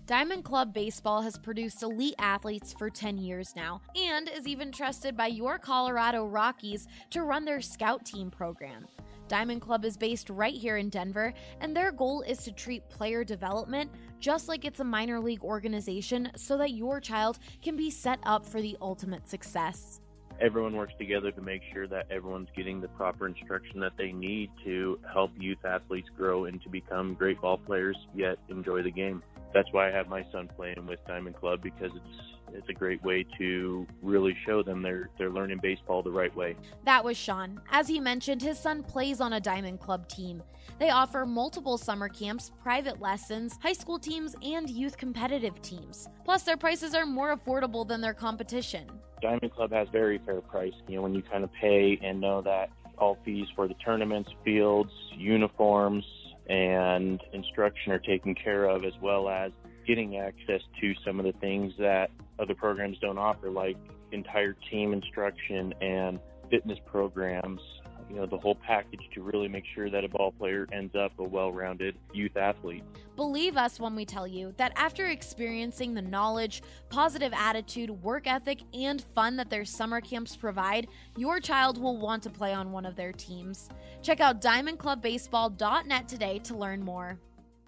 Diamond Club Baseball has produced elite athletes for 10 years now and is even trusted by your Colorado Rockies to run their scout team program. Diamond Club is based right here in Denver, and their goal is to treat player development just like it's a minor league organization so that your child can be set up for the ultimate success. Everyone works together to make sure that everyone's getting the proper instruction that they need to help youth athletes grow and to become great ball players, yet enjoy the game. That's why I have my son playing with Diamond Club, because it's a great way to really show them they're learning baseball the right way. That was Sean. As he mentioned, his son plays on a Diamond Club team. They offer multiple summer camps, private lessons, high school teams, and youth competitive teams. Plus, their prices are more affordable than their competition. Diamond Club has very fair price. When you kind of pay and know that all fees for the tournaments, fields, uniforms, and instruction are taken care of, as well as getting access to some of the things that other programs don't offer, like entire team instruction and fitness programs, the whole package to really make sure that a ball player ends up a well-rounded youth athlete. Believe us when we tell you that after experiencing the knowledge, positive attitude, work ethic, and fun that their summer camps provide, your child will want to play on one of their teams. Check out diamondclubbaseball.net today to learn more.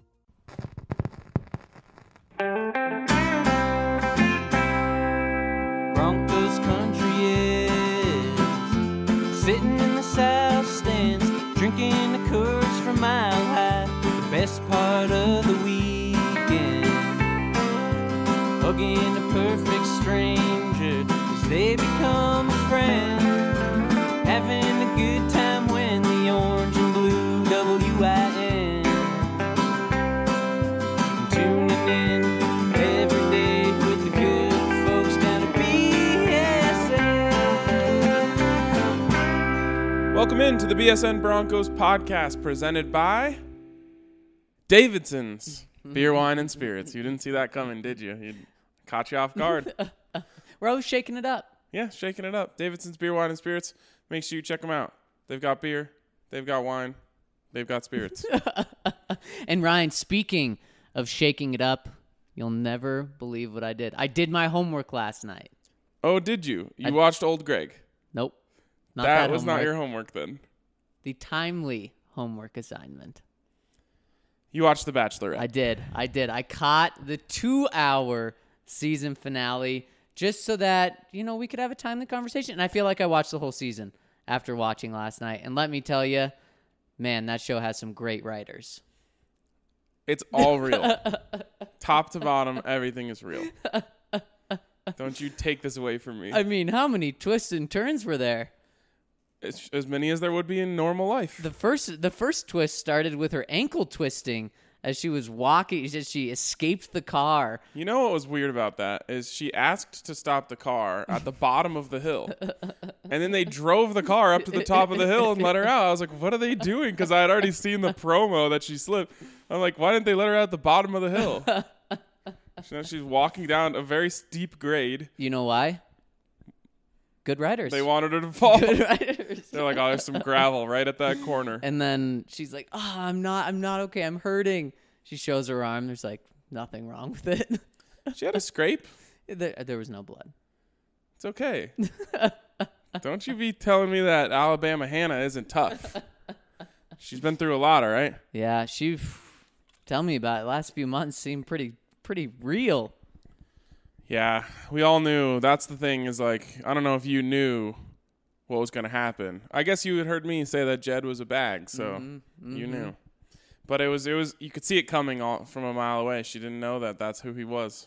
Broncos country is sitting in the south stands, drinking the Coors from Mile High. The best part of the weekend, hugging a perfect stranger as they become a friend, having a good time when the orange and blue WIN, tuning in every day with the good folks down at BSN. Welcome into the BSN Broncos podcast presented by Davidson's Beer, Wine, and Spirits. You didn't see that coming, did you? It caught you off guard. We're always shaking it up. Yeah, shaking it up. Davidson's Beer, Wine, and Spirits. Make sure you check them out. They've got beer. They've got wine. They've got spirits. And Ryan, speaking of shaking it up, you'll never believe what I did. I did my homework last night. Oh, did you? You watched Old Greg? Nope. Not that was homework. not your homework then. The timely homework assignment. You watched The Bachelorette. I did. I caught the 2-hour season finale just so that, we could have a timely conversation. And I feel like I watched the whole season after watching last night. And let me tell you, man, that show has some great writers. It's all real. Top to bottom, everything is real. Don't you take this away from me. I mean, how many twists and turns were there? It's as many as there would be in normal life. The first twist started with her ankle twisting as she was walking. She escaped the car. You know what was weird about that is she asked to stop the car at the bottom of the hill. And then they drove the car up to the top of the hill and let her out. I was like, what are they doing? Because I had already seen the promo that she slipped. I'm like, why didn't they let her out at the bottom of the hill? She's walking down a very steep grade. You know why? Good writers. They wanted her to fall. Good writers. They're like, oh, there's some gravel right at that corner. And then she's like, oh, I'm not okay. I'm hurting. She shows her arm. There's like nothing wrong with it. She had a scrape. There was no blood. It's okay. Don't you be telling me that Alabama Hannah isn't tough. She's been through a lot, all right? Yeah, tell me about it. Last few months seemed pretty real. Yeah, we all knew. That's the thing is like, I don't know if you knew what was going to happen. I guess you had heard me say that Jed was a bag, so you knew. But it was you could see it coming from a mile away. She didn't know that that's who he was.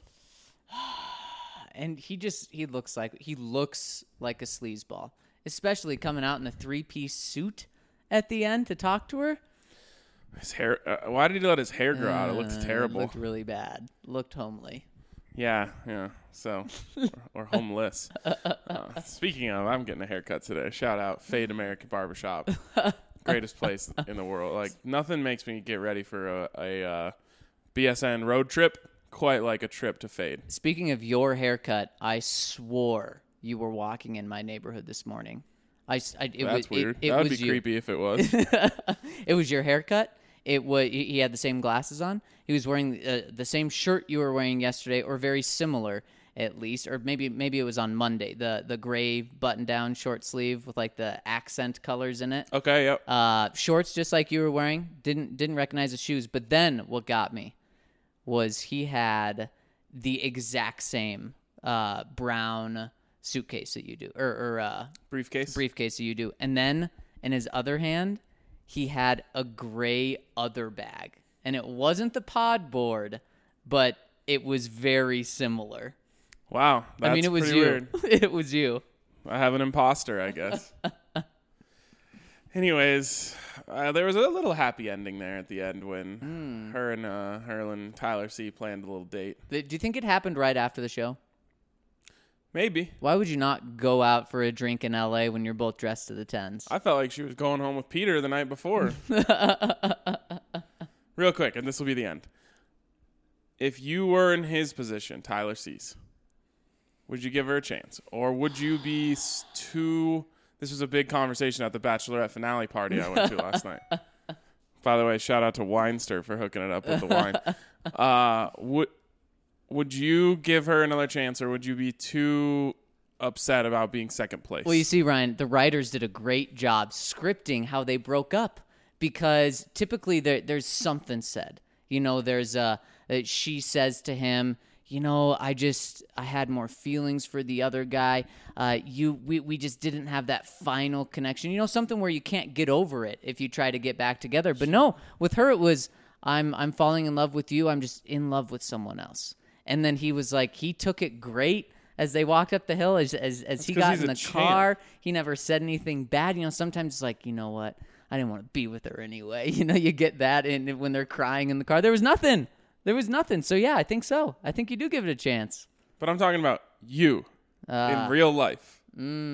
And he looks like a sleazeball, especially coming out in a 3-piece suit at the end to talk to her. His hair, why did he let his hair grow out? It looked terrible. It looked really bad. Looked homely. Yeah. So, or homeless. Speaking of, I'm getting a haircut today. Shout out Fade American Barbershop. Greatest place in the world. Like, nothing makes me get ready for a BSN road trip quite like a trip to Fade. Speaking of your haircut, I swore you were walking in my neighborhood this morning. That's weird. That would be creepy if it was. It was your haircut. He had the same glasses on. He was wearing the same shirt you were wearing yesterday, or very similar at least, or maybe it was on Monday. The gray button down short sleeve with like the accent colors in it. Okay, yep. Shorts just like you were wearing. Didn't recognize the shoes. But then what got me was he had the exact same brown suitcase that you do, or Briefcase that you do, and then in his other hand he had a gray other bag, and it wasn't the pod board, but it was very similar. Wow, that's it was pretty you. weird. It was you. I have an imposter, I guess. Anyways, there was a little happy ending there at the end when her and Tyler C planned a little date. Do you think it happened right after the show? Maybe. Why would you not go out for a drink in LA when you're both dressed to the tens? I felt like she was going home with Peter the night before. Real quick, and this will be the end. If you were in his position, Tyler C's, would you give her a chance? Or would you be too... This was a big conversation at the Bachelorette finale party I went to last night. By the way, shout out to Weinster for hooking it up with the wine. Would you give her another chance, or would you be too upset about being second place? Well, you see, Ryan, the writers did a great job scripting how they broke up, because typically there's something said. There's she says to him, I had more feelings for the other guy. We just didn't have that final connection. Something where you can't get over it if you try to get back together. But no, with her it was, I'm falling in love with you. I'm just in love with someone else. And then he was like, he took it great as they walked up the hill, as he got in the car. He never said anything bad. Sometimes it's like, you know what? I didn't want to be with her anyway. You get that when they're crying in the car. There was nothing. So, yeah, I think so. I think you do give it a chance. But I'm talking about you in real life.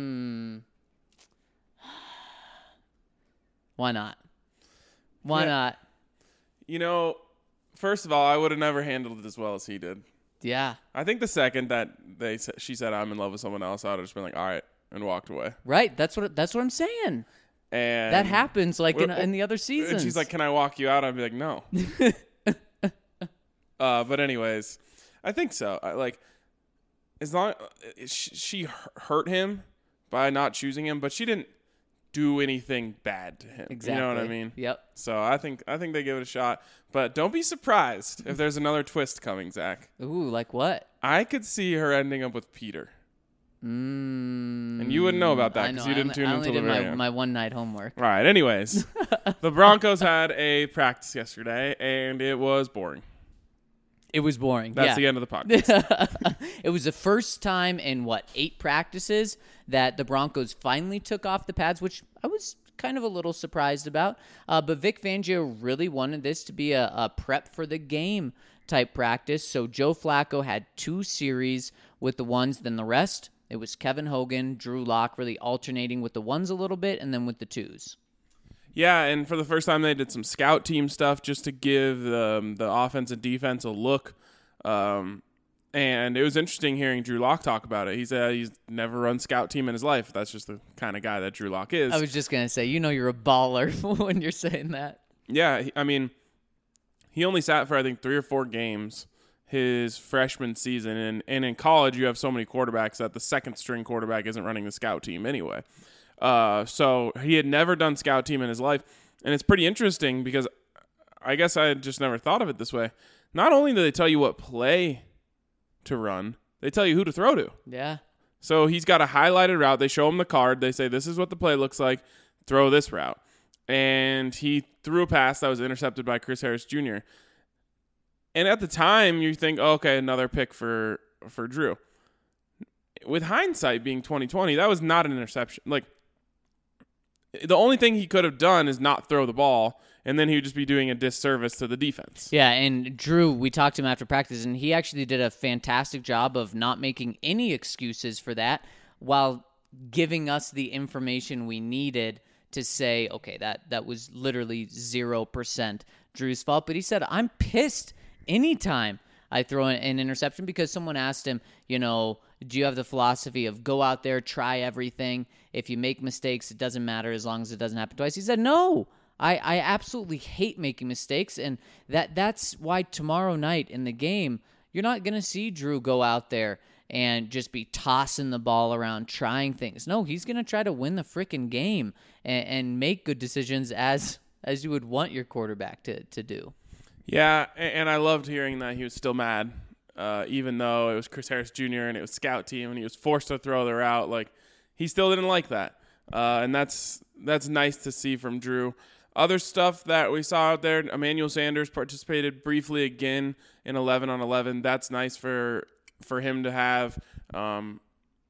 Why not? Why not? First of all, I would have never handled it as well as he did. Yeah. I think the second that she said I'm in love with someone else, I would have just been like, all right, and walked away. Right. That's what I'm saying. And that happens in the other seasons. And she's like, can I walk you out? I'd be like, no. But anyways, I think so. As long she hurt him by not choosing him, but she didn't do anything bad to him. Exactly. You know what I mean? Yep. So I think they give it a shot, but don't be surprised if there's another twist coming, Zach. Ooh, like what? I could see her ending up with Peter. And you wouldn't know about that because you didn't tune into the video. My one night homework. All right. Anyways, the Broncos had a practice yesterday, and it was boring. It was boring. That's the end of the podcast. It was the first time in 8 practices that the Broncos finally took off the pads, which I was kind of a little surprised about. But Vic Fangio really wanted this to be a prep for the game type practice. So Joe Flacco had 2 series with the ones, then the rest, it was Kevin Hogan, Drew Lock, really alternating with the ones a little bit and then with the 2s. Yeah, and for the first time, they did some scout team stuff just to give the offense and defense a look. And it was interesting hearing Drew Lock talk about it. He said he's never run scout team in his life. That's just the kind of guy that Drew Lock is. I was just going to say, you're a baller when you're saying that. Yeah, he only sat for, I think, 3 or 4 games his freshman season. And in college, you have so many quarterbacks that the second-string quarterback isn't running the scout team anyway. So he had never done scout team in his life. And it's pretty interesting because I guess I had just never thought of it this way. Not only do they tell you what play to run, they tell you who to throw to. Yeah. So he's got a highlighted route. They show him the card. They say, this is what the play looks like. Throw this route. And he threw a pass that was intercepted by Chris Harris Jr. And at the time, you think, oh, okay, another pick for Drew. With hindsight being 2020, that was not an interception. The only thing he could have done is not throw the ball, and then he would just be doing a disservice to the defense. Yeah, and Drew, we talked to him after practice, and he actually did a fantastic job of not making any excuses for that while giving us the information we needed to say, okay, that was literally 0% Drew's fault. But he said, I'm pissed anytime I throw an interception because someone asked him, do you have the philosophy of go out there, try everything? If you make mistakes, it doesn't matter as long as it doesn't happen twice. He said, no, I absolutely hate making mistakes, and that's why tomorrow night in the game, you're not going to see Drew go out there and just be tossing the ball around, trying things. No, he's going to try to win the freaking game and make good decisions as you would want your quarterback to do. Yeah, and I loved hearing that he was still mad, even though it was Chris Harris Jr. and it was scout team and he was forced to throw the route. Like, he still didn't like that, and that's nice to see from Drew. Other stuff that we saw out there, Emmanuel Sanders participated briefly again in 11-on-11. That's nice for him to have. I'm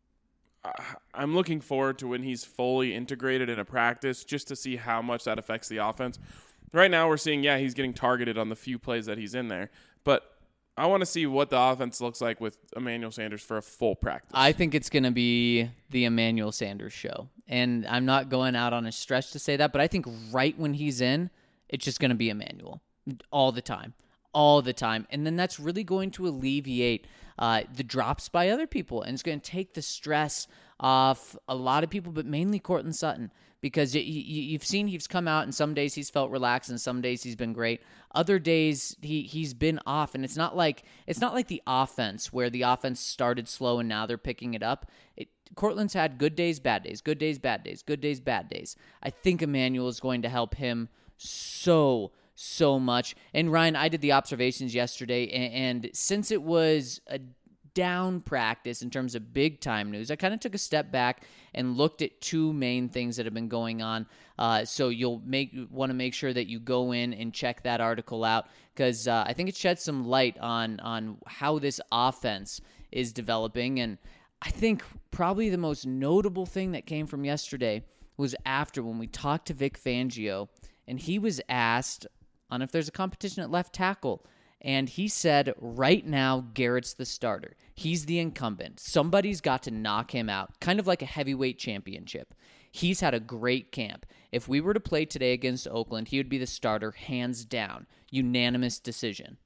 looking forward to when he's fully integrated in a practice just to see how much that affects the offense. Right now we're seeing, he's getting targeted on the few plays that he's in there. But I want to see what the offense looks like with Emmanuel Sanders for a full practice. I think it's going to be the Emmanuel Sanders show. And I'm not going out on a stretch to say that, but I think right when he's in, it's just going to be Emmanuel all the time. And then that's really going to alleviate the drops by other people. And it's going to take the stress off a lot of people, but mainly Courtland Sutton. Because you've seen he's come out, and some days he's felt relaxed, and some days he's been great. Other days he's been off, and it's not like the offense where the offense started slow and now they're picking it up. Courtland's had good days, bad days, good days, bad days, good days, bad days. I think Emmanuel is going to help him so much. And Ryan, I did the observations yesterday, and since it was a down practice in terms of big time news, I kind of took a step back and looked at two main things that have been going on. So you'll want to make sure that you go in and check that article out, because I think it sheds some light on how this offense is developing. And I think probably the most notable thing that came from yesterday was after when we talked to Vic Fangio, and he was asked on if there's a competition at left tackle. And he said, right now, Garrett's the starter. He's the incumbent. Somebody's got to knock him out, kind of like a heavyweight championship. He's had a great camp. If we were to play today against Oakland, he would be the starter, hands down. Unanimous decision.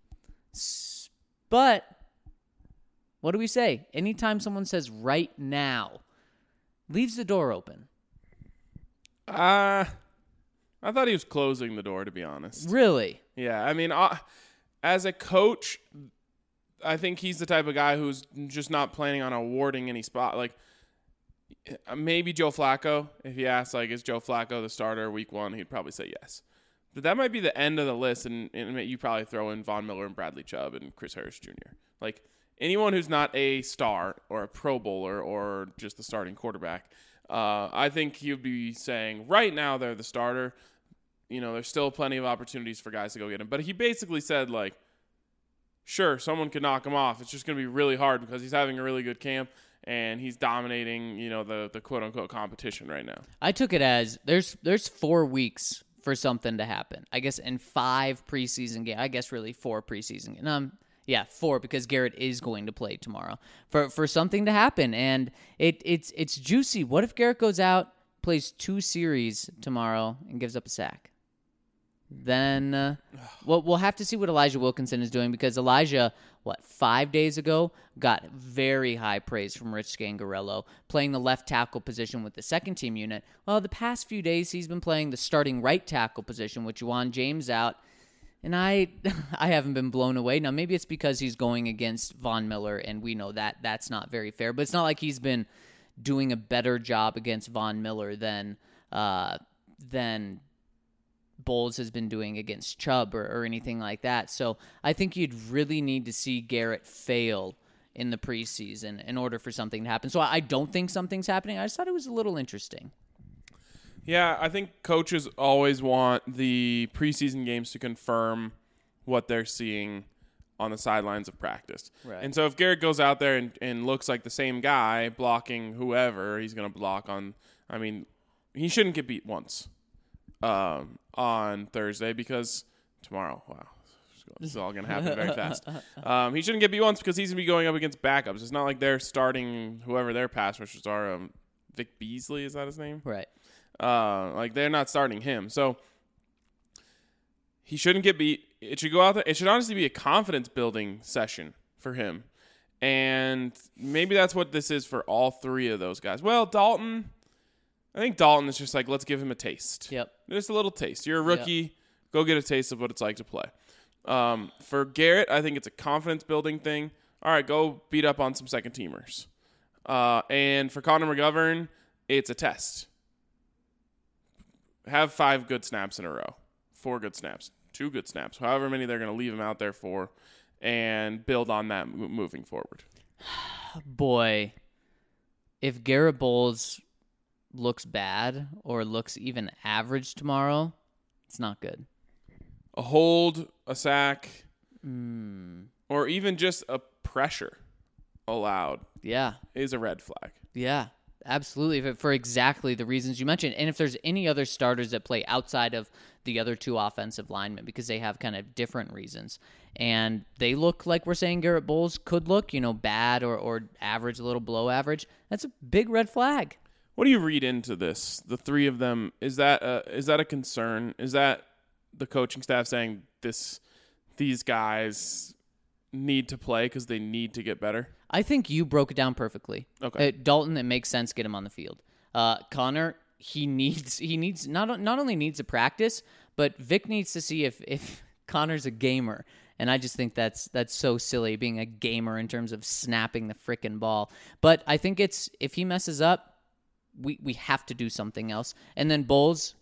But what do we say? Anytime someone says right now, leaves the door open. I thought he was closing the door, to be honest. Really? Yeah, I mean, as a coach, I think he's the type of guy who's just not planning on awarding any spot. Like, maybe Joe Flacco. If he asked, like, is Joe Flacco the starter week 1, he'd probably say yes. But that might be the end of the list, and you probably throw in Von Miller and Bradley Chubb and Chris Harris Jr. Like, anyone who's not a star or a Pro Bowler or just the starting quarterback, I think he would be saying right now they're the starter. You know, there's still plenty of opportunities for guys to go get him. But he basically said, like, sure, someone could knock him off. It's just going to be really hard because he's having a really good camp and he's dominating, you know, the quote-unquote competition right now. I took it as there's 4 weeks for something to happen. I guess in 5 preseason games. I guess really 4 preseason games. Yeah, 4 because Garrett is going to play tomorrow. For something to happen. And it's juicy. What if Garrett goes out, plays 2 series tomorrow, and gives up a sack? Then we'll have to see what Elijah Wilkinson is doing, because Elijah, 5 days ago, got very high praise from Rich Scangarello, playing the left tackle position with the second team unit. Well, the past few days he's been playing the starting right tackle position with Juwan James out, and I haven't been blown away. Now, maybe it's because he's going against Von Miller, and we know that that's not very fair, but it's not like he's been doing a better job against Von Miller than Bowles has been doing against Chubb or anything like that. So I think you'd really need to see Garrett fail in the preseason in order for something to happen. So I don't think something's happening. I just thought it was a little interesting. Yeah, I think coaches always want the preseason games to confirm what they're seeing on the sidelines of practice. Right. And so if Garrett goes out there and looks like the same guy blocking whoever he's going to block on, I mean, he shouldn't get beat once. On Thursday, because tomorrow, wow, this is all going to happen very fast. He shouldn't get beat once because he's going to be going up against backups. It's not like they're starting whoever their pass rushers are. Vic Beasley, is that his name? Right. Like, they're not starting him. So he shouldn't get beat. It should go out there. It should honestly be a confidence-building session for him. And maybe that's what this is for all 3 of those guys. Well, Dalton, I think Dalton is just like, let's give him a taste. Yep. Just a little taste. You're a rookie. Go get a taste of what it's like to play. For Garrett, I think it's a confidence-building thing. All right, go beat up on some second-teamers. And for Connor McGovern, it's a test. Have 5 good snaps in a row. 4 good snaps. 2 good snaps. However many they're going to leave him out there for. And build on that moving forward. Boy, if Garrett Bowles looks bad or looks even average tomorrow, it's not good. A hold, a sack, or even just a pressure allowed is a red flag. Yeah, absolutely. For exactly the reasons you mentioned. And if there's any other starters that play outside of the other 2 offensive linemen, because they have kind of different reasons. And they look like we're saying Garrett Bowles could look, bad or average, a little below average. That's a big red flag. What do you read into this? The 3 of them, is that a concern? Is that the coaching staff saying these guys need to play because they need to get better? I think you broke it down perfectly. Okay. Dalton, it makes sense, get him on the field. Connor, he needs not only needs to practice, but Vic needs to see if Connor's a gamer. And I just think that's so silly, being a gamer in terms of snapping the frickin' ball. But I think if he messes up, we have to do something else. And then Bowles,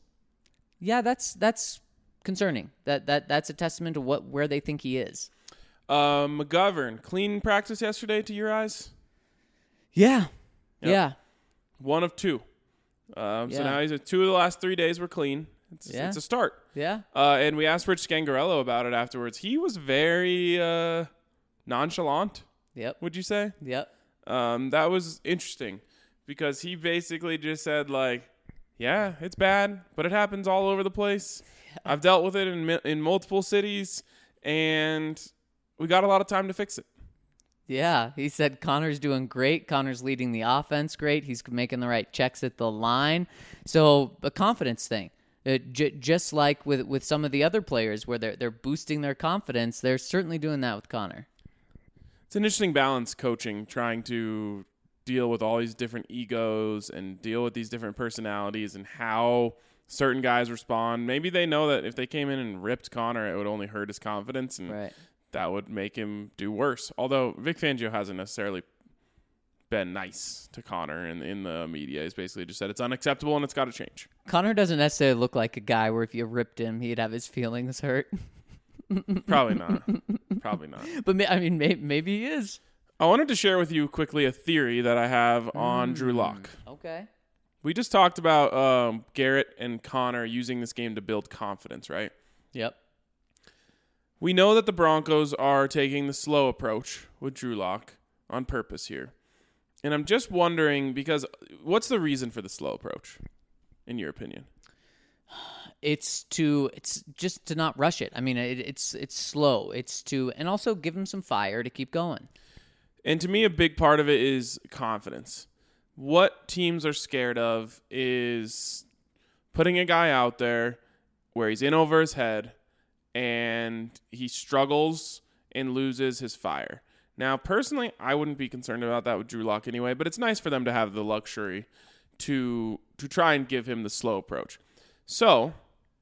that's concerning. That's a testament to where they think he is. McGovern, clean practice yesterday to your eyes? Yeah. Yep. Yeah. 1 of 2. So now 2 of the last 3 days were clean. It's a start. Yeah. And we asked Rich Scangarello about it afterwards. He was very nonchalant. Yep. Would you say? Yep. That was interesting because he basically just said yeah, it's bad, but it happens all over the place. Yeah. I've dealt with it in multiple cities, and we got a lot of time to fix it. Yeah, he said Connor's doing great. Connor's leading the offense great. He's making the right checks at the line. So a confidence thing. Just like with some of the other players where they're boosting their confidence, they're certainly doing that with Connor. It's an interesting balance, coaching, trying to deal with all these different egos and deal with these different personalities and how certain guys respond. Maybe they know that if they came in and ripped Connor, it would only hurt his confidence, and that would make him do worse. Although Vic Fangio hasn't necessarily been nice to Connor in the media. He's basically just said it's unacceptable and it's got to change. Connor doesn't necessarily look like a guy where if you ripped him, he'd have his feelings hurt. Probably not. But maybe he is. I wanted to share with you quickly a theory that I have on Drew Lock. Okay. We just talked about Garrett and Connor using this game to build confidence, right? Yep. We know that the Broncos are taking the slow approach with Drew Lock on purpose here. And I'm just wondering, because what's the reason for the slow approach, in your opinion? It's just to not rush it. I mean, it's slow. It's to, and also give him some fire to keep going. And to me, a big part of it is confidence. What teams are scared of is putting a guy out there where he's in over his head and he struggles and loses his fire. Now, personally, I wouldn't be concerned about that with Drew Lock anyway, but it's nice for them to have the luxury to try and give him the slow approach. So,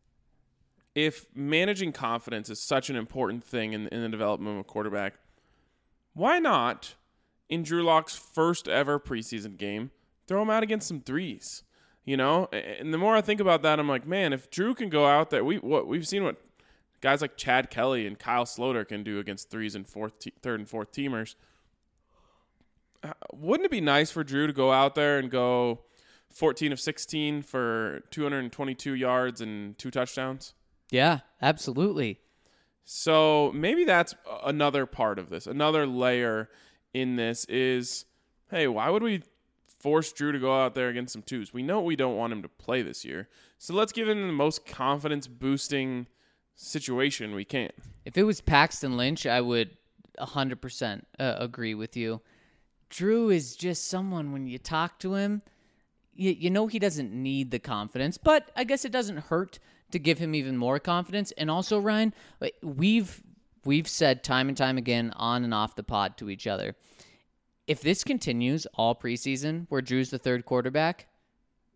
if managing confidence is such an important thing in the development of a quarterback, why not, in Drew Lock's first ever preseason game, throw him out against some threes? You know? And the more I think about that, I'm like, man, if Drew can go out there, we've seen what guys like Chad Kelly and Kyle Sloter can do against threes and third and fourth teamers. Wouldn't it be nice for Drew to go out there and go 14 of 16 for 222 yards and 2 touchdowns? Yeah, absolutely. So maybe that's another part of this. Another layer in this is, hey, why would we force Drew to go out there against some twos? We know we don't want him to play this year. So let's give him the most confidence-boosting situation we can. If it was Paxton Lynch, I would 100% agree with you. Drew is just someone, when you talk to him, you know he doesn't need the confidence, but I guess it doesn't hurt to give him even more confidence. And also, Ryan, we've said time and time again on and off the pod to each other, if this continues all preseason where Drew's the third quarterback,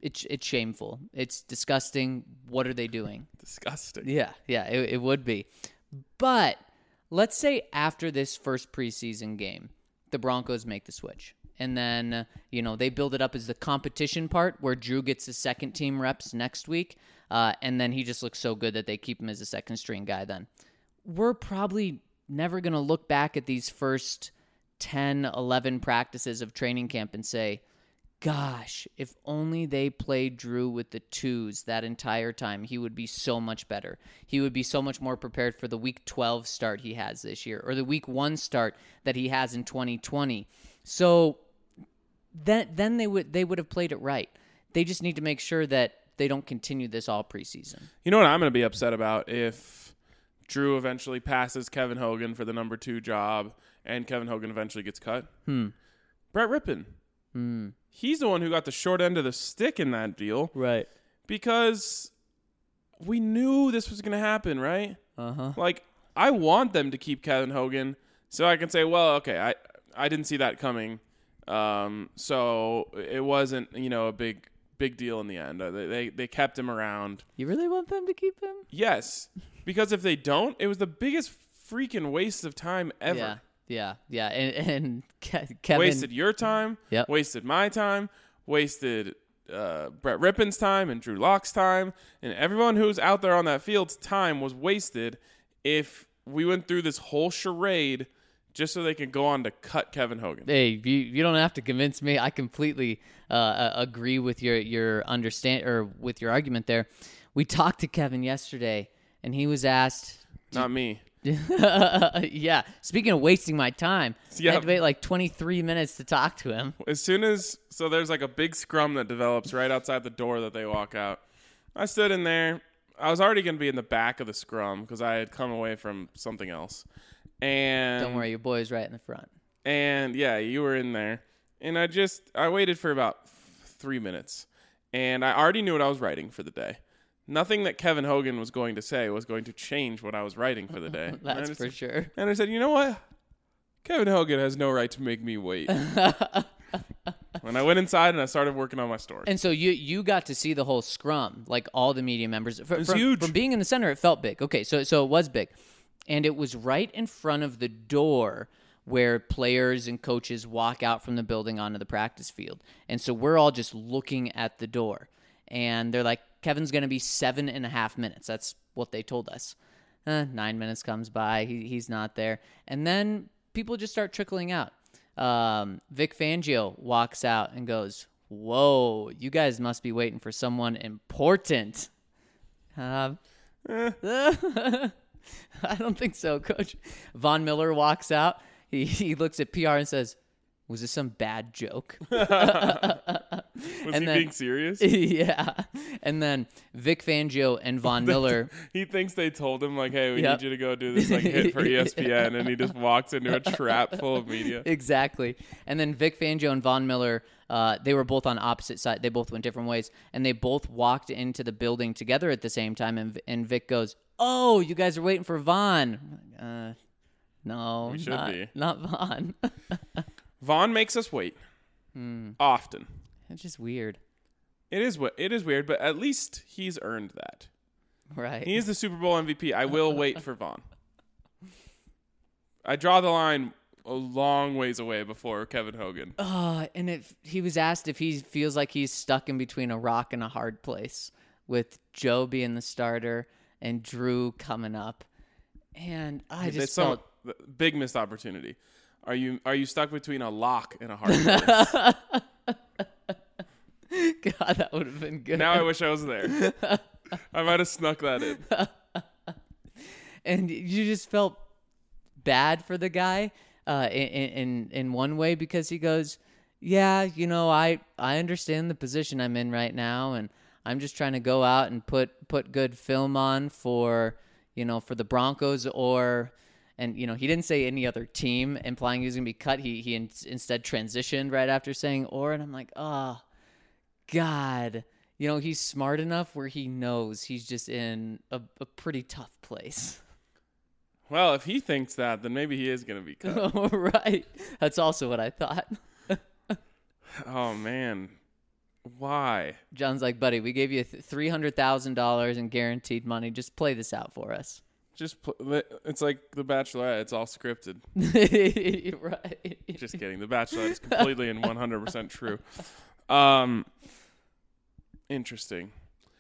it's shameful. It's disgusting. What are they doing? Disgusting. Yeah, it would be. But let's say after this first preseason game, the Broncos make the switch. And then, they build it up as the competition part where Drew gets the second team reps next week. And then he just looks so good that they keep him as a second string guy then. We're probably never going to look back at these first 10, 11 practices of training camp and say, gosh, if only they played Drew with the twos that entire time, he would be so much better. He would be so much more prepared for the week 12 start he has this year or the week 1 start that he has in 2020. So then they would have played it right. They just need to make sure that they don't continue this all preseason. You know what I'm going to be upset about if Drew eventually passes Kevin Hogan for the number 2 job and Kevin Hogan eventually gets cut? Brett Rippon. He's the one who got the short end of the stick in that deal. Right. Because we knew this was going to happen, right? Uh-huh. Like, I want them to keep Kevin Hogan so I can say, well, okay, I didn't see that coming. So it wasn't, a big deal in the end. They kept him around. You really want them to keep him? Yes. Because if they don't, it was the biggest freaking waste of time ever. Yeah. And Kevin wasted your time. Yep. Wasted my time. Wasted Brett Rippon's time and Drew Lock's time. And everyone who's out there on that field's time was wasted if we went through this whole charade just so they could go on to cut Kevin Hogan. Hey, you don't have to convince me. I completely agree with your understand or with your argument there. We talked to Kevin yesterday, and he was asked. Not me. Yeah. Speaking of wasting my time, I had to wait like 23 minutes to talk to him. So there's like a big scrum that develops right outside the door that they walk out. I stood in there. I was already going to be in the back of the scrum because I had come away from something else. And don't worry, your boy's right in the front. And yeah, you were in there. And I waited for about 3 minutes. And I already knew what I was writing for the day. Nothing that Kevin Hogan was going to say was going to change what I was writing for the day. That's for sure. And I said, you know what? Kevin Hogan has no right to make me wait. When I went inside and I started working on my story. And so you got to see the whole scrum, like all the media members. It was huge. From being in the center, it felt big. Okay, so it was big. And it was right in front of the door where players and coaches walk out from the building onto the practice field. And so we're all just looking at the door. And they're like, Kevin's going to be 7.5 minutes. That's what they told us. 9 minutes comes by. He's not there. And then people just start trickling out. Vic Fangio walks out and goes, whoa, you guys must be waiting for someone important. I don't think so, Coach. Von Miller walks out. He looks at PR and says, was this some bad joke? Was he being serious? Yeah. And then Vic Fangio and Von Miller. He thinks they told him, like, hey, we need you to go do this hit for ESPN. And he just walks into a trap full of media. Exactly. And then Vic Fangio and Von Miller, they were both on opposite sides. They both went different ways. And they both walked into the building together at the same time. And Vic goes, oh, you guys are waiting for Von. No, we should be. Not Von. Von makes us wait often. It's just weird. It is weird, but at least he's earned that. Right. He is the Super Bowl MVP. I will wait for Von. I draw the line a long ways away before Kevin Hogan. And he was asked if he feels like he's stuck in between a rock and a hard place with Joe being the starter and Drew coming up. And I just felt big missed opportunity. Are you stuck between a lock and a hard place? God, that would have been good. Now I wish I was there. I might have snuck that in. And you just felt bad for the guy in one way because he goes, yeah, I understand the position I'm in right now, and I'm just trying to go out and put good film on for the Broncos and he didn't say any other team, implying he was going to be cut. He instead transitioned right after saying or, and I'm like, oh, God. He's smart enough where he knows he's just in a pretty tough place. Well, if he thinks that, then maybe he is going to be cut. Right. That's also what I thought. Oh, man. Why? John's like, buddy, we gave you $300,000 in guaranteed money. Just play this out for us. It's like The Bachelorette. It's all scripted. Right. Just kidding. The Bachelorette is completely and 100% true. Interesting.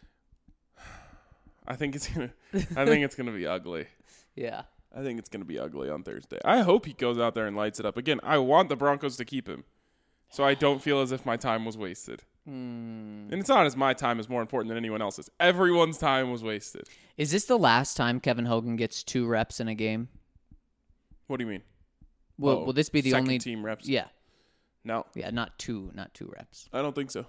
I think it's gonna be ugly. Yeah. I think it's gonna be ugly on Thursday. I hope he goes out there and lights it up. Again, I want the Broncos to keep him, so I don't feel as if my time was wasted. And it's not as my time is more important than anyone else's. Everyone's time was wasted. Is this the last time Kevin Hogan gets 2 reps in a game? What do you mean? Will this be the second only team reps? Yeah. No, Yeah, not two reps. I don't think so.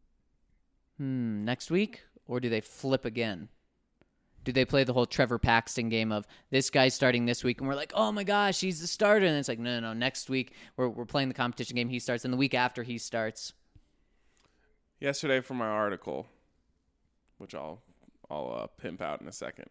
Next week, or do they flip again? Do they play the whole Trevor Paxton game of this guy's starting this week, and we're like, oh my gosh, he's the starter, and it's like, no. Next week we're playing the competition game. He starts, and the week after he starts. Yesterday for my article, which I'll pimp out in a second.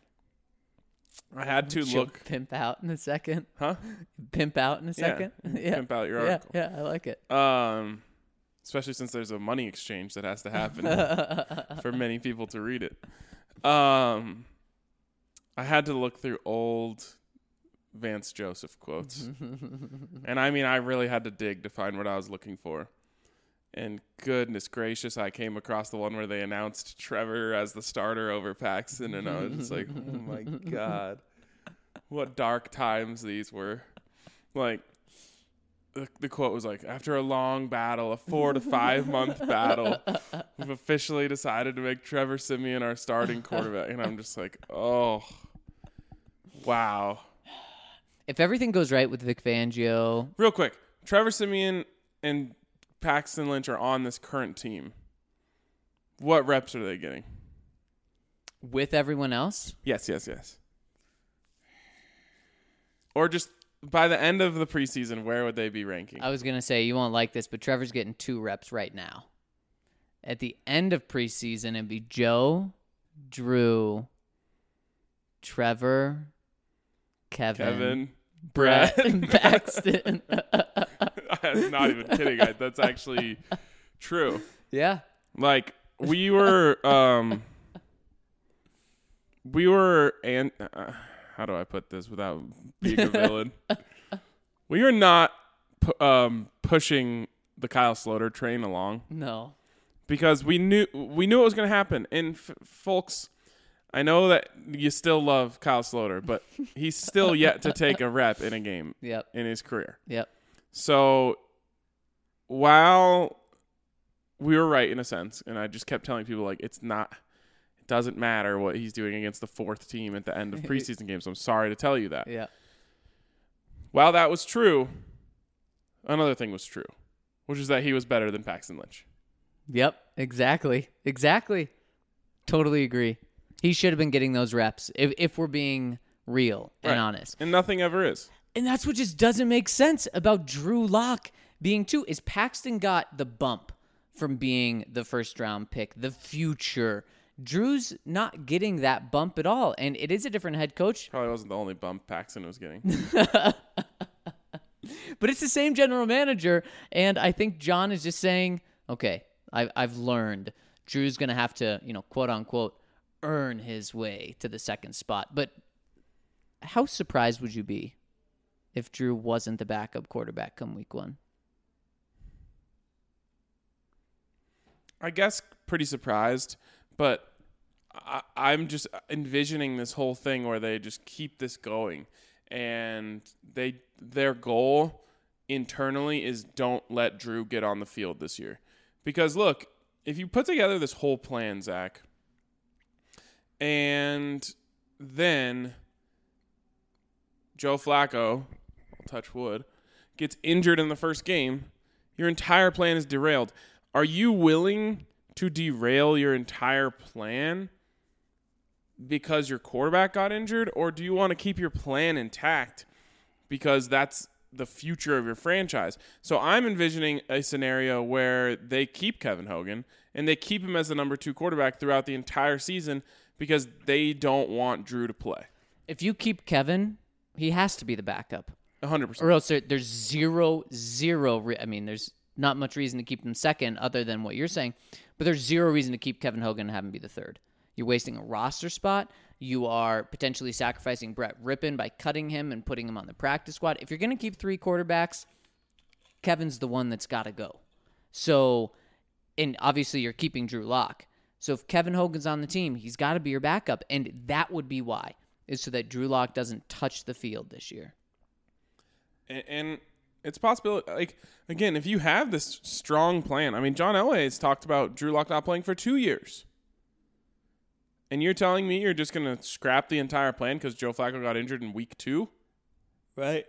I had to She'll look. pimp out in a second. Huh? Pimp out in a second. Yeah. Pimp out your article. Yeah, I like it. Especially since there's a money exchange that has to happen for many people to read it. I had to look through old Vance Joseph quotes. And I mean, I really had to dig to find what I was looking for. And goodness gracious, I came across the one where they announced Trevor as the starter over Paxton, and I was just like, oh my God. What dark times these were. Like, the quote was like, after a long battle, a 4 to 5 month battle, we've officially decided to make Trevor Siemian our starting quarterback. And I'm just like, oh, wow. If everything goes right with Vic Fangio. Real quick, Trevor Siemian and Paxton Lynch are on this current team. What reps are they getting? With everyone else? Yes. Or just by the end of the preseason, where would they be ranking? I was going to say, you won't like this, but Trevor's getting 2 reps right now. At the end of preseason, it'd be Joe, Drew, Trevor, Kevin Brett, and Paxton. I'm not even kidding. That's actually true. Yeah. Like, we were, how do I put this without being a villain? We were not pushing the Kyle Sloter train along. No. Because we knew it was going to happen. And folks, I know that you still love Kyle Sloter, but he's still yet to take a rep in a game in his career. Yep. So while we were right in a sense, and I just kept telling people, like, it doesn't matter what he's doing against the 4th team at the end of preseason games. I'm sorry to tell you that. Yeah. While that was true, another thing was true, which is that he was better than Paxton Lynch. Yep. Exactly. Totally agree. He should have been getting those reps if we're being real and honest. And nothing ever is. And that's what just doesn't make sense about Drew Lock being 2. Is Paxton got the bump from being the first round pick, the future. Drew's not getting that bump at all. And it is a different head coach. Probably wasn't the only bump Paxton was getting. But it's the same general manager. And I think John is just saying, okay, I've learned. Drew's going to have to, quote unquote, earn his way to the 2nd spot. But how surprised would you be if Drew wasn't the backup quarterback come week 1? I guess pretty surprised, but I'm just envisioning this whole thing where they just keep this going, and their goal internally is don't let Drew get on the field this year. Because look, if you put together this whole plan, Zach, and then Joe Flacco, I'll touch wood, gets injured in the first game, your entire plan is derailed. Are you willing to derail your entire plan because your quarterback got injured, or do you want to keep your plan intact because that's the future of your franchise? So I'm envisioning a scenario where they keep Kevin Hogan and they keep him as the number 2 quarterback throughout the entire season because they don't want Drew to play. If you keep Kevin, he has to be the backup. 100%. Or else there's zero. not much reason to keep him second other than what you're saying. But there's zero reason to keep Kevin Hogan and have him be the third. You're wasting a roster spot. You are potentially sacrificing Brett Rippon by cutting him and putting him on the practice squad. If you're going to keep 3 quarterbacks, Kevin's the one that's got to go. So, and obviously you're keeping Drew Lock. So if Kevin Hogan's on the team, he's got to be your backup. And that would be why, is so that Drew Lock doesn't touch the field this year. And it's possible, like, again, if you have this strong plan. I mean, John Elway has talked about Drew Lock not playing for 2 years. And you're telling me you're just going to scrap the entire plan because Joe Flacco got injured in week 2? Right?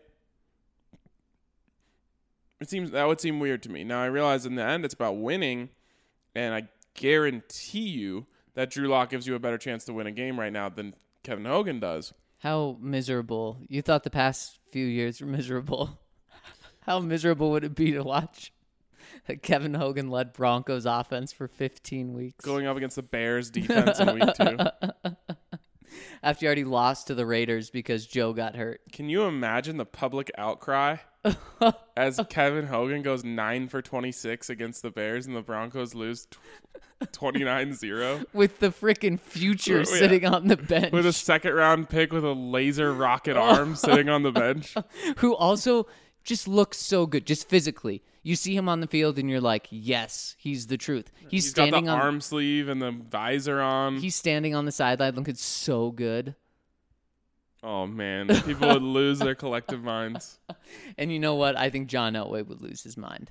That would seem weird to me. Now, I realize in the end it's about winning, and I guarantee you that Drew Lock gives you a better chance to win a game right now than Kevin Hogan does. How miserable. You thought the past few years were miserable. How miserable would it be to watch a Kevin Hogan-led Broncos offense for 15 weeks? Going up against the Bears defense in week 2. After you already lost to the Raiders because Joe got hurt. Can you imagine the public outcry as Kevin Hogan goes 9 for 26 against the Bears and the Broncos lose 29-0? With the freaking future Yeah. sitting on the bench. With a second-round pick with a laser rocket arm sitting on the bench. Who also just looks so good, just physically. You see him on the field and you're like, yes, he's the truth. He's standing got the on arm sleeve and the visor on. He's standing on the sideline looking so good. Oh, man. People would lose their collective minds. And you know what? I think John Elway would lose his mind.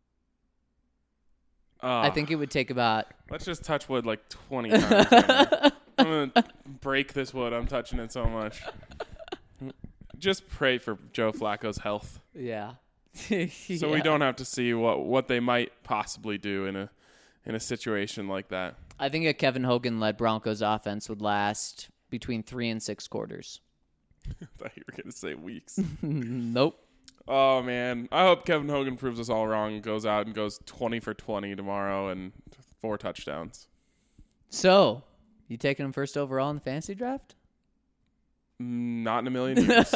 I think it would take about... Let's just touch wood like 20 times. Right now. I'm going to break this wood. I'm touching it so much. Just pray for Joe Flacco's health. Yeah. So we don't have to see what they might possibly do in a situation like that. I think a Kevin Hogan-led Broncos offense would last between 3 and 6 quarters. I thought you were going to say weeks. Nope. Oh, man. I hope Kevin Hogan proves us all wrong and goes out and goes 20 for 20 tomorrow and 4 touchdowns. So, you taking him first overall in the fantasy draft? Not in a million years.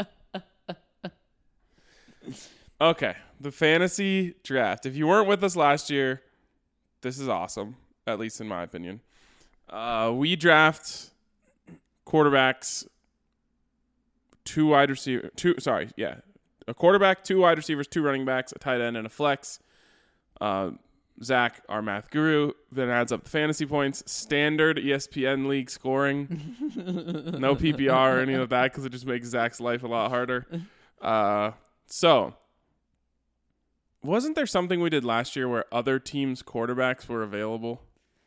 Okay, the fantasy draft. If you weren't with us last year, this is awesome, at least in my opinion. We draft quarterbacks, a quarterback, 2 wide receivers, 2 running backs, a tight end, and a flex. Zach, our math guru, then adds up the fantasy points. Standard ESPN league scoring. No PPR or any of that because it just makes Zach's life a lot harder. So, wasn't there something we did last year where other teams' quarterbacks were available?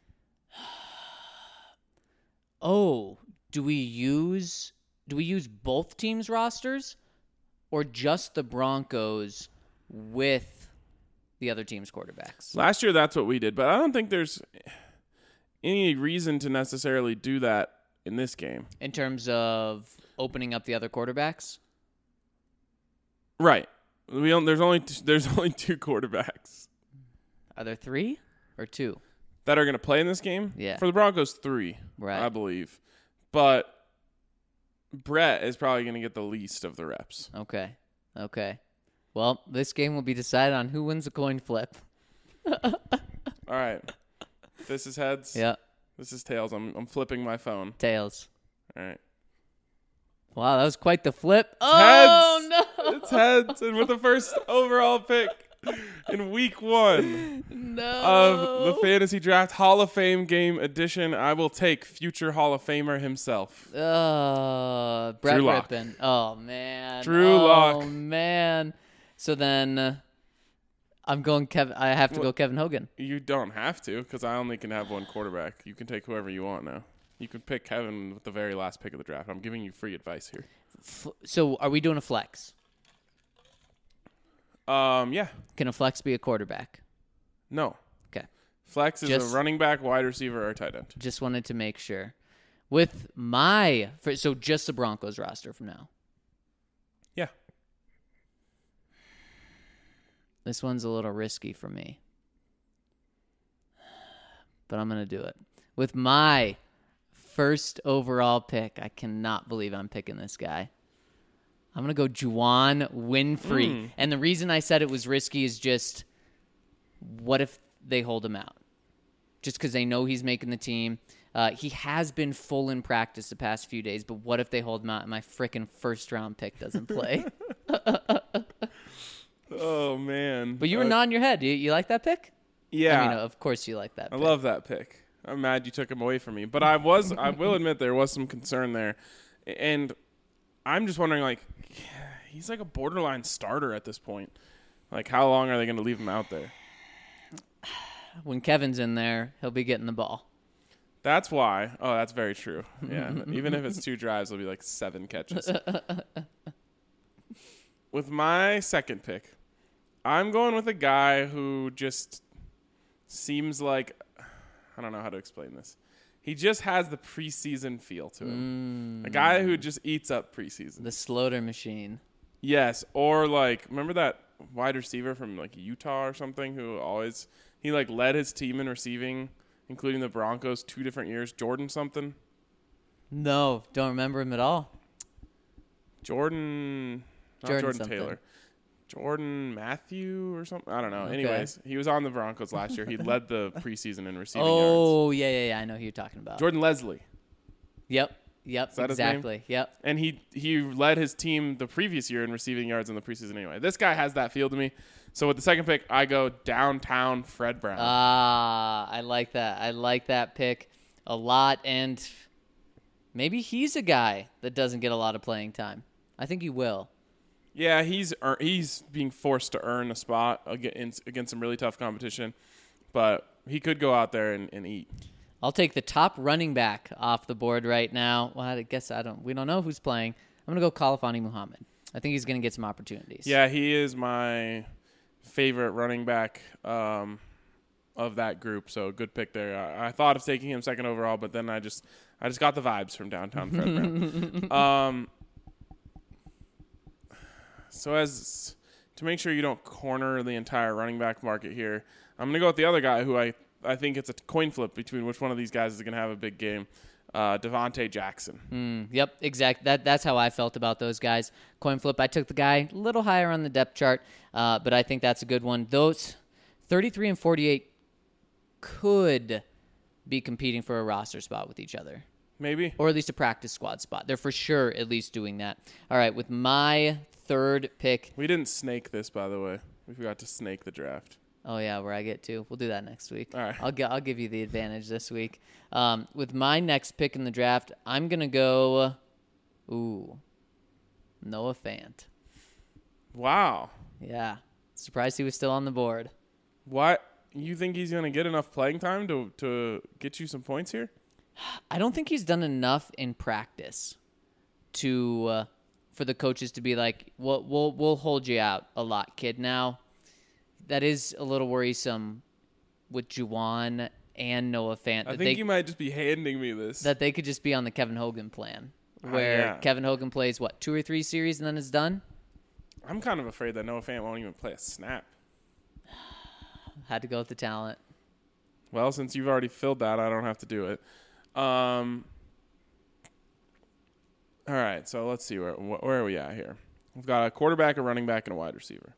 Oh, do we use both teams' rosters or just the Broncos with the other team's quarterbacks? Last year, that's what we did, but I don't think there's any reason to necessarily do that in this game. In terms of opening up the other quarterbacks? Right. There's only 2 quarterbacks. Are there 3 or 2? That are going to play in this game? Yeah. For the Broncos, 3, right. I believe. But Brett is probably going to get the least of the reps. Okay. Well, this game will be decided on who wins the coin flip. All right. This is heads. Yeah. This is tails. I'm flipping my phone. Tails. All right. Wow, that was quite the flip. Oh, Heads. no. It's heads. And with the first overall pick in week 1 of the Fantasy Draft Hall of Fame Game Edition, I will take future Hall of Famer himself. Brett Drew Lock. Rippon. Oh, man. Drew Lock. Oh, man. So then I'm going I have to go Kevin Hogan. You don't have to because I only can have 1 quarterback. You can take whoever you want now. You can pick Kevin with the very last pick of the draft. I'm giving you free advice here. So are we doing a flex? Yeah. Can a flex be a quarterback? No. Okay. Flex is a running back, wide receiver, or tight end. Just wanted to make sure. So just the Broncos roster from now. Yeah. This one's a little risky for me. But I'm going to do it. With my first overall pick, I cannot believe I'm picking this guy. I'm going to go Juwan Winfrey. And the reason I said it was risky is just What if they hold him out? Just because they know he's making the team. He has been full in practice the past few days, but what if they hold him out and my freaking first-round pick doesn't play? Oh, man. But you were nodding your head. You like that pick? Yeah. I mean, of course you like that I pick. love that pick. I'm mad you took him away from me. But I will admit there was some concern there. And I'm just wondering, like, he's like a borderline starter at this point. Like, how long are they going to leave him out there? When Kevin's in there, he'll be getting the ball. That's why. Oh, that's very true. Yeah. Even if it's 2 drives, it'll be like 7 catches. With my second pick, I'm going with a guy who just seems like, I don't know how to explain this. He just has the preseason feel to him. A guy who just eats up preseason. The Sloter machine. Yes. Or like, remember that wide receiver from like Utah or something who always, he like led his team in receiving, including the Broncos 2 different years. Jordan something. No, don't remember him at all. Jordan something. Taylor. Jordan Matthew or something. I don't know. Okay. Anyways, he was on the Broncos last year. He led the preseason in receiving yards. Oh, yeah. I know who you're talking about. Jordan Leslie. Yep, Is that exactly. his name? Yep. And he led his team the previous year in receiving yards in the preseason anyway. This guy has that feel to me. So with the second pick, I go downtown Fred Brown. I like that. I like that pick a lot. And maybe he's a guy that doesn't get a lot of playing time. I think he will. Yeah, he's being forced to earn a spot against some really tough competition. But he could go out there and eat. I'll take the top running back off the board right now. Well, I guess we don't know who's playing. I'm going to go Khalfani Muhammad. I think he's going to get some opportunities. Yeah, he is my favorite running back of that group. So good pick there. I thought of taking him second overall, but then I just got the vibes from downtown Fred Brown. So as to make sure you don't corner the entire running back market here, I'm going to go with the other guy who I think it's a coin flip between which one of these guys is going to have a big game, Devontae Jackson. Yep, exactly. That's how I felt about those guys. Coin flip, I took the guy a little higher on the depth chart, but I think that's a good one. Those 33 and 48 could be competing for a roster spot with each other. Maybe. Or at least a practice squad spot. They're for sure at least doing that. All right, with my third pick. We didn't snake this, by the way. We forgot to snake the draft. Oh, yeah, where I get to. We'll do that next week. All right. I'll give you the advantage this week. With my next pick in the draft, I'm going to go, Noah Fant. Wow. Yeah. Surprised he was still on the board. What? You think he's going to get enough playing time to get you some points here? I don't think he's done enough in practice for the coaches to be like, we'll hold you out a lot, kid. Now, that is a little worrisome with Juwan and Noah Fant. I think you might just be handing me this. That they could just be on the Kevin Hogan plan, where Kevin Hogan plays, 2 or 3 series and then it's done? I'm kind of afraid that Noah Fant won't even play a snap. Had to go with the talent. Well, since you've already filled that, I don't have to do it. All right, so let's see. Where are we at here? We've got a quarterback, a running back, and a wide receiver.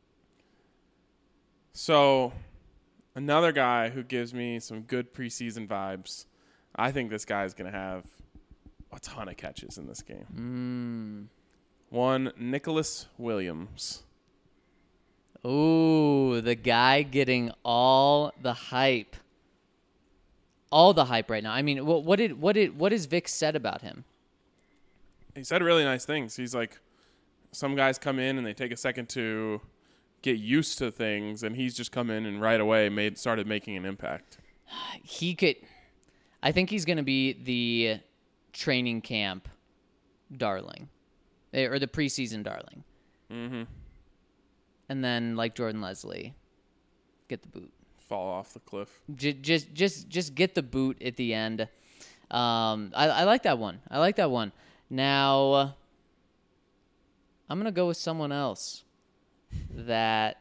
So another guy who gives me some good preseason vibes. I think this guy is going to have a ton of catches in this game. One, Nicholas Williams. Ooh, the guy getting all the hype. All the hype right now. I mean, what has Vic said about him? He said really nice things. He's like, some guys come in and they take a second to get used to things, and he's just come in and right away started making an impact. I think he's going to be the training camp darling, or the preseason darling. Mm-hmm. And then, like Jordan Leslie, get the boot. Fall off the cliff. Just get the boot at the end. I like that one. Now, I'm gonna go with someone else. That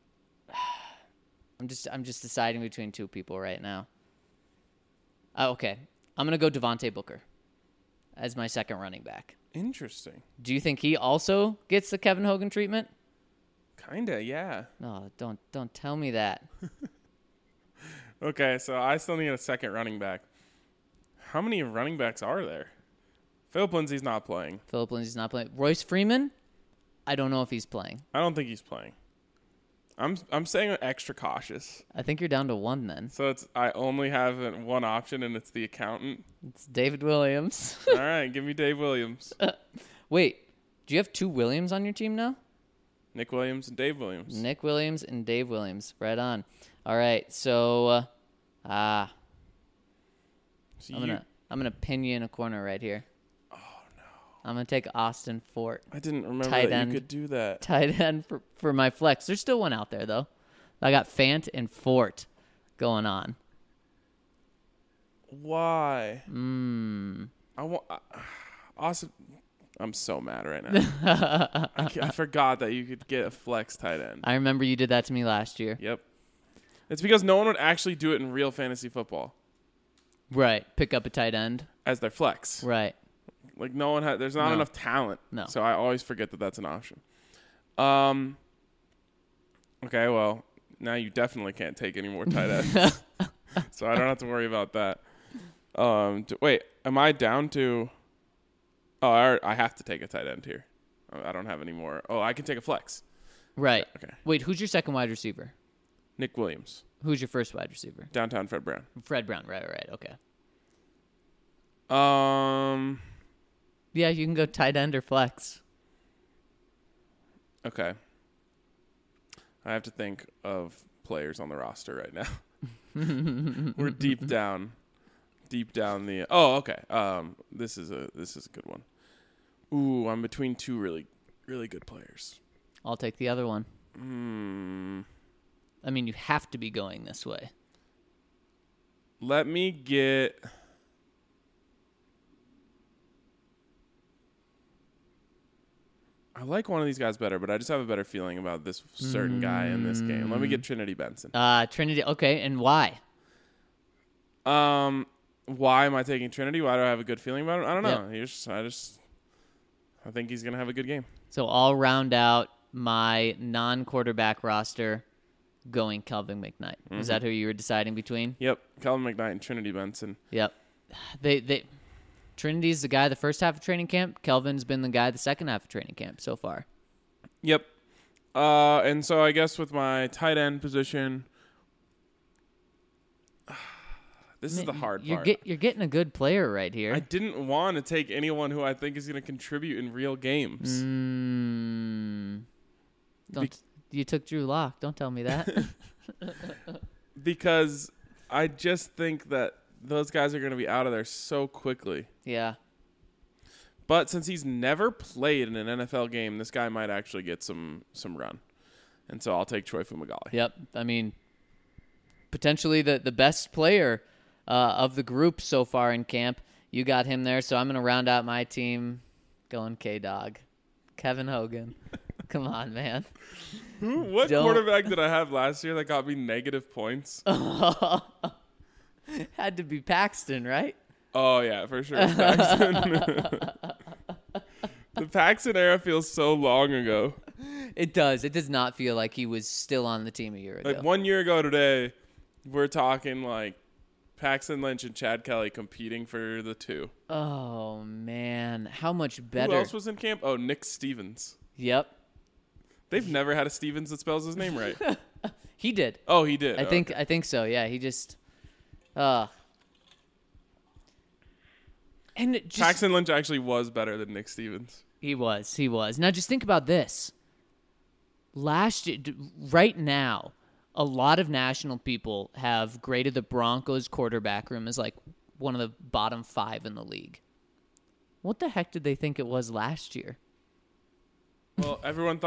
I'm just deciding between 2 people right now. Okay, I'm gonna go Devontae Booker as my second running back. Interesting. Do you think he also gets the Kevin Hogan treatment? Kinda, yeah. No, don't tell me that. Okay, so I still need a second running back. How many running backs are there? Philip Lindsay's not playing. Philip Lindsay's not playing. Royce Freeman, I don't know if he's playing. I don't think he's playing. I'm saying extra cautious. I think you're down to one then. So I only have one option, and it's the accountant. It's David Williams. All right, give me Dave Williams. Wait, do you have 2 Williams on your team now? Nick Williams and Dave Williams. Nick Williams and Dave Williams. Right on. All right, so So I'm gonna pin you in a corner right here. Oh no! I'm gonna take Austin Fort, I didn't remember Tight that end. you could do that. tight end for my flex. There's still one out there though. I got Fant and Fort going on. Why? I want Austin. I'm so mad right now. I forgot that you could get a flex tight end. I remember you did that to me last year. Yep. It's because no one would actually do it in real fantasy football Right. Pick up a tight end. as their flex. Right. Like no one there's not No. enough talent. No. So I always forget that that's an option. Okay, well, now you definitely can't take any more tight ends. So I don't have to worry about that. Wait, am I down to I have to take a tight end here. I don't have any more. Oh, I can take a flex. Right. Okay. Wait, who's your second wide receiver? Nick Williams, Who's your first wide receiver? downtown Fred Brown. Fred Brown. Right. Okay. Yeah, you can go tight end or flex. Okay. I have to think of players on the roster right now. We're deep down the. Oh, okay. This is a good one. Ooh, I'm between two really, really good players. I'll take the other one. I mean, you have to be going this way. Let me get. I like one of these guys better, but I just have a better feeling about this certain guy in this game. Let me get Trinity Benson. Trinity. Okay, and why? Why am I taking Trinity? Why do I have a good feeling about him? I don't know. Yep. I think he's gonna have a good game. So I'll round out my non-quarterback roster going Kelvin McKnight. Is that who you were deciding between? Yep, Calvin McKnight and Trinity Benson. Yep. Trinity's the guy the first half of training camp. Kelvin's been the guy the second half of training camp so far. Yep. And so I guess with my tight end position, this is the hard part. You're getting a good player right here. I didn't want to take anyone who I think is going to contribute in real games. You took Drew Lock. Don't tell me that. Because I just think that those guys are going to be out of there so quickly. Yeah. But since he's never played in an NFL game, this guy might actually get some run. And so I'll take Troy Fumagalli. Yep. I mean, potentially the best player of the group so far in camp. You got him there, so I'm going to round out my team going K-Dog. Kevin Hogan. Come on, man. What quarterback did I have last year that got me negative points? Had to be Paxton, right? Oh, yeah, for sure. Paxton. The Paxton era feels so long ago. It does. It does not feel like he was still on the team a year ago. Like 1 year ago today, we're talking like Paxton Lynch and Chad Kelly competing for the 2. Oh, man. How much better. Who else was in camp? Oh, Nick Stevens. Yep. They've never had a Stevens that spells his name right. He did. Oh, he did. I think so. Yeah, he just and it just Paxton Lynch actually was better than Nick Stevens. He was. Now just think about this. Last year, right now, a lot of national people have graded the Broncos quarterback room as like one of the bottom 5 in the league. What the heck did they think it was last year? Well, everyone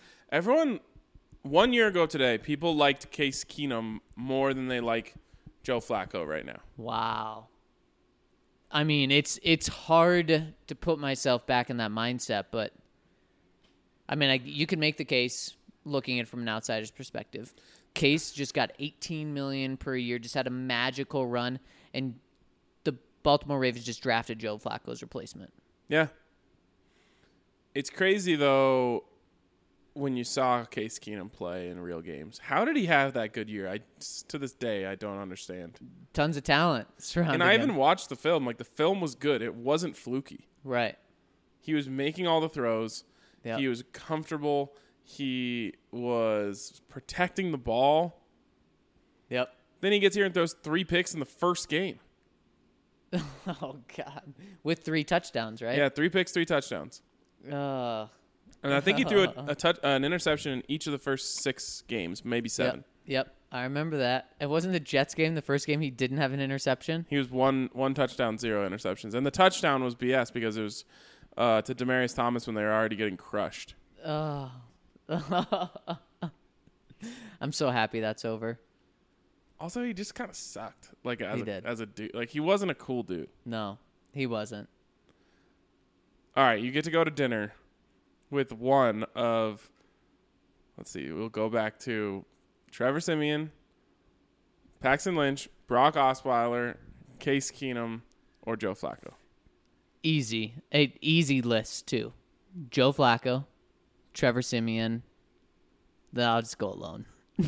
1 year ago today, people liked Case Keenum more than they like Joe Flacco right now. Wow. I mean, it's hard to put myself back in that mindset, but I mean, you can make the case looking at it from an outsider's perspective. Case just got $18 million per year, just had a magical run, and the Baltimore Ravens just drafted Joe Flacco's replacement. Yeah. It's crazy, though. when you saw Case Keenum play in real games. How did he have that good year? To this day, I don't understand. Tons of talent surrounding And I him. even watched the film. Like, the film was good. It wasn't fluky. Right. He was making all the throws. Yep. He was comfortable. He was protecting the ball. Yep. Then he gets here and throws 3 picks in the first game. Oh, God. With 3 touchdowns, right? Yeah, 3 picks, 3 touchdowns. And I think he threw an interception in each of the first 6 games, maybe 7. Yep. I remember that. It wasn't the Jets game, the first game he didn't have an interception. He was one touchdown, 0 interceptions. And the touchdown was BS because it was to Demaryius Thomas when they were already getting crushed. Oh. I'm so happy that's over. Also, he just kind of sucked. Like, He did. as a dude. Like, he wasn't a cool dude. No, he wasn't. All right, you get to go to dinner with one of, let's see, we'll go back to Trevor Siemian, Paxton Lynch, Brock Osweiler, Case Keenum, or Joe Flacco. Easy. An easy list, too. Joe Flacco, Trevor Siemian. Then I'll just go alone.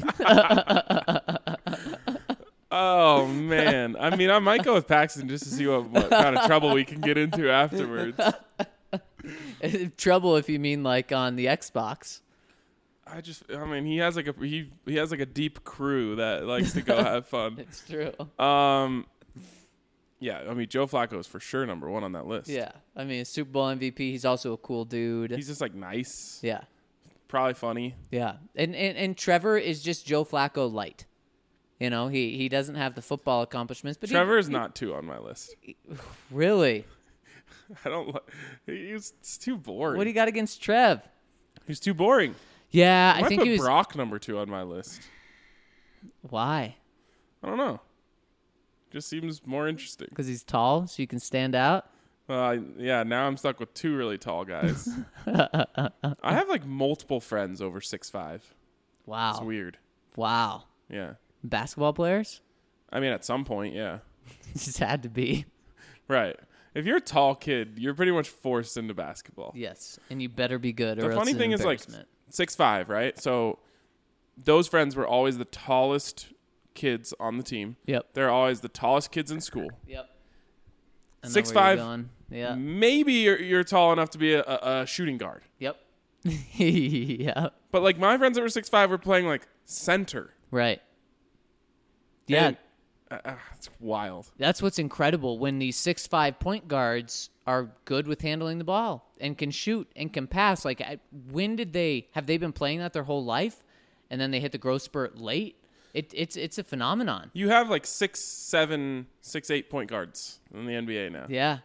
Oh, man. I mean, I might go with Paxton just to see what kind of trouble we can get into afterwards. Trouble if you mean like on the Xbox. I mean, he has like a deep crew that likes to go have fun. It's true. Yeah, I mean, Joe Flacco is for sure number 1 on that list. Yeah. I mean, a Super Bowl MVP. He's also a cool dude. He's just like nice. Yeah. Probably funny. Yeah. And Trevor is just Joe Flacco light. You know, he doesn't have the football accomplishments, but Trevor is not 2 on my list. Really? I don't. It's too boring. What do you got against Trev? He's too boring. Yeah, I I might think put he was. Brock number 2 on my list. Why? I don't know. Just seems more interesting. Because he's tall, so you can stand out. Yeah. Now I'm stuck with 2 really tall guys. I have like multiple friends over 6'5". Wow. It's weird. Wow. Yeah. Basketball players? I mean, at some point, yeah. Just had to be. Right. If you're a tall kid, you're pretty much forced into basketball. Yes, and you better be good. The or else funny it's thing an is, like, embarrassment. 6'5", right? So those friends were always the tallest kids on the team. Yep. They're always the tallest kids in school. Yep. 6'5". Yeah. Maybe you're tall enough to be a shooting guard. Yep. Yeah. But like my friends that were 6'5" were playing like center. Right. Yeah. And, it's wild. That's what's incredible when these 6'5" point guards are good with handling the ball and can shoot and can pass. Like, when have they been playing that their whole life, and then they hit the growth spurt late? It's a phenomenon. You have like 6'7", 6'8" point guards in the NBA now. Yeah.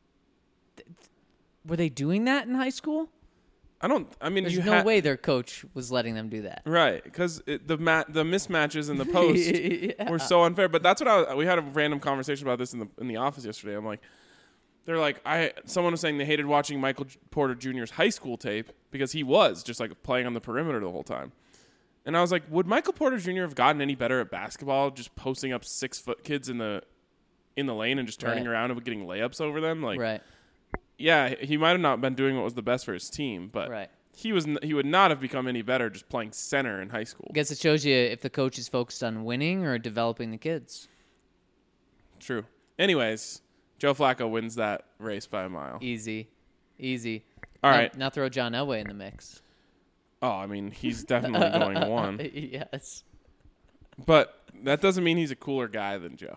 Were they doing that in high school? I mean, There's no way their coach was letting them do that. Right, because the mismatches in the post were so unfair. But that's what we had a random conversation about this in the office yesterday. I'm like, they're like, someone was saying they hated watching Michael Porter Jr.'s high school tape because he was just like playing on the perimeter the whole time. And I was like, would Michael Porter Jr. have gotten any better at basketball just posting up 6-foot kids in the lane and just turning around and getting layups over them? Like, Right. Yeah, he might have not been doing what was the best for his team, but Right. he would not have become any better just playing center in high school. I guess it shows you if the coach is focused on winning or developing the kids. True. Anyways, Joe Flacco wins that race by a mile. Easy. All right. Now throw John Elway in the mix. Oh, I mean, he's definitely going 1. Yes. But that doesn't mean he's a cooler guy than Joe.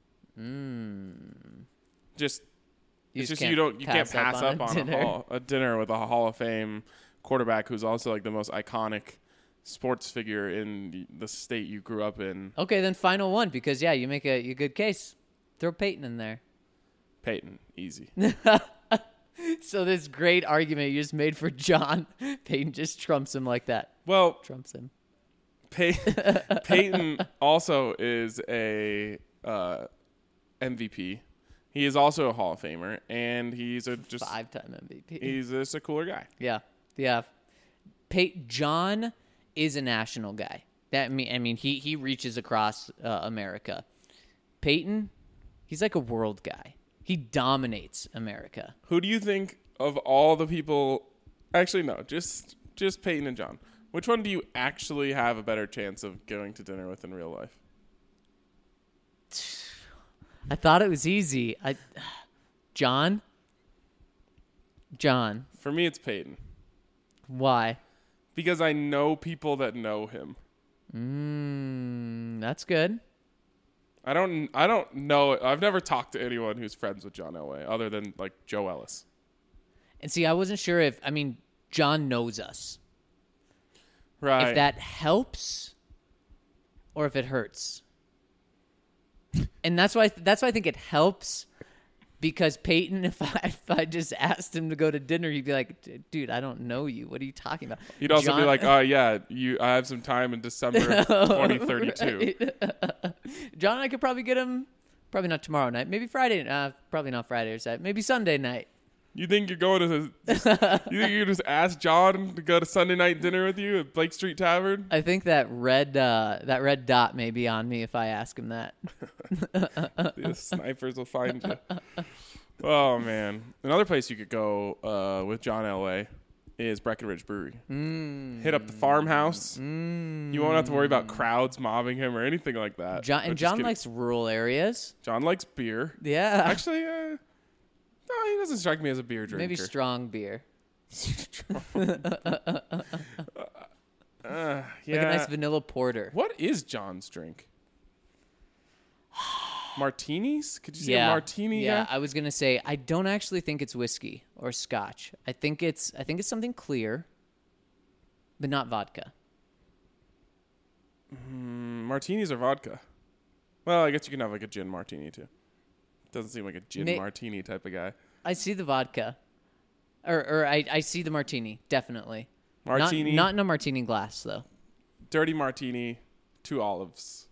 Just You it's just just you can't pass up on dinner. a dinner with a Hall of Fame quarterback who's also like the most iconic sports figure in the state you grew up in. Okay, then final one, because you make a good case. Throw Peyton in there. Peyton, easy. So this great argument you just made for John, Peyton just trumps him like that. Well, Trumps him. Peyton also is a MVP. He is also a Hall of Famer, and he's just 5-time MVP. He's just a cooler guy. Yeah. John is a national guy. I mean, he reaches across America. Peyton, he's like a world guy. He dominates America. Who do you think of all the people? Actually, no. Just just Peyton and John. Which one do you actually have a better chance of going to dinner with in real life? I thought it was easy. John. For me, it's Peyton. Why? Because I know people that know him. That's good. I don't know. I've never talked to anyone who's friends with John Elway other than like Joe Ellis. And see, I wasn't sure if John knows us. Right. If that helps or if it hurts. And that's why I think it helps, because Peyton, if I just asked him to go to dinner, he'd be like, dude, I don't know you. What are you talking about? He'd also be like, oh, yeah, I have some time in December of 2032. Right. John and I could probably get him, probably not tomorrow night, maybe Friday, probably not Friday or Saturday, maybe Sunday night. You think you're going to you think you just ask John to go to Sunday night dinner with you at Blake Street Tavern? I think that red dot may be on me if I ask him that. The snipers will find you. Oh, man. Another place you could go with John Elway is Breckenridge Brewery. Hit up the farmhouse. You won't have to worry about crowds mobbing him or anything like that. John likes rural areas. John likes beer. Yeah. Actually, no, he doesn't strike me as a beer drinker. Maybe strong beer. Yeah. Like a nice vanilla porter. What is John's drink? Martinis? Could you say a martini? Yeah, guy? I was gonna say I don't actually think it's whiskey or scotch. I think it's something clear, but not vodka. Martinis or vodka? Well, I guess you can have like a gin martini too. Doesn't seem like a gin martini type of guy. I see the vodka, or I see the martini definitely. Martini, not in a martini glass though. Dirty martini, 2 olives.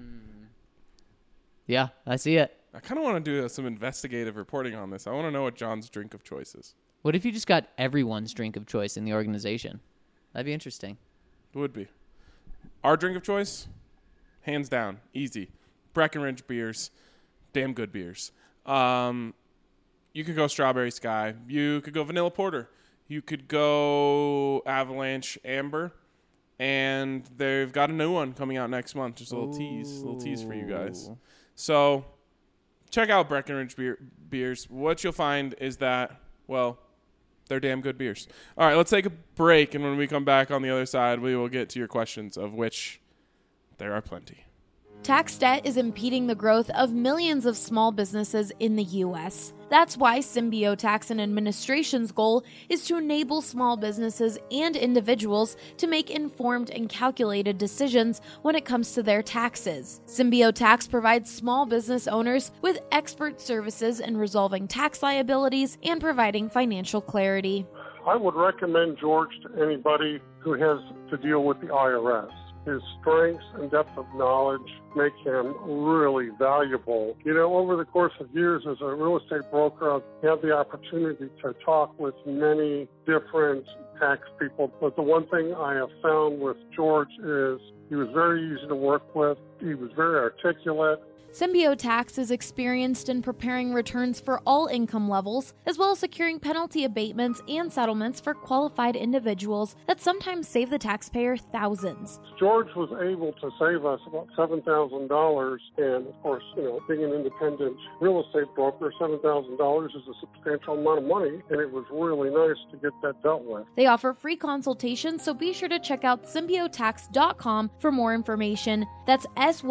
Yeah, I see it. I kind of want to do some investigative reporting on this. I want to know what John's drink of choice is. What if you just got everyone's drink of choice in the organization? That'd be interesting. It would be. Our drink of choice, hands down, easy. Breckenridge beers, damn good beers. You could go Strawberry Sky. You could go Vanilla Porter. You could go Avalanche Amber. And they've got a new one coming out next month. Just a little tease for you guys. So check out Breckenridge beers. What you'll find is that, well, they're damn good beers. All right, let's take a break. And when we come back on the other side, we will get to your questions, of which there are plenty. Tax debt is impeding the growth of millions of small businesses in the U.S. That's why Symbio Tax and Administration's goal is to enable small businesses and individuals to make informed and calculated decisions when it comes to their taxes. Symbio Tax provides small business owners with expert services in resolving tax liabilities and providing financial clarity. I would recommend George to anybody who has to deal with the IRS. His strengths and depth of knowledge make him really valuable. You know, over the course of years as a real estate broker, I've had the opportunity to talk with many different tax people. But the one thing I have found with George is he was very easy to work with. He was very articulate. Symbio Tax is experienced in preparing returns for all income levels, as well as securing penalty abatements and settlements for qualified individuals that sometimes save the taxpayer thousands. George was able to save us about $7,000, and of course, you know, being an independent real estate broker, $7,000 is a substantial amount of money, and it was really nice to get that dealt with. They offer free consultations, so be sure to check out symbiotax.com for more information. That's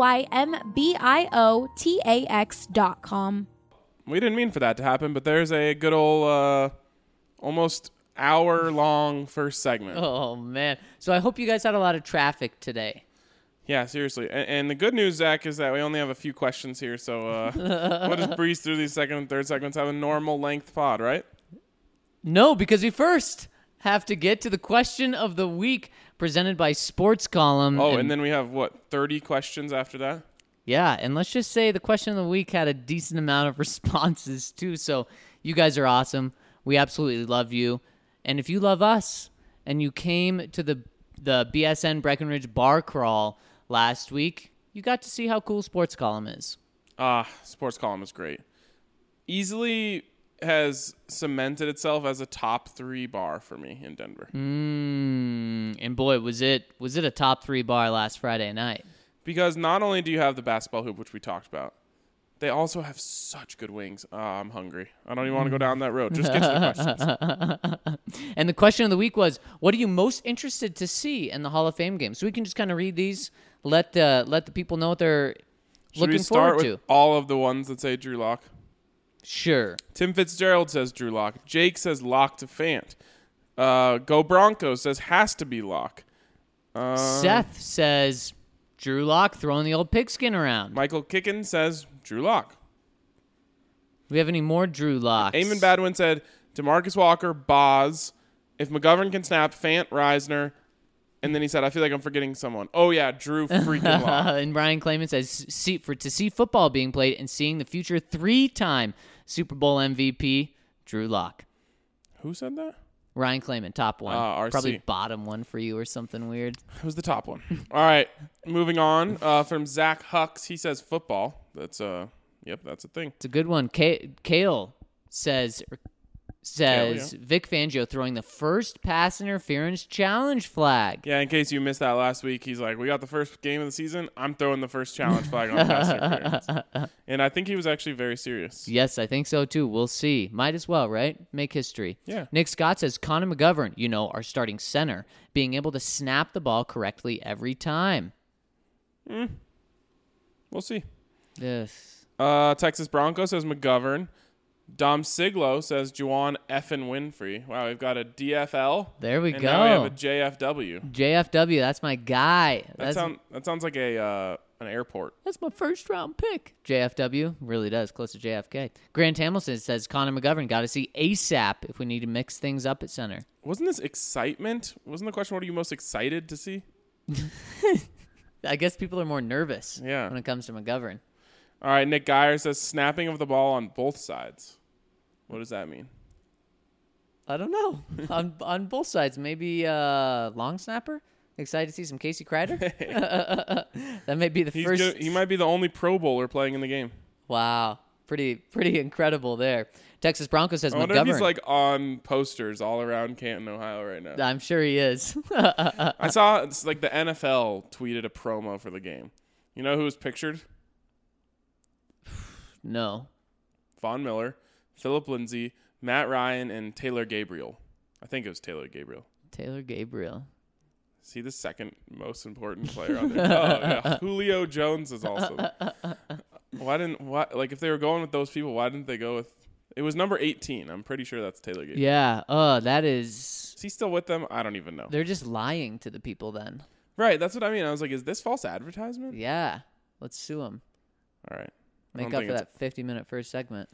SYMBIOTAX.com. We didn't mean for that to happen, but there's a good old almost hour-long first segment. Oh, man. So I hope you guys had a lot of traffic today. Yeah, seriously. And the good news, Zach, is that we only have a few questions here, so we'll just breeze through these second and third segments, have a normal length pod, right? No, because we first have to get to the question of the week presented by Sports Column. Oh, and then we have, 30 questions after that? Yeah, and let's just say the question of the week had a decent amount of responses, too. So you guys are awesome. We absolutely love you. And if you love us and you came to the BSN Breckenridge bar crawl last week, you got to see how cool Sports Column is. Sports Column is great. Easily has cemented itself as a top 3 bar for me in Denver. And boy, was it a top 3 bar last Friday night. Because not only do you have the basketball hoop, which we talked about, they also have such good wings. I'm hungry. I don't even want to go down that road. Just get to the questions. And the question of the week was, what are you most interested to see in the Hall of Fame game? So we can just kind of read these, let the people know what they're looking forward to. Should we start with all of the ones that say Drew Lock? Sure. Tim Fitzgerald says Drew Lock. Jake says Lock to Fant. Go Broncos says has to be Lock. Seth says Drew Lock throwing the old pigskin around. Michael Kicken says Drew Lock. We have any more Drew Locks? Eamon Badwin said DeMarcus Walker, Boz. If McGovern can snap, Fant, Reisner. And then he said, I feel like I'm forgetting someone. Oh, yeah, Drew freaking Lock. And Brian Clayman says, to see football being played and seeing the future 3-time Super Bowl MVP, Drew Lock. Who said that? Ryan Clayman, top one. RC. Probably bottom one for you or something weird. It was the top one. All right, moving on. From Zach Hucks, he says football. That's that's a thing. It's a good one. Kale says Vic Fangio throwing the first pass interference challenge flag. Yeah, in case you missed that last week, he's like, we got the first game of the season. I'm throwing the first challenge flag on pass interference. And I think he was actually very serious. Yes, I think so too. We'll see. Might as well, right? Make history. Yeah. Nick Scott says Connor McGovern, our starting center, being able to snap the ball correctly every time. We'll see. Yes. Texas Broncos says McGovern. Dom Siglo says Juwan effin Winfrey. Wow, we've got a DFL. There we and go. Now we have a JFW. JFW, that's my guy. That sounds like an airport. That's my first round pick. JFW really does, close to JFK. Grant Hamilton says Connor McGovern got to see ASAP if we need to mix things up at center. Wasn't this excitement? Wasn't the question, what are you most excited to see? I guess people are more nervous when it comes to McGovern. All right, Nick Geyer says snapping of the ball on both sides. What does that mean? I don't know. on both sides, maybe long snapper. Excited to see some Casey Kreider. That may be the first. He might be the only Pro Bowler playing in the game. Wow, pretty incredible there. Texas Broncos says I wonder McGovern. if he's like on posters all around Canton, Ohio right now. I'm sure he is. I saw it's like the NFL tweeted a promo for the game. You know who was pictured? No. Von Miller, Philip Lindsay, Matt Ryan, and Taylor Gabriel. I think it was Taylor Gabriel. Taylor Gabriel. Is he the second most important player on there? Oh, yeah. Julio Jones is also. If they were going with those people, why didn't they go with? It was number 18. I'm pretty sure that's Taylor Gabriel. Yeah. That is. Is he still with them? I don't even know. They're just lying to the people then. Right. That's what I mean. I was like, is this false advertisement? Yeah. Let's sue them. All right. Make up for that 50-minute first segment.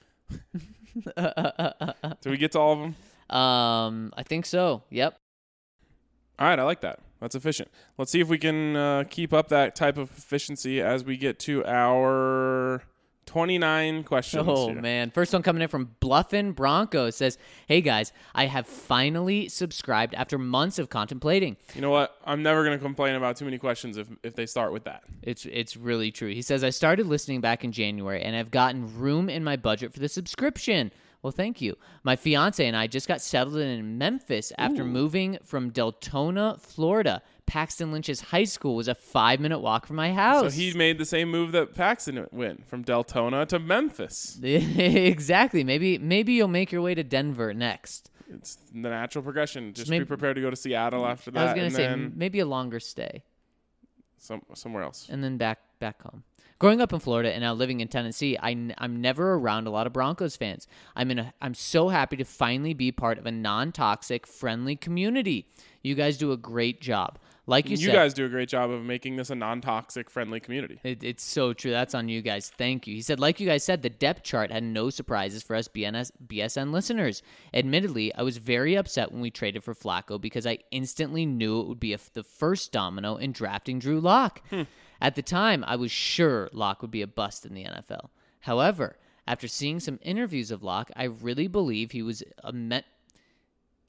Do we get to all of them? I think so. Yep. All right. I like that. That's efficient. Let's see if we can keep up that type of efficiency as we get to our 29 questions. Oh, here. man. First one coming in from Bluffin Bronco says, hey, guys, I have finally subscribed after months of contemplating. You know what? I'm never going to complain about too many questions if they start with that. It's really true. He says, I started listening back in January, and I've gotten room in my budget for the subscription. Well, thank you. My fiance and I just got settled in Memphis after moving from Deltona, Florida. Paxton Lynch's high school was a 5-minute walk from my house. So he made the same move that Paxton went from Deltona to Memphis. Exactly. Maybe you'll make your way to Denver next. It's the natural progression. Just be prepared to go to Seattle after that. I was going to say maybe a longer stay. Somewhere else. And then back home. Growing up in Florida and now living in Tennessee, I'm never around a lot of Broncos fans. I'm so happy to finally be part of a non-toxic, friendly community. You guys do a great job. Like you said, guys do a great job of making this a non-toxic, friendly community. It's so true. That's on you guys. Thank you. He said, like you guys said, the depth chart had no surprises for us BSN listeners. Admittedly, I was very upset when we traded for Flacco because I instantly knew it would be the first domino in drafting Drew Lock. At the time, I was sure Lock would be a bust in the NFL. However, after seeing some interviews of Lock, I really believe he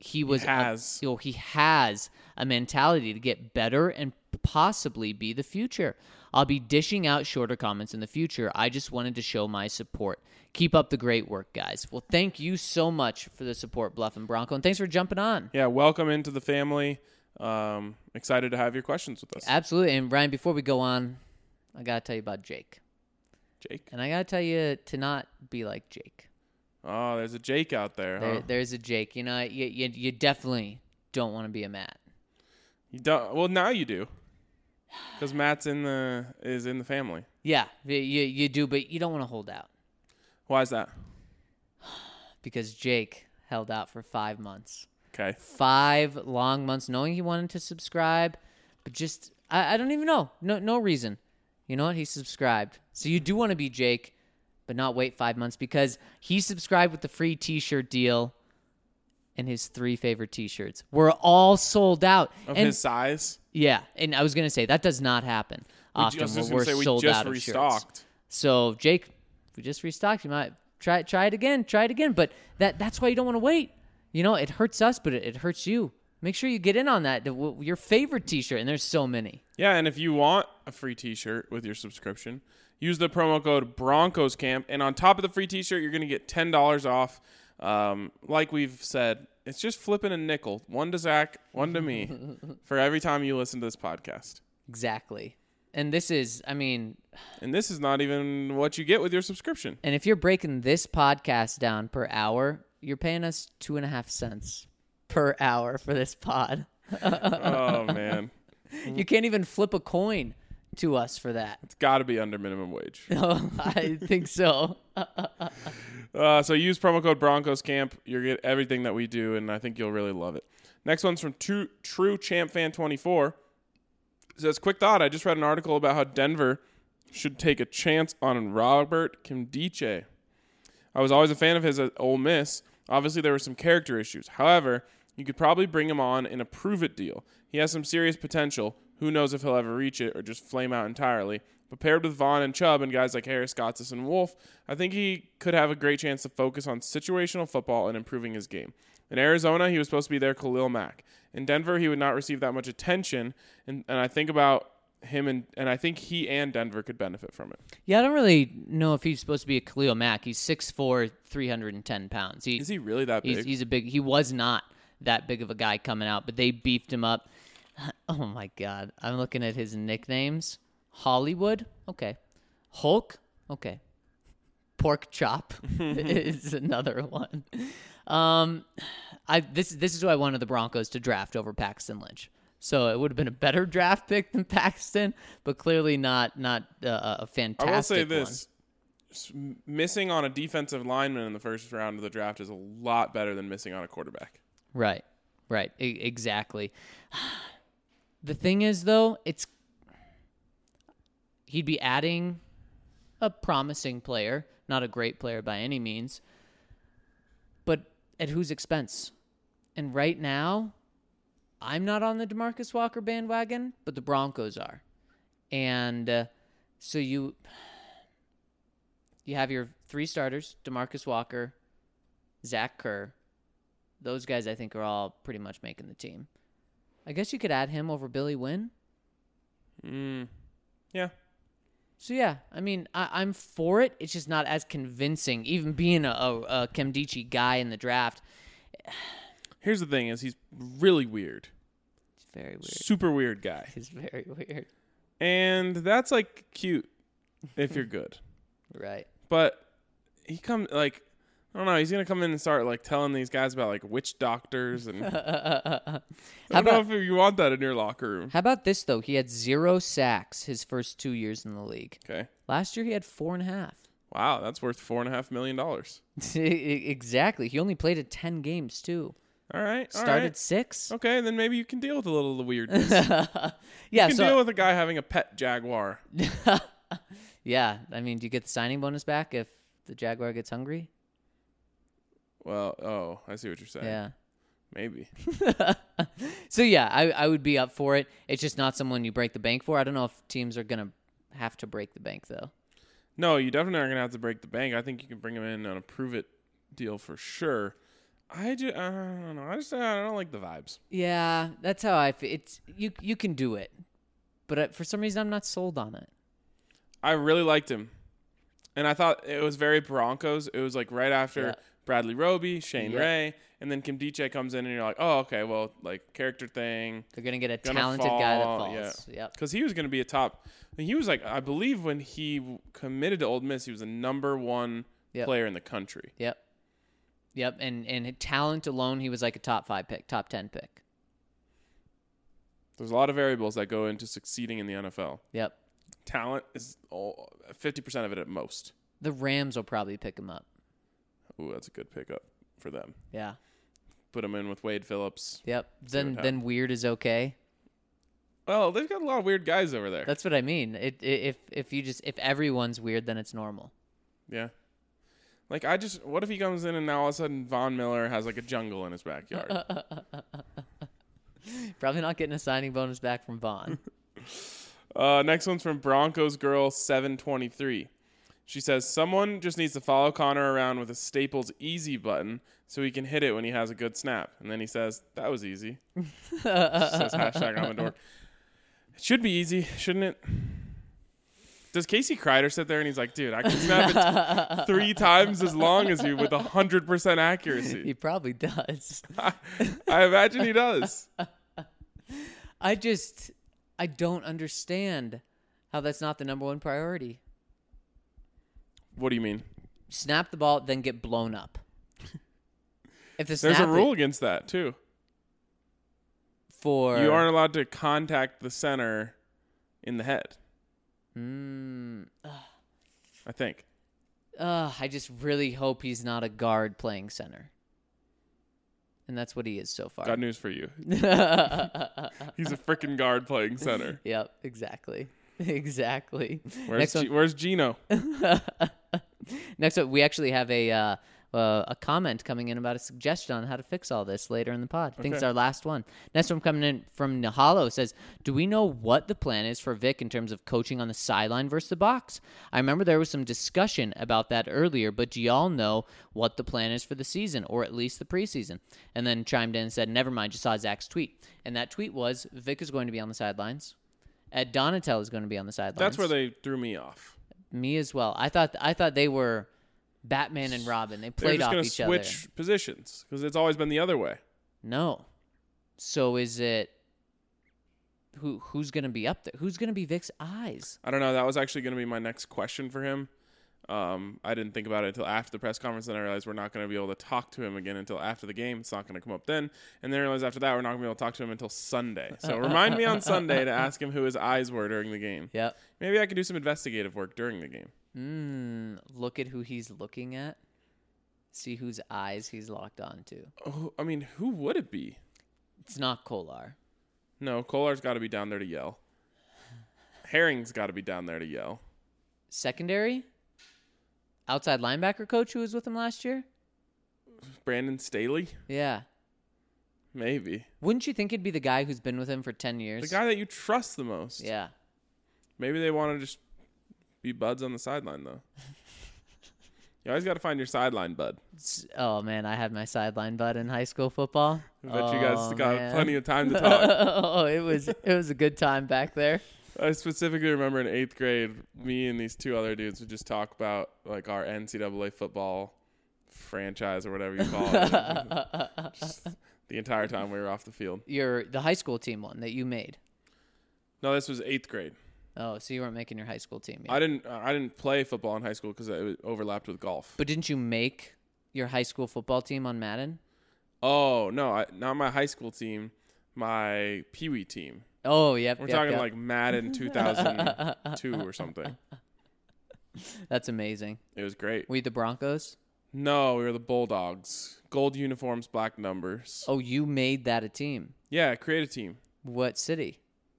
he was has. he has a mentality to get better and possibly be the future. I'll be dishing out shorter comments in the future. I just wanted to show my support. Keep up the great work, guys. Well, thank you so much for the support, Bluff and Bronco, and thanks for jumping on. Yeah, welcome into the family. Excited to have your questions with us. Absolutely. And Ryan, before we go on, I got to tell you about Jake. Jake? And I got to tell you to not be like Jake. Oh, there's a Jake out there, huh? There's a Jake. You know, you definitely don't want to be a Matt. You don't. Well, now you do, because Matt's is in the family. Yeah, you do, but you don't want to hold out. Why is that? Because Jake held out for 5 months. Okay. 5 long months, knowing he wanted to subscribe, but just I don't even know. No reason. You know what? He subscribed. So you do want to be Jake, but not wait 5 months, because he subscribed with the free T-shirt deal, and his 3 favorite T-shirts were all sold out. Of his size? Yeah, and I was going to say, that does not happen often. We're sold out of shirts. So, Jake, we just restocked. You might try it again. But that's why you don't want to wait. You know, it hurts us, but it hurts you. Make sure you get in on that. Your favorite T-shirt, and there's so many. Yeah, and if you want a free T-shirt with your subscription, use the promo code BroncosCamp, and on top of the free T-shirt, you're going to get $10 off. Like we've said, it's just flipping a nickel, one to Zach, one to me, for every time you listen to this podcast. Exactly. And this is not even what you get with your subscription. And if you're breaking this podcast down per hour, you're paying us 2.5 cents per hour for this pod. Oh, man. You can't even flip a coin to us for that. It's got to be under minimum wage. Oh, I think so. So use promo code BroncosCamp. You'll get everything that we do, and I think you'll really love it. Next one's from True Champ Fan 24. It says, quick thought, I just read an article about how Denver should take a chance on Robert Kimdiche. I was always a fan of his at Ole Miss. Obviously, there were some character issues. However, you could probably bring him on in a prove-it deal. He has some serious potential. Who knows if he'll ever reach it or just flame out entirely. But paired with Vaughn and Chubb and guys like Harris, Gotsis, and Wolf, I think he could have a great chance to focus on situational football and improving his game. In Arizona, he was supposed to be their Khalil Mack. In Denver, he would not receive that much attention, and I think about him, and I think he and Denver could benefit from it. Yeah, I don't really know if he's supposed to be a Khalil Mack. He's 6'4", 310 pounds. Is he really that big? He was not that big of a guy coming out, but they beefed him up. Oh, my God. I'm looking at his nicknames. Hollywood? Okay. Hulk? Okay. Pork Chop is another one. This is who I wanted the Broncos to draft over Paxton Lynch. So it would have been a better draft pick than Paxton, but clearly not a fantastic one. I will say this. Missing on a defensive lineman in the first round of the draft is a lot better than missing on a quarterback. Right. Exactly. The thing is, though, he'd be adding a promising player, not a great player by any means, but at whose expense? And right now, I'm not on the DeMarcus Walker bandwagon, but the Broncos are. And so you have your 3 starters, DeMarcus Walker, Zach Kerr. Those guys, I think, are all pretty much making the team. I guess you could add him over Billy Wynn. Yeah. So, yeah, I mean, I'm for it. It's just not as convincing, even being a Kimdiche guy in the draft. Here's the thing is he's really weird. He's very weird. Super weird guy. He's very weird. And that's, like, cute if you're good. Right. But he comes, like, I don't know. He's going to come in and start, like, telling these guys about, like, witch doctors. And I don't know if you want that in your locker room. How about this, though? He had 0 sacks his first 2 years in the league. Okay. Last year, he had 4.5. Wow, that's worth $4.5 million. Exactly. He only played at 10 games, too. All right. Started 6. Okay, then maybe you can deal with a little of the weirdness. Yeah, you can deal with a guy having a pet Jaguar. Yeah. I mean, do you get the signing bonus back if the Jaguar gets hungry? Well, I see what you're saying. Yeah. Maybe. So, yeah, I would be up for it. It's just not someone you break the bank for. I don't know if teams are going to have to break the bank, though. No, you definitely aren't going to have to break the bank. I think you can bring him in on a prove-it deal for sure. I don't know. I don't like the vibes. Yeah, that's how I feel. It's you can do it, but for some reason I'm not sold on it. I really liked him, and I thought it was very Broncos. It was like right after Bradley Roby, Shane Ray, and then Kim Diche comes in, and you're like, oh, okay, well, like character thing. They're gonna get a talented guy that falls. Yeah, because he was gonna be a top. He was like, I believe when he committed to Ole Miss, he was the number 1 player in the country. Yep, and talent alone, he was like a top 5 pick, top 10 pick. There's a lot of variables that go into succeeding in the NFL. Yep. Talent is 50% of it at most. The Rams will probably pick him up. Ooh, that's a good pickup for them. Yeah. Put him in with Wade Phillips. Yep. Then weird is okay. Well, they've got a lot of weird guys over there. That's what I mean. If everyone's weird, then it's normal. Yeah. Like, what if he comes in and now all of a sudden Von Miller has like a jungle in his backyard? Probably not getting a signing bonus back from Von. Next one's from Broncos Girl 723. She says, someone just needs to follow Connor around with a Staples Easy button so he can hit it when he has a good snap. And then he says, that was easy. She says, hashtag I'm a dork. It should be easy, shouldn't it? Does Casey Kreider sit there and he's like, dude, I can snap it 3 times as long as you with 100% accuracy? He probably does. I imagine he does. I don't understand how that's not the number 1 priority. What do you mean? Snap the ball, then get blown up. There's a rule against that, too. You aren't allowed to contact the center in the head. I think. I just really hope he's not a guard playing center. And that's what he is so far. Got news for you. He's a freaking guard playing center. Yep, exactly. Where's Gino? Next up, we actually have a comment coming in about a suggestion on how to fix all this later in the pod. I think it's our last one. Next one coming in from Nahalo says, do we know what the plan is for Vic in terms of coaching on the sideline versus the box? I remember there was some discussion about that earlier, but do y'all know what the plan is for the season, or at least the preseason? And then chimed in and said, never mind, just saw Zach's tweet. And that tweet was, Vic is going to be on the sidelines. Ed Donatel is going to be on the sidelines. That's where they threw me off. Me as well. I thought they were Batman and Robin. They played off each other. They're just going to switch positions because it's always been the other way. No. So is it who's going to be up there? Who's going to be Vic's eyes? I don't know. That was actually going to be my next question for him. I didn't think about it until after the press conference, and I realized we're not going to be able to talk to him again until after the game. It's not going to come up then. And then I realized after that we're not going to be able to talk to him until Sunday. So remind me on Sunday to ask him who his eyes were during the game. Yep. Maybe I could do some investigative work during the game. Look at who he's looking at. See whose eyes he's locked on to. Oh, I mean, who would it be? It's not Kolar. No, Kolar's got to be down there to yell. Herring's got to be down there to yell. Secondary? Outside linebacker coach who was with him last year? Brandon Staley? Yeah. Maybe. Wouldn't you think it'd be the guy who's been with him for 10 years? The guy that you trust the most. Yeah. Maybe they want to just be buds on the sideline, though. You always got to find your sideline bud. Oh, man, I had my sideline bud in high school football. I bet you guys got plenty of time to talk. Oh, it was a good time back there. I specifically remember in 8th grade, me and these 2 other dudes would just talk about like our NCAA football franchise or whatever you call it. Just the entire time we were off the field. The high school team one that you made. No, this was 8th grade. Oh, so you weren't making your high school team yet. I didn't play football in high school because it overlapped with golf. But didn't you make your high school football team on Madden? Oh, no, not my high school team, my Pee Wee team. Oh, yep. We're talking like Madden 2002 or something. That's amazing. It was great. Were you the Broncos? No, we were the Bulldogs. Gold uniforms, black numbers. Oh, you made that a team? Yeah, create a team. What city?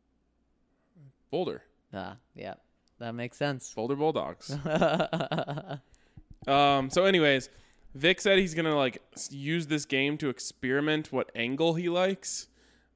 Boulder. Yeah. That makes sense. Boulder Bulldogs. So anyways, Vic said he's going to like use this game to experiment what angle he likes.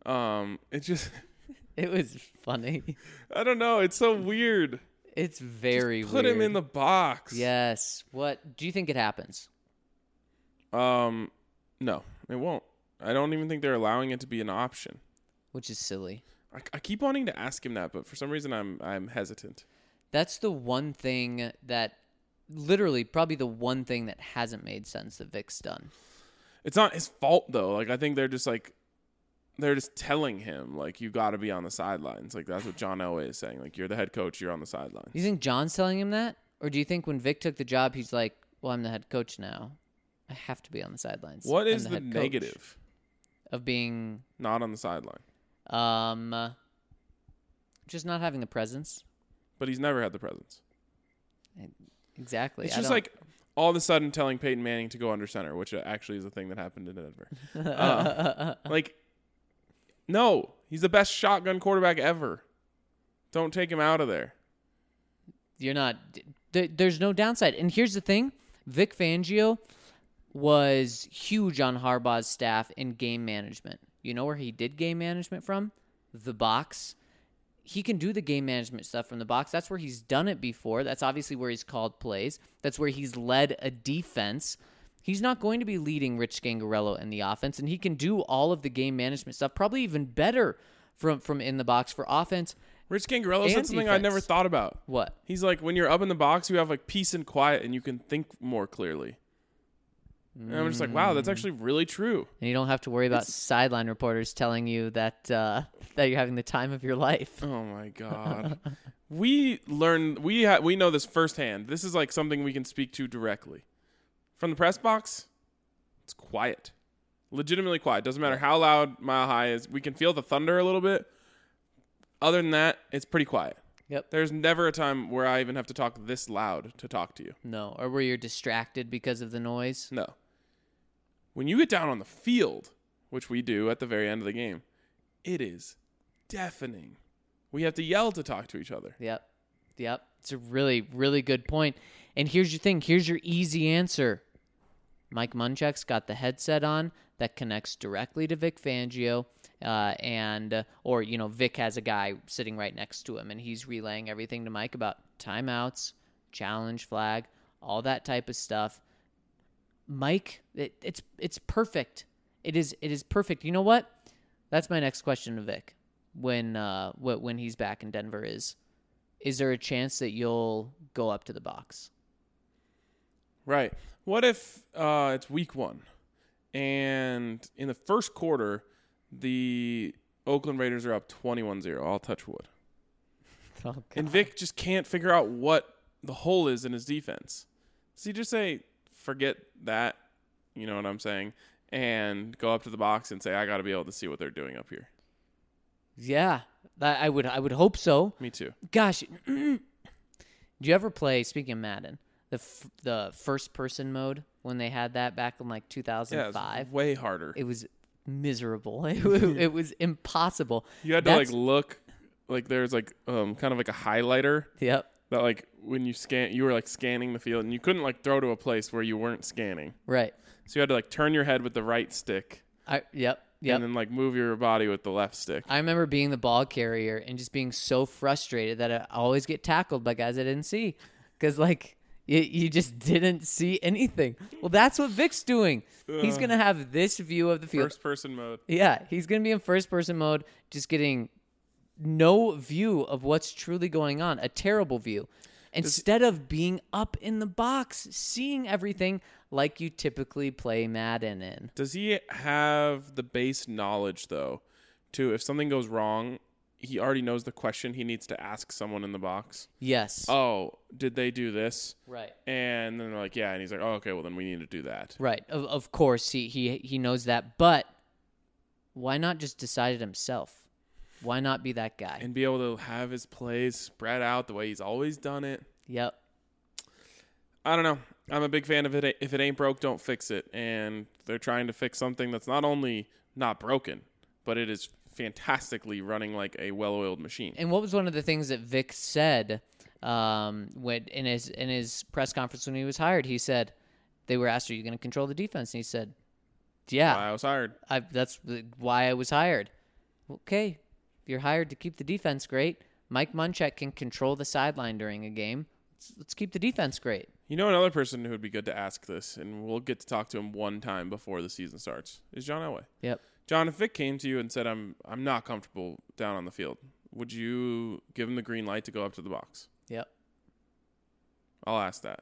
It was funny. I don't know. It's so weird. It's very Just put weird. him in the box. Yes. What do you think it happens? No, it won't. I don't even think they're allowing it to be an option. which is silly. I keep wanting to ask him that, but for some reason I'm hesitant. That's the one thing that literally probably the one thing that hasn't made sense that Vic's done. It's not his fault though. Like I think they're just telling him like you got to be on the sidelines. Like that's what John Elway is saying. Like you're the head coach, you're on the sidelines. You think John's telling him that, or do you think when Vic took the job, he's like, "Well, I'm the head coach now. I have to be on the sidelines." What I'm is the head coach negative of being not on the sideline? Just not having the presence. But he's never had the presence. Exactly. It's just like all of a sudden telling Peyton Manning to go under center, which actually is a thing that happened in Denver. Like, no, he's the best shotgun quarterback ever. Don't take him out of there. You're not. There's no downside. And here's the thing: Vic Fangio was huge on Harbaugh's staff in game management. You know where he did game management from? The box. He can do the game management stuff from the box. That's where he's done it before. That's obviously where he's called plays. That's where he's led a defense. He's not going to be leading Rich Scangarello in the offense, and he can do all of the game management stuff, probably even better from in the box for offense. Rich Scangarello said And something I never defense. thought about. What? He's like, when you're up in the box, you have like peace and quiet, and you can think more clearly. And I'm just like, wow, that's actually really true. And you don't have to worry about sideline reporters telling you that that you're having the time of your life. Oh my god. We know this firsthand. This is like something we can speak to directly. From the press box, it's quiet. Legitimately quiet. Doesn't matter how loud Mile High is. We can feel the thunder a little bit. Other than that, it's pretty quiet. Yep. There's never a time where I even have to talk this loud to talk to you. No, or where you're distracted because of the noise. No. When you get down on the field, which we do at the very end of the game, it is deafening. We have to yell to talk to each other. Yep. It's a really, really good point. And here's your thing. Here's your easy answer. Mike Munchak's got the headset on that connects directly to Vic Fangio, or Vic has a guy sitting right next to him, and he's relaying everything to Mike about timeouts, challenge flag, all that type of stuff. Mike, it's perfect. It is perfect. You know what? That's my next question to Vic when he's back in Denver is there a chance that you'll go up to the box? Right. What if it's week 1 and in the first quarter the Oakland Raiders are up 21-0. I'll touch wood. Oh, God. And Vic just can't figure out what the hole is in his defense. Does he just say, forget that, you know what I'm saying, and go up to the box and say, I got to be able to see what they're doing up here? Yeah, I would hope so. Me too. Gosh, did you ever play, speaking of Madden, the first person mode when they had that back in like 2005? Yeah, it's way harder. It was miserable. It was impossible. You had to like look, like there's like kind of like a highlighter. Yep. That like when you scan, you were like scanning the field, and you couldn't like throw to a place where you weren't scanning. Right. So you had to like turn your head with the right stick. Yep. And then like move your body with the left stick. I remember being the ball carrier and just being so frustrated that I always get tackled by guys I didn't see, because like you just didn't see anything. Well, that's what Vic's doing. He's gonna have this view of the field. First person mode. Yeah, he's gonna be in first person mode, just getting no view of what's truly going on, a terrible view. Instead of being up in the box, seeing everything like you typically play Madden in. Does he have the base knowledge, though, to if something goes wrong, he already knows the question he needs to ask someone in the box? Yes. Oh, did they do this? Right. And then they're like, yeah. And he's like, oh, okay, well, then we need to do that. Right. Of course, he knows that. But why not just decide it himself? Why not be that guy? And be able to have his plays spread out the way he's always done it. Yep. I don't know. I'm a big fan of it. If it ain't broke, don't fix it. And they're trying to fix something that's not only not broken, but it is fantastically running like a well-oiled machine. And what was one of the things that Vic said when in his press conference when he was hired? He said, they were asked, are you going to control the defense? And he said, yeah. Why I was hired. That's why I was hired. Okay. If you're hired to keep the defense great, Mike Munchak can control the sideline during a game. Let's keep the defense great. You know, another person who would be good to ask this, and we'll get to talk to him one time before the season starts, is John Elway. Yep. John, if Vic came to you and said, I'm not comfortable down on the field, would you give him the green light to go up to the box? Yep. I'll ask that.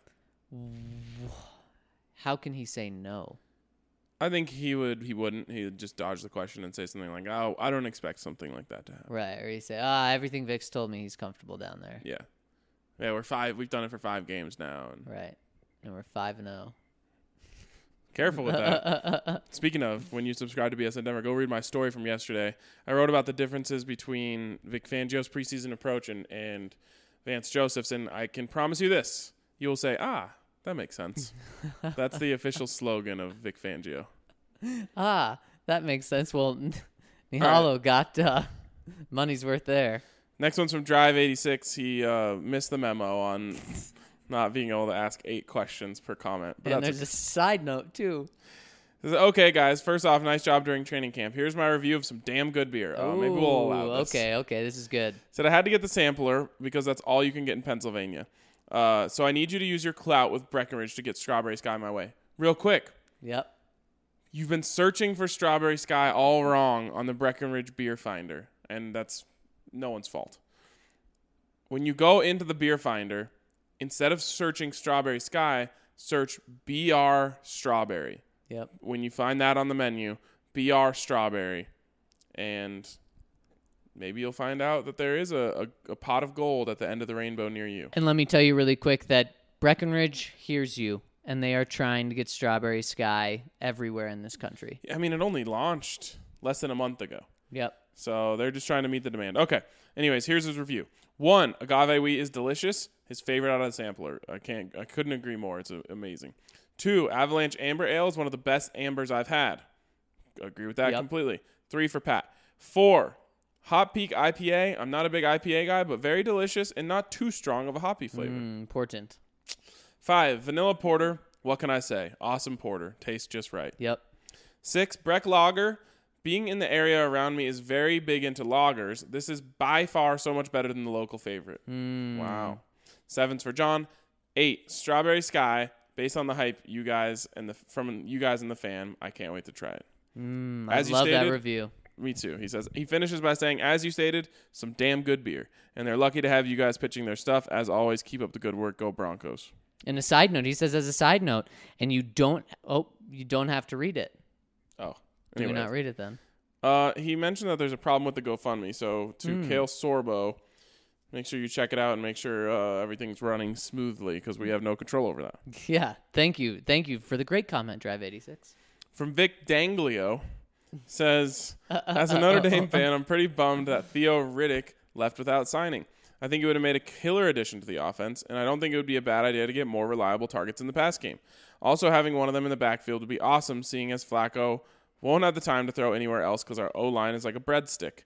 How can he say no? I think he wouldn't. He would just dodge the question and say something like, oh, I don't expect something like that to happen. Right. Or he say, everything Vic's told me, he's comfortable down there. Yeah. Yeah, we've done it for 5 games now. And Right. And we're 5-0. Careful with that. Speaking of, when you subscribe to BSN Denver, go read my story from yesterday. I wrote about the differences between Vic Fangio's preseason approach and Vance Joseph's, and I can promise you this. You'll say, that makes sense. That's the official slogan of Vic Fangio. That makes sense. Well, Nihalo got money's worth there. Next one's from Drive 86. He missed the memo on not being able to ask 8 questions per comment. But And there's a side note, too. Says, okay, guys. First off, nice job during training camp. Here's my review of some damn good beer. Maybe we'll allow this. Okay. This is good. Said I had to get the sampler because that's all you can get in Pennsylvania. So I need you to use your clout with Breckenridge to get Strawberry Sky my way. Real quick. Yep. You've been searching for Strawberry Sky all wrong on the Breckenridge Beer Finder, and that's no one's fault. When you go into the Beer Finder, instead of searching Strawberry Sky, search BR Strawberry. Yep. When you find that on the menu, BR Strawberry, and maybe you'll find out that there is a pot of gold at the end of the rainbow near you. And let me tell you really quick that Breckenridge hears you, and they are trying to get Strawberry Sky everywhere in this country. I mean, it only launched less than a month ago. Yep. So they're just trying to meet the demand. Okay. Anyways, here's his review. 1, agave wheat is delicious. His favorite out of the sampler. I couldn't agree more. It's amazing. 2, Avalanche Amber Ale is one of the best ambers I've had. Agree with that completely. 3 for Pat. 4, Hop Peak IPA. I'm not a big IPA guy, but very delicious and not too strong of a hoppy flavor. Important. 5, Vanilla Porter. What can I say? Awesome porter. Tastes just right. Yep. 6, Breck Lager. Being in the area around me is very big into lagers. This is by far so much better than the local favorite. Wow. 7's for John. 8, Strawberry Sky. Based on the hype you guys and the fan, I can't wait to try it. I love that review. Me too. He says he finishes by saying, as you stated, some damn good beer, and they're lucky to have you guys pitching their stuff. As always, keep up the good work. Go Broncos. And a side note, he says as a side note, and you don't have to read it. Oh, do we not read it then? He mentioned that there's a problem with the GoFundMe. So to Kale Sorbo, make sure you check it out and make sure everything's running smoothly because we have no control over that. Yeah, thank you for the great comment, Drive 86. From Vic Danglio, says, as a Notre Dame fan, I'm pretty bummed that Theo Riddick left without signing. I think it would have made a killer addition to the offense, and I don't think it would be a bad idea to get more reliable targets in the pass game. Also, having one of them in the backfield would be awesome, seeing as Flacco won't have the time to throw anywhere else because our O-line is like a breadstick.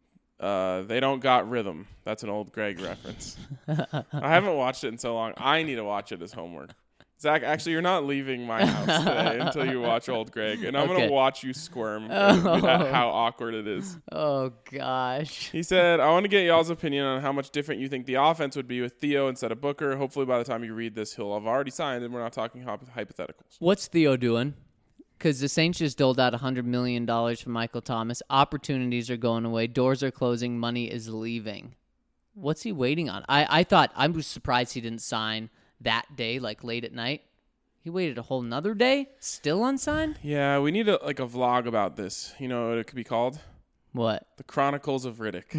They don't got rhythm. That's an old Greg reference. I haven't watched it in so long. I need to watch it as homework. Zach, actually, you're not leaving my house today until you watch Old Greg, and I'm going to watch you squirm at how awkward it is. Oh, gosh. He said, I want to get y'all's opinion on how much different you think the offense would be with Theo instead of Booker. Hopefully, by the time you read this, he'll have already signed, and we're not talking hypotheticals. What's Theo doing? Because the Saints just doled out $100 million for Michael Thomas. Opportunities are going away. Doors are closing. Money is leaving. What's he waiting on? I was surprised he didn't sign that day, like late at night. He waited a whole nother day, still unsigned? Yeah, we need a vlog about this. You know what it could be called? What? The Chronicles of Riddick.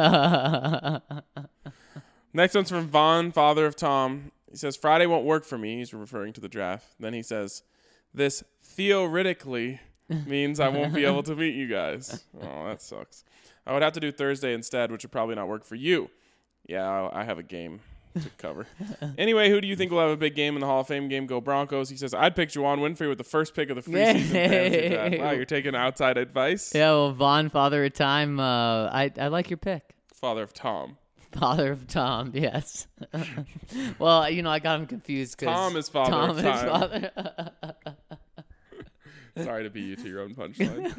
Next one's from Vaughn, father of Tom. He says, Friday won't work for me. He's referring to the draft. Then he says, this theoretically means I won't be able to meet you guys. Oh, that sucks. I would have to do Thursday instead, which would probably not work for you. Yeah, I have a game to cover. Anyway, who do you think will have a big game in the Hall of Fame game? Go Broncos. He says, I'd pick Juwan Winfrey with the first pick of the preseason fantasy draft. Wow, you're taking outside advice? Yeah, well, Vaughn, father of time, I like your pick. Father of Tom. Father of Tom, yes. Well, I got him confused because Tom is father Tom of is time. father. Sorry to beat you to your own punchline.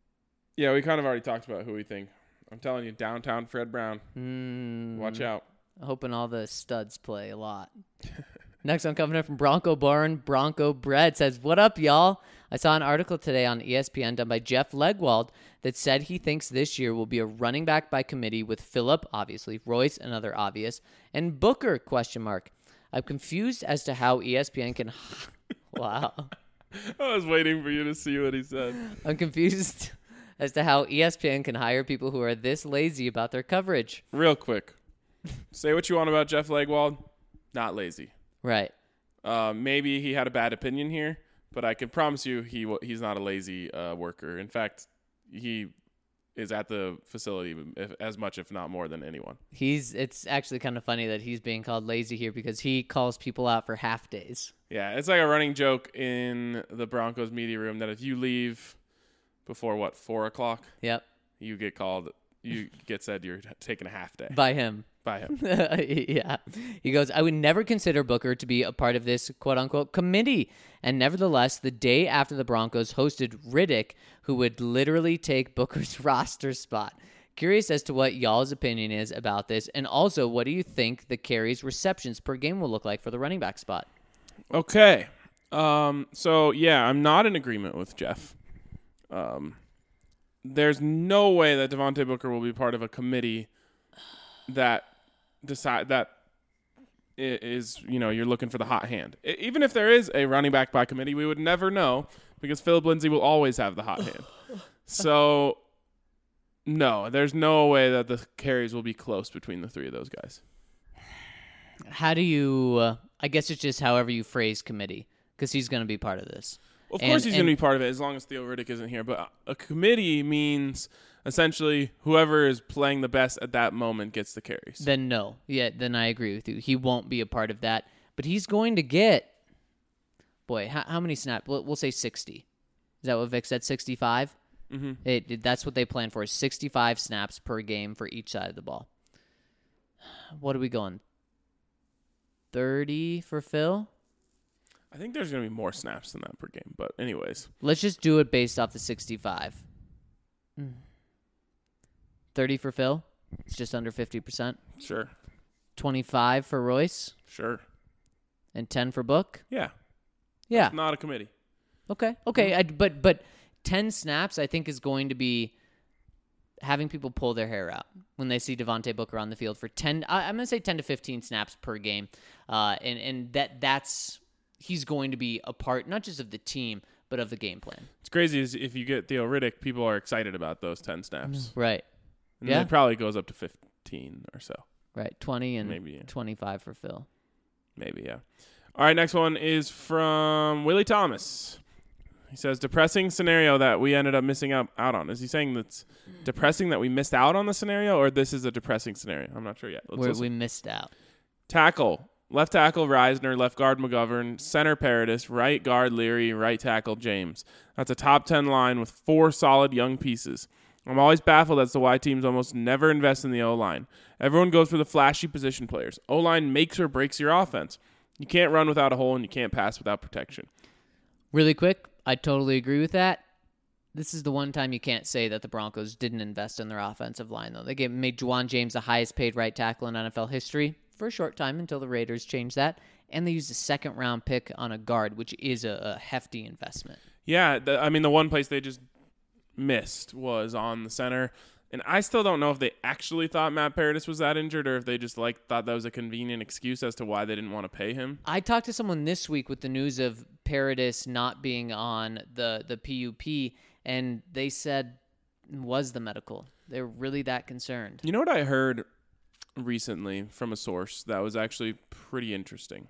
Yeah, we kind of already talked about who we think. I'm telling you, downtown Fred Brown. Watch out. Hoping all the studs play a lot. Next one coming up from Bronco Barn. Bronco Bread says, "What up, y'all? I saw an article today on ESPN done by Jeff Legwald that said he thinks this year will be a running back by committee with Phillip, obviously, Royce, another obvious, and Booker, ? I'm confused as to how ESPN can... Wow. I was waiting for you to see what he said. I'm confused as to how ESPN can hire people who are this lazy about their coverage. Real quick. Say what you want about Jeff Legwald. Not lazy. Right. Maybe he had a bad opinion here, but I can promise you he's not a lazy worker. In fact, he is at the facility as much, if not more, than anyone. It's actually kind of funny that he's being called lazy here because he calls people out for half days. Yeah, it's like a running joke in the Broncos media room that if you leave before, 4 o'clock? Yep. You get said you're taking a half day. By him. By him. Yeah. He goes, "I would never consider Booker to be a part of this quote-unquote committee. And nevertheless, the day after the Broncos hosted Riddick, who would literally take Booker's roster spot. Curious as to what y'all's opinion is about this. And also, what do you think the carries receptions per game will look like for the running back spot?" Okay. So, yeah, I'm not in agreement with Jeff. There's no way that Devontae Booker will be part of a committee that decide that is, you're looking for the hot hand. Even if there is a running back by committee, we would never know because Phillip Lindsay will always have the hot hand. So, no, there's no way that the carries will be close between the three of those guys. How do you, I guess it's just however you phrase committee, because he's going to be part of this. Of course he's going to be part of it as long as Theo Riddick isn't here. But a committee means essentially whoever is playing the best at that moment gets the carries. Then no. Yeah, then I agree with you. He won't be a part of that. But he's going to get, how many snaps? We'll say 60. Is that what Vic said, 65? Mm-hmm. That's what they plan for, is 65 snaps per game for each side of the ball. What are we going? 30 for Phil? I think there's going to be more snaps than that per game. But anyways. Let's just do it based off the 65. 30 for Phil? It's just under 50%. Sure. 25 for Royce? Sure. And 10 for Book? Yeah. Yeah. That's not a committee. Okay. But 10 snaps I think is going to be having people pull their hair out when they see Devontae Booker on the field for 10. I'm going to say 10 to 15 snaps per game. And that's he's going to be a part not just of the team but of the game plan. It's crazy is if you get Theo Riddick, people are excited about those 10 snaps. Right. And then it probably goes up to 15 or so. Right. 20 and maybe 25 for Phil. Maybe, yeah. All right, next one is from Willie Thomas. He says, depressing scenario that we ended up missing out on. Is he saying that's depressing that we missed out on the scenario, or this is a depressing scenario? I'm not sure yet. We missed out. Tackle. Left tackle, Reisner. Left guard, McGovern. Center, Paradis. Right guard, Leary. Right tackle, James. That's a top 10 line with 4 solid young pieces. I'm always baffled as to why teams almost never invest in the O-line. Everyone goes for the flashy position players. O-line makes or breaks your offense. You can't run without a hole, and you can't pass without protection. Really quick, I totally agree with that. This is the one time you can't say that the Broncos didn't invest in their offensive line, though. They made Juwan James the highest paid right tackle in NFL history for a short time until the Raiders changed that, and they used a second-round pick on a guard, which is a hefty investment. Yeah, the one place they just missed was on the center. And I still don't know if they actually thought Matt Paradis was that injured or if they just thought that was a convenient excuse as to why they didn't want to pay him. I talked to someone this week with the news of Paradis not being on the PUP, and they said it was the medical. They're really that concerned. You know what I heard recently from a source that was actually pretty interesting?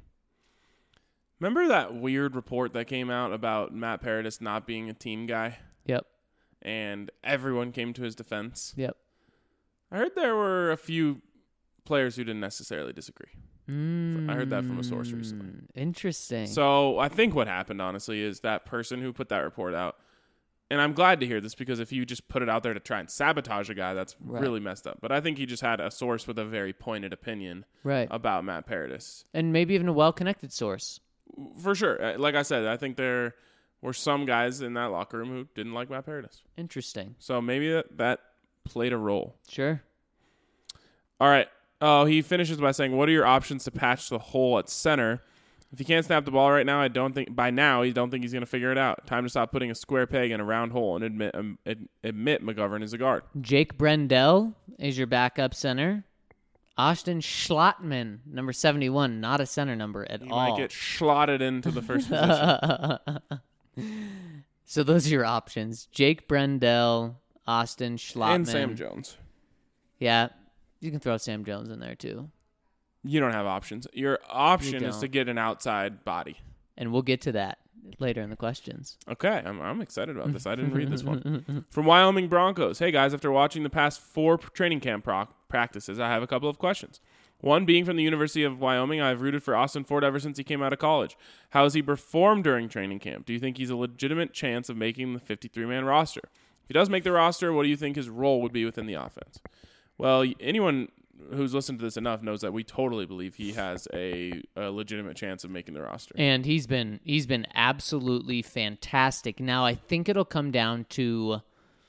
Remember that weird report that came out about Matt Paradis not being a team guy? Yep. And everyone came to his defense. Yep. I heard there were a few players who didn't necessarily disagree. I heard that from a source recently. Interesting. So I think what happened, honestly, is that person who put that report out, and I'm glad to hear this because if you just put it out there to try and sabotage a guy, that's really messed up. But I think he just had a source with a very pointed opinion about Matt Paradis. And maybe even a well-connected source. For sure. Like I said, I think there were some guys in that locker room who didn't like Matt Paradis. Interesting. So maybe that played a role. Sure. All right. Oh, he finishes by saying, "What are your options to patch the hole at center? If he can't snap the ball right now, I don't think he's going to figure it out. Time to stop putting a square peg in a round hole and admit McGovern is a guard." Jake Brendel is your backup center. Austin Schlottman, number 71, not a center number at He all. might get slotted into the first position. So those are your options. Jake Brendel, Austin Schlottman. And Sam Jones. Yeah, you can throw Sam Jones in there too. You don't have options. Your option You is to don't. get an outside body. And we'll get to that later in the questions. Okay, I'm excited about this. I didn't read this one. From Wyoming Broncos. Hey, guys, after watching the past 4 training camp practices, I have a couple of questions. One, being from the University of Wyoming, I've rooted for Austin Ford ever since he came out of college. How has he performed during training camp? Do you think he's a legitimate chance of making the 53-man roster? If he does make the roster, what do you think his role would be within the offense? Well, anyone who's listened to this enough knows that we totally believe he has a legitimate chance of making the roster. And he's been absolutely fantastic. Now I think it'll come down to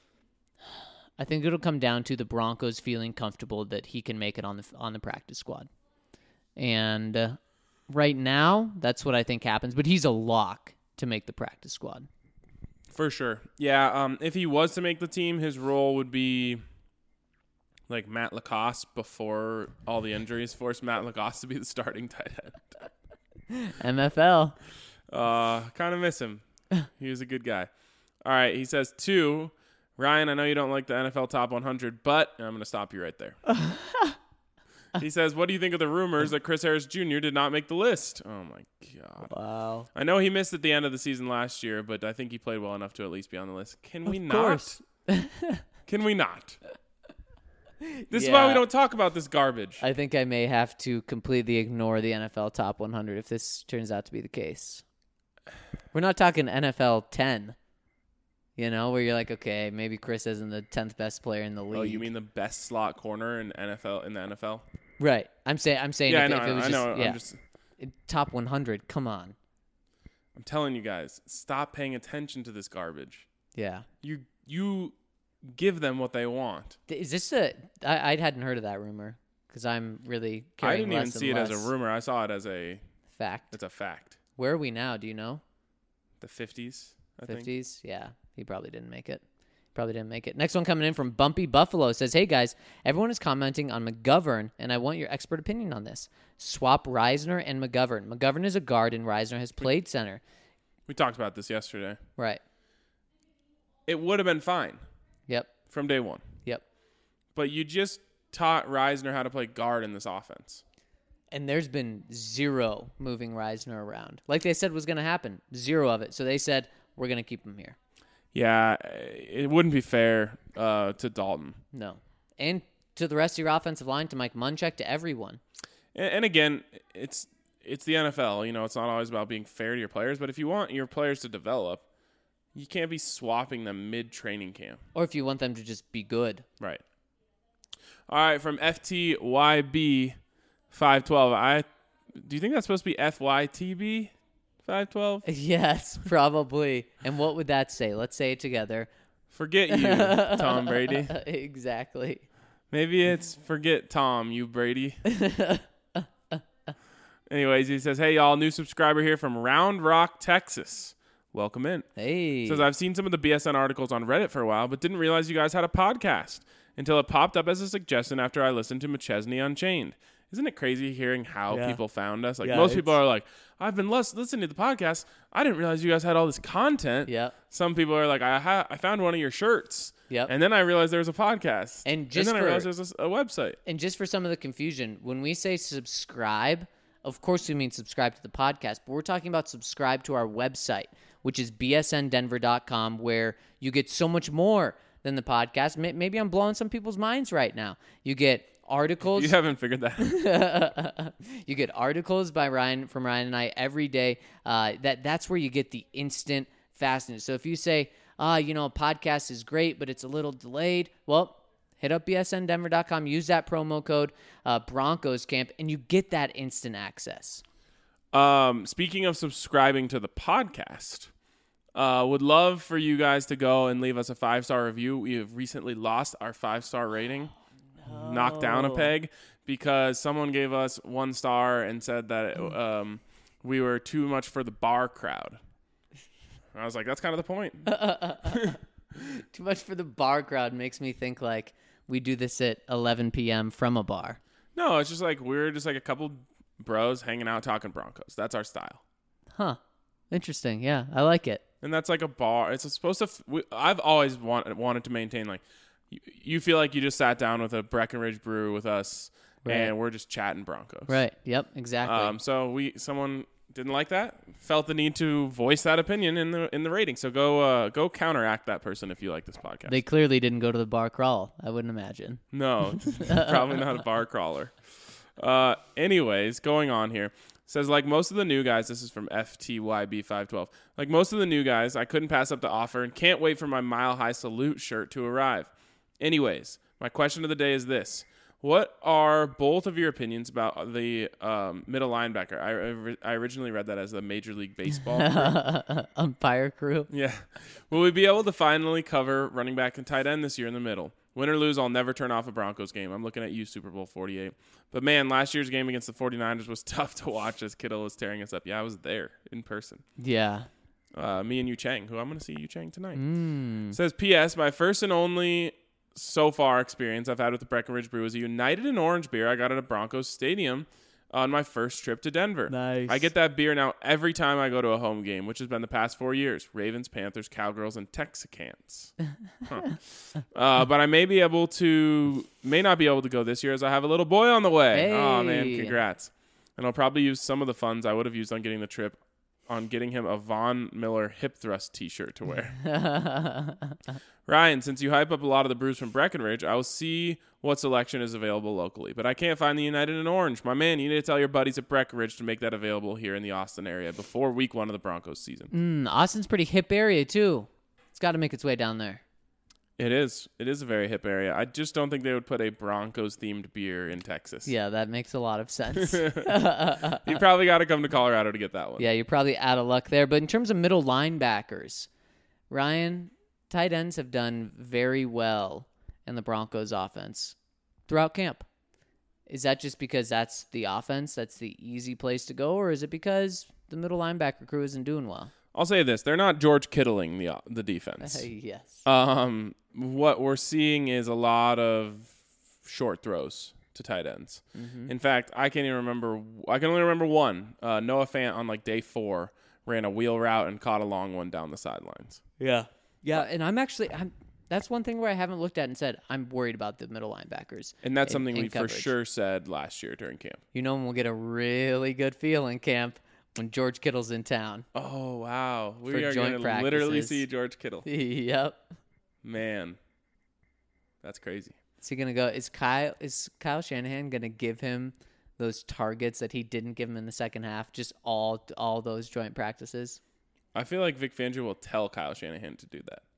the Broncos feeling comfortable that he can make it on the practice squad. And right now, that's what I think happens. But he's a lock to make the practice squad. For sure. Yeah, if he was to make the team, his role would be like Matt Lacoste before all the injuries forced Matt Lacoste to be the starting tight end. MFL. Kind of miss him. He was a good guy. All right, he says 2. Ryan, I know you don't like the NFL Top 100, but I'm going to stop you right there. He says, what do you think of the rumors that Chris Harris Jr. did not make the list? Oh, my God. Wow. I know he missed at the end of the season last year, but I think he played well enough to at least be on the list. Can we not? Course. Can we not? This is why we don't talk about this garbage. I think I may have to completely ignore the NFL Top 100 if this turns out to be the case. We're not talking NFL 10, where you're like, okay, maybe Chris isn't the 10th best player in the league. Oh, you mean the best slot corner in the NFL? Right. I'm saying Yeah, if it was I know. yeah. I'm just Top 100, come on. I'm telling you guys, stop paying attention to this garbage. Yeah. You give them what they want. Is this I hadn't heard of that rumor because I'm really I carrying didn't even less see and it as less a rumor. I saw it as fact. it's a fact. Where are we now? Do you know? The 50s, I think. 50s? Yeah. He probably didn't make it. Next one coming in from Bumpy Buffalo says, hey guys, everyone is commenting on McGovern, and I want your expert opinion on this. Swap Reisner and McGovern. McGovern is a guard, and Reisner has played center. We talked about this yesterday. Right. It would have been fine Yep. from day one. Yep. But you just taught Reisner how to play guard in this offense. And there's been zero moving Reisner around. Like they said was going to happen. Zero of it. So they said, we're going to keep him here. Yeah, it wouldn't be fair to Dalton. No. And to the rest of your offensive line, to Mike Munchak, to everyone. And again, it's the NFL. It's not always about being fair to your players. But if you want your players to develop, you can't be swapping them mid-training camp. Or if you want them to just be good. Right. All right, from FTYB 512. Do you think that's supposed to be FYTB 512? Yes, probably. And what would that say? Let's say it together. Forget you, Tom Brady. Exactly. Maybe it's forget Tom, you Brady. Anyways, he says, hey, y'all, new subscriber here from Round Rock, Texas. Welcome in. Hey. Says, I've seen some of the BSN articles on Reddit for a while, but didn't realize you guys had a podcast until it popped up as a suggestion after I listened to McChesney Unchained. Isn't it crazy hearing how people found us? Like, most people are like, I've been listening to the podcast. I didn't realize you guys had all this content. Yep. Some people are like, I found one of your shirts. Yep. And then I realized there was a podcast. And then I realized there's a website. And just for some of the confusion, when we say subscribe, of course we mean subscribe to the podcast, but we're talking about subscribe to our website, which is bsndenver.com, where you get so much more than the podcast. Maybe I'm blowing some people's minds right now. You get articles. You haven't figured that out. You get articles by Ryan and I every day. That's where you get the instant fastness. So if you say, a podcast is great, but it's a little delayed, well, hit up bsndenver.com, use that promo code Broncos Camp, and you get that instant access. Speaking of subscribing to the podcast, would love for you guys to go and leave us a 5-star review. We have recently lost our 5-star rating. Knocked down a peg because someone gave us 1 star and said that we were too much for the bar crowd. And I was like, that's kind of the point. Too much for the bar crowd makes me think like we do this at 11 p.m. from a bar. No, it's just like we're just like a couple bros hanging out talking Broncos. That's our style. Huh. Interesting. Yeah, I like it. And that's like a bar. It's supposed to. I've always wanted to maintain like you feel like you just sat down with a Breckenridge brew with us, Right. and we're just chatting Broncos. Right. Yep. Exactly. So someone didn't like that, felt the need to voice that opinion in the rating. So go counteract that person if you like this podcast. They clearly didn't go to the bar crawl. I wouldn't imagine. No, probably not a bar crawler. Anyways, going on here. Says, like most of the new guys, this is from FTYB512. Like most of the new guys, I couldn't pass up the offer and can't wait for my Mile High Salute shirt to arrive. Anyways, my question of the day is this. What are both of your opinions about the middle linebacker? I originally read that as the Major League Baseball crew. Umpire crew. Yeah. Will we be able to finally cover running back and tight end this year in the middle? Win or lose, I'll never turn off a Broncos game. I'm looking at you, Super Bowl 48. But, man, last year's game against the 49ers was tough to watch as Kittle was tearing us up. Yeah, I was there in person. Yeah. Me and Yu Chang, who I'm going to see Yu Chang tonight. Says, P.S. My first and only so far experience I've had with the Breckenridge Brew is a United and Orange beer I got at a Broncos stadium on my first trip to Denver. Nice. I get that beer now every time I go to a home game, which has been the past 4 years. Ravens, Panthers, Cowgirls, and Texicans. But I may not be able to go this year as I have a little boy on the way. Hey. Oh, man, congrats. And I'll probably use some of the funds I would have used on getting the trip on getting him a Von Miller hip thrust t-shirt to wear. Ryan, since you hype up a lot of the brews from Breckenridge, I will see what selection is available locally. But I can't find the United and Orange. My man, you need to tell your buddies at Breckenridge to make that available here in the Austin area before week 1 of the Broncos season. Austin's pretty hip area, too. It's got to make its way down there. It is. It is a very hip area. I just don't think they would put a Broncos-themed beer in Texas. Yeah, that makes a lot of sense. You probably got to come to Colorado to get that one. Yeah, you're probably out of luck there. But in terms of middle linebackers, Ryan, tight ends have done very well in the Broncos offense throughout camp. Is that just because that's the offense, that's the easy place to go, or is it because the middle linebacker crew isn't doing well? I'll say this. They're not George Kittling the defense. Yes. What we're seeing is a lot of short throws to tight ends. Mm-hmm. In fact, I can only remember one. Noah Fant on like day 4 ran a wheel route and caught a long one down the sidelines. Yeah, and that's one thing where I haven't looked at and said I'm worried about the middle linebackers. And that's something in we coverage. for sure said last year during camp. You know when we'll get a really good feel in camp when George Kittle's in town. Oh, wow. We For are joint going to literally practices. see George Kittle. Yep. Man, that's crazy. Is he gonna go? Is Kyle Shanahan gonna give him those targets that he didn't give him in the second half? Just all those joint practices. I feel like Vic Fangio will tell Kyle Shanahan to do that.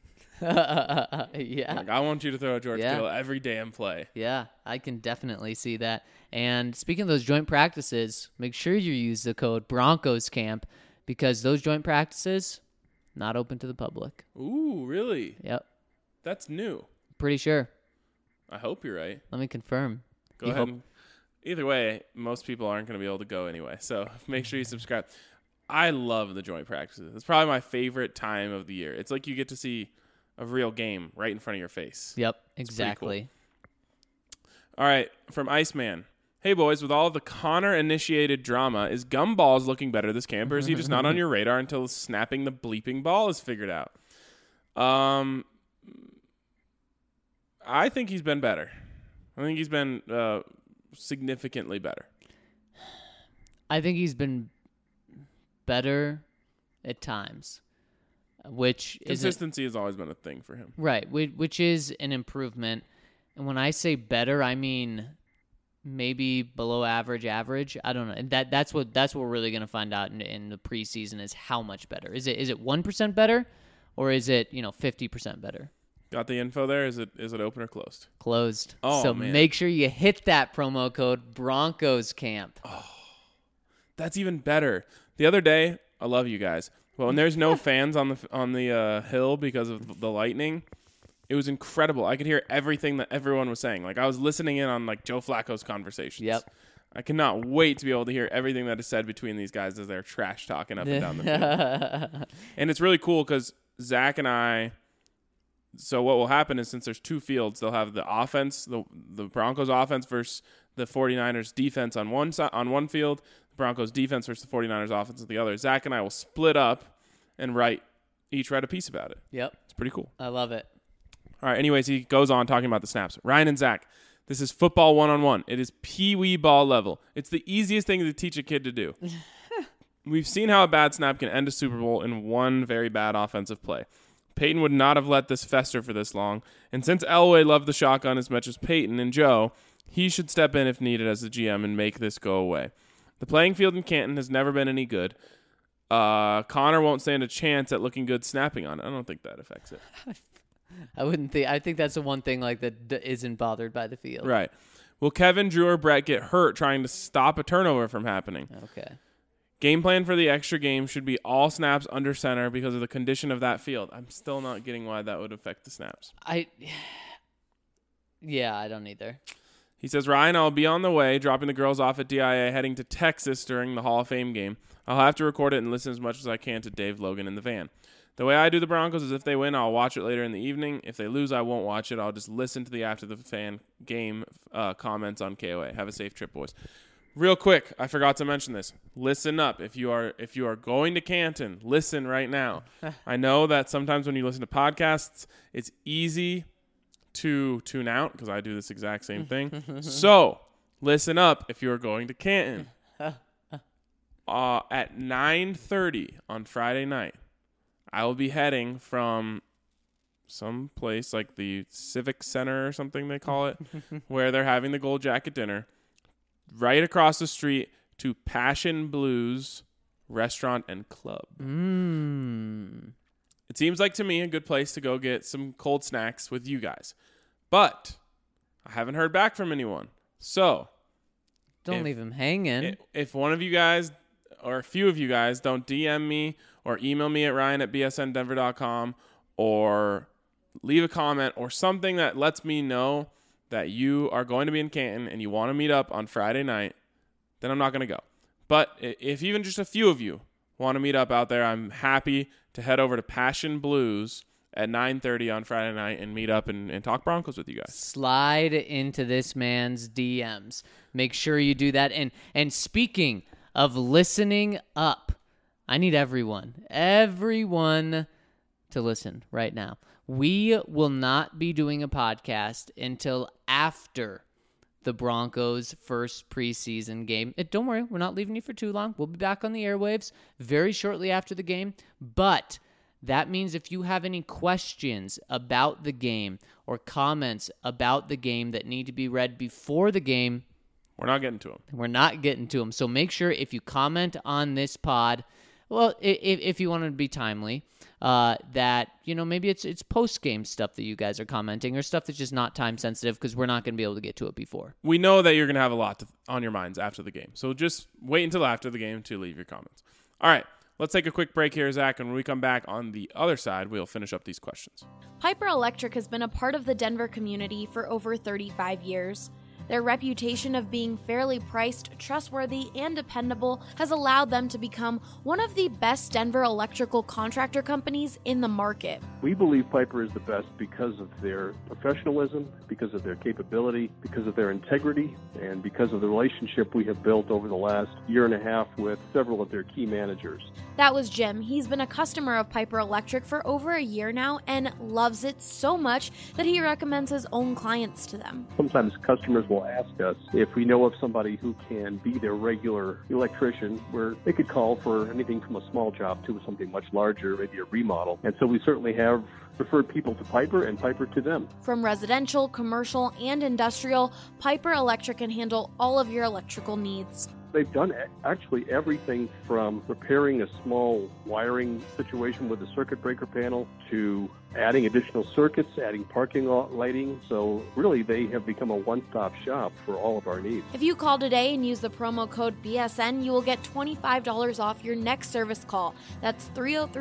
Yeah. Like, I want you to throw a George Yeah. Kittle every damn play. Yeah, I can definitely see that. And speaking of those joint practices, make sure you use the code BroncosCamp because those joint practices not open to the public. Ooh, really? Yep, That's new. pretty sure. I hope you're right. Let me confirm. Go You ahead. hope- Either way, most people aren't going to be able to go anyway. So make sure you subscribe. I love the joint practices. It's probably my favorite time of the year. It's like you get to see a real game right in front of your face. Yep, It's pretty cool. exactly. All right, from Iceman. Hey, boys, with all of the Connor-initiated drama, is Gumballs looking better this camp, or is he just not on your radar until snapping the bleeping ball is figured out? I think he's been better. I think he's been significantly better. I think he's been better at times, which is Consistency has always been a thing for him. right, which is an improvement. And when I say better, I mean maybe below average. I don't know. And that's what we're really going to find out in the preseason is how much better. Is it 1% better, or is it 50% better? Got the info there? Is it open or closed? Closed. Oh, so man. make sure you hit that promo code BroncosCamp. That's even better. The other day, I love you guys. Well, when there's no fans on the hill because of the lightning, It was incredible. I could hear everything that everyone was saying. Like, I was listening in on, like, Joe Flacco's conversations. Yep. I cannot wait to be able to hear everything that is said between these guys as they're trash talking up and down the field. And it's really cool because Zach and I, so what will happen is since there's two fields, they'll have the offense, the Broncos offense versus the 49ers defense on one side, on one field, the Broncos defense versus the 49ers offense on the other. Zach and I will split up and each write a piece about it. Yep. It's pretty cool. I love it. All right, anyways, he goes on talking about the snaps. Ryan and Zach, this is football one-on-one. It is pee-wee ball level. It's the easiest thing to teach a kid to do. We've seen how a bad snap can end a Super Bowl in one very bad offensive play. Peyton would not have let this fester for this long, and since Elway loved the shotgun as much as Peyton and Joe, he should step in if needed as the GM and make this go away. The playing field in Canton has never been any good. Connor won't stand a chance at looking good snapping on it. I don't think that affects it. I think that's the one thing like that isn't bothered by the field. Right. Will Kevin, Drew, or Brett get hurt trying to stop a turnover from happening? Okay. Game plan for the extra game should be all snaps under center because of the condition of that field. I'm still not getting why that would affect the snaps. Yeah, I don't either. He says, Ryan, I'll be on the way, dropping the girls off at DIA, heading to Texas during the Hall of Fame game. I'll have to record it and listen as much as I can to Dave Logan in the van. The way I do the Broncos is if they win, I'll watch it later in the evening. If they lose, I won't watch it. I'll just listen to the after the fan game comments on KOA. Have a safe trip, boys. Real quick, I forgot to mention this. Listen up. If you are going to Canton, listen right now. I know that sometimes when you listen to podcasts, it's easy to tune out because I do this exact same thing. So listen up if you are going to Canton. At 9:30 on Friday night, I will be heading from some place like the Civic Center or something they call it, where they're having the Gold Jacket dinner, right across the street to Passion Blues Restaurant and Club. It seems like to me a good place to go get some cold snacks with you guys. But I haven't heard back from anyone. So Don't leave him hanging. If one of you guys or a few of you guys don't DM me or email me at ryan@bsndenver.com or leave a comment or something that lets me know that you are going to be in Canton and you want to meet up on Friday night, then I'm not going to go. But if even just a few of you want to meet up out there, I'm happy to head over to Passion Blues at 9:30 on Friday night and meet up and talk Broncos with you guys. Slide into this man's DMs. Make sure you do that. And speaking of listening up, I need everyone to listen right now. We will not be doing a podcast until after the Broncos' first preseason game. Don't worry, we're not leaving you for too long. We'll be back on the airwaves very shortly after the game. But that means if you have any questions about the game or comments about the game that need to be read before the game, we're not getting to them. So make sure if you comment on this pod, well, if you want to be timely, that, maybe it's post-game stuff that you guys are commenting or stuff that's just not time-sensitive because we're not going to be able to get to it before. We know that you're going to have a lot on your minds after the game. So just wait until after the game to leave your comments. All right, let's take a quick break here, Zach, and when we come back on the other side, we'll finish up these questions. Piper Electric has been a part of the Denver community for over 35 years. Their reputation of being fairly priced, trustworthy, and dependable has allowed them to become one of the best Denver electrical contractor companies in the market. We believe Piper is the best because of their professionalism, because of their capability, because of their integrity, and because of the relationship we have built over the last year and a half with several of their key managers. That was Jim. He's been a customer of Piper Electric for over a year now and loves it so much that he recommends his own clients to them. Sometimes customers will ask us if we know of somebody who can be their regular electrician, where they could call for anything from a small job to something much larger, maybe a remodel. And so we certainly have referred people to Piper and Piper to them. From residential, commercial, and industrial, Piper Electric can handle all of your electrical needs. They've done actually everything from repairing a small wiring situation with the circuit breaker panel to adding additional circuits, adding parking lot lighting. So really, they have become a one-stop shop for all of our needs. If you call today and use the promo code BSN, you will get $25 off your next service call. That's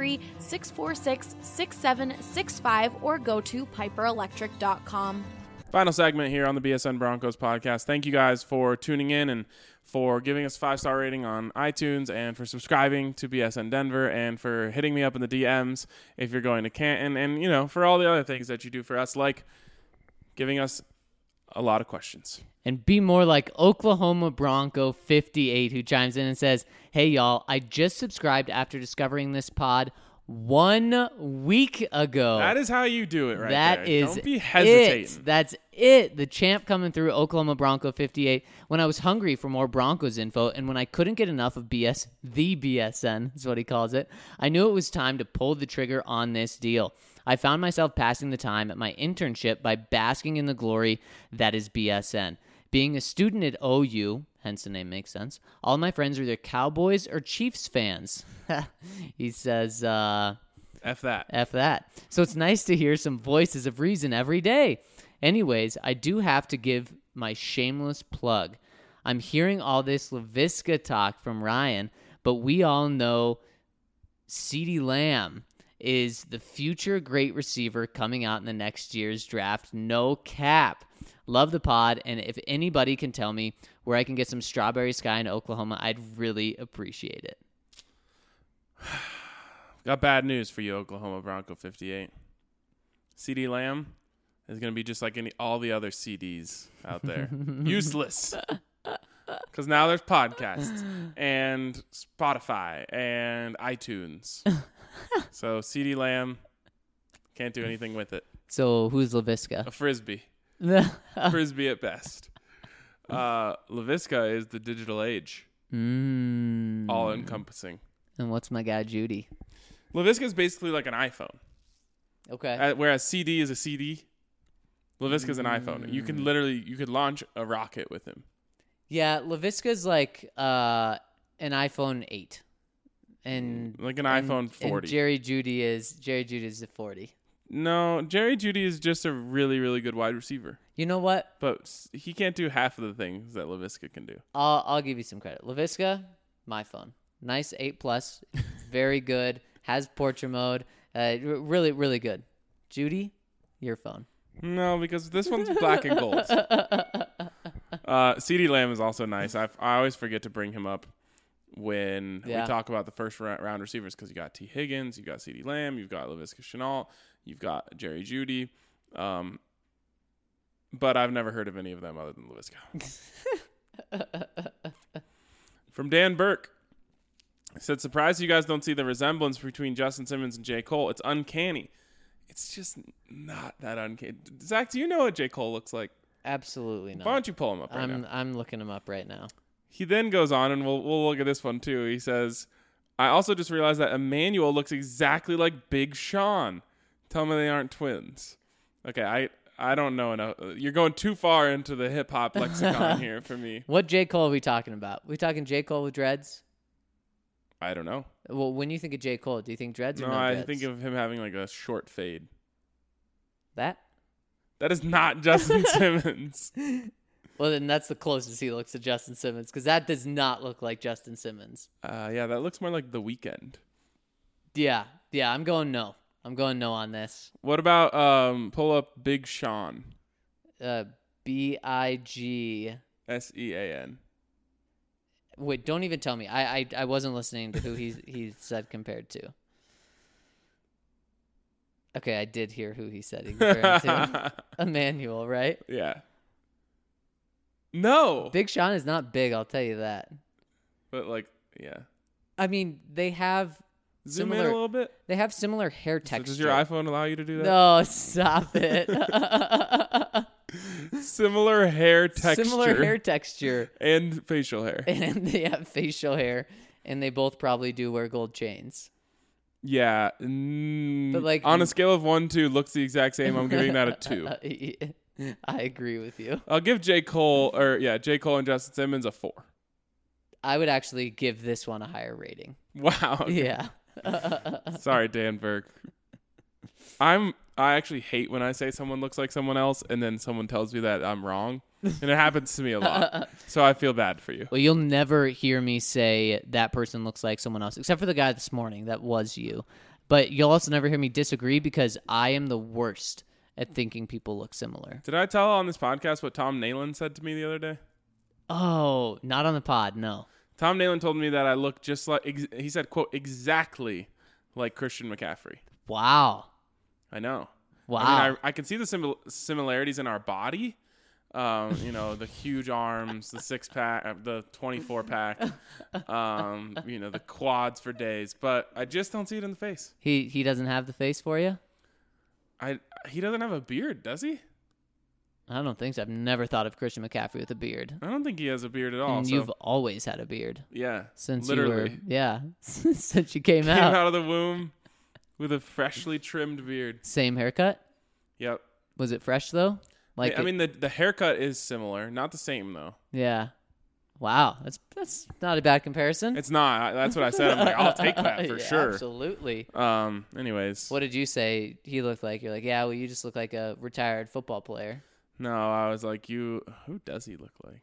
303-646-6765 or go to piperelectric.com. Final segment here on the BSN Broncos podcast. Thank you guys for tuning in and for giving us a 5-star rating on iTunes and for subscribing to BSN Denver and for hitting me up in the DMs if you're going to Canton and, you know, for all the other things that you do for us, like giving us a lot of questions. And be more like Oklahoma Bronco 58, who chimes in and says, "Hey, y'all, I just subscribed after discovering this pod 1 week ago." That is how you do it right there. That is Don't be hesitating. it. That's it. The champ coming through, Oklahoma Bronco 58. When I was hungry for more Broncos info and when I couldn't get enough of the BSN, is what he calls it, I knew it was time to pull the trigger on this deal. I found myself passing the time at my internship by basking in the glory that is BSN. Being a student at OU, hence the name makes sense, all of my friends are either Cowboys or Chiefs fans. He says, F that. F that. So it's nice to hear some voices of reason every day. Anyways, I do have to give my shameless plug. I'm hearing all this Laviska talk from Ryan, but we all know CeeDee Lamb is the future great receiver coming out in the next year's draft. No cap. Love the pod, and if anybody can tell me where I can get some Strawberry Sky in Oklahoma, I'd really appreciate it. Got bad news for you, Oklahoma Bronco 58. CeeDee Lamb is going to be just like all the other CDs out there. Useless. Because now there's podcasts and Spotify and iTunes. So CeeDee Lamb can't do anything with it. So who's Laviska? A frisbee. Frisbee at best. Laviska is the digital age. All encompassing. And what's my guy Judy? Laviska is basically like an iPhone. Okay. Whereas CD is a CD. Laviska is an iPhone. You could launch a rocket with him. Yeah, Laviska's like an iPhone 8. And like an iPhone 40. And Jerry Judy is a 40. No, Jerry Judy is just a really, really good wide receiver. You know what? But he can't do half of the things that Laviska can do. I'll give you some credit. Laviska, my phone. Nice 8+. Very good. Has portrait mode. Really, really good. Judy, your phone. No, because this one's black and gold. CeeDee Lamb is also nice. I always forget to bring him up when we talk about the first round receivers because you got T. Higgins, you got CeeDee Lamb, you've got Laviska Shenault, you've got Jerry Judy. But I've never heard of any of them other than Laviska. From Dan Burke. He said, surprised you guys don't see the resemblance between Justin Simmons and J. Cole. It's uncanny. It's just not that uncanny. Zach, do you know what J. Cole looks like? Absolutely not. Why don't you pull him up right now? I'm looking him up right now. He then goes on, and we'll look at this one too. He says, I also just realized that Emmanuel looks exactly like Big Sean. Tell me they aren't twins. Okay, I don't know enough. You're going too far into the hip-hop lexicon here for me. What J. Cole are we talking about? We talking J. Cole with dreads? I don't know. Well, when you think of J. Cole, do you think dreads or no dreads? No, I think of him having like a short fade. That is not Justin Simmons. Well, then that's the closest he looks to Justin Simmons because that does not look like Justin Simmons. Yeah, that looks more like The Weeknd. Yeah, I'm going no. I'm going no on this. What about pull up Big Sean? BIGSEAN. Wait, don't even tell me. I wasn't listening to who he said compared to. Okay, I did hear who he said he compared to. Emmanuel, right? Yeah. No. Big Sean is not big, I'll tell you that. But yeah. I mean, they have Zoom in a little bit. They have similar hair texture. So does your iPhone allow you to do that? No, stop it. Similar hair texture. And facial hair. And they have facial hair. And they both probably do wear gold chains. Yeah. But like on a scale of 1 to looks the exact same, I'm giving that a 2. I agree with you. I'll give J. Cole and Justin Simmons a 4. I would actually give this one a higher rating. Wow. Okay. Yeah. Sorry, Dan Berg. I actually hate when I say someone looks like someone else and then someone tells me that I'm wrong. And it happens to me a lot. So I feel bad for you. Well, you'll never hear me say that person looks like someone else, except for the guy this morning. That was you. But you'll also never hear me disagree because I am the worst at thinking people look similar. Did I tell on this podcast what Tom Nalen said to me the other day? Oh, not on the pod, no. Tom Nalen told me that I look just like, he said, quote, exactly like Christian McCaffrey. Wow. I know. Wow. I mean, I can see the similarities in our body. The huge arms, the 6-pack, the 24-pack, the quads for days. But I just don't see it in the face. He doesn't have the face for you? He doesn't have a beard, does he? I don't think so. I've never thought of Christian McCaffrey with a beard. I don't think he has a beard at all. And you've always had a beard. Yeah. Since literally. you were, since you came Came out. out of the womb with a freshly trimmed beard. Same haircut? Yep. Was it fresh, though? The haircut is similar. Not the same, though. Yeah. Wow. That's not a bad comparison. It's not. That's what I said. I'm like, I'll take that for sure. Absolutely. Anyways. What did you say he looked like? You're like, yeah, well, you just look like a retired football player. No, I was like, who does he look like?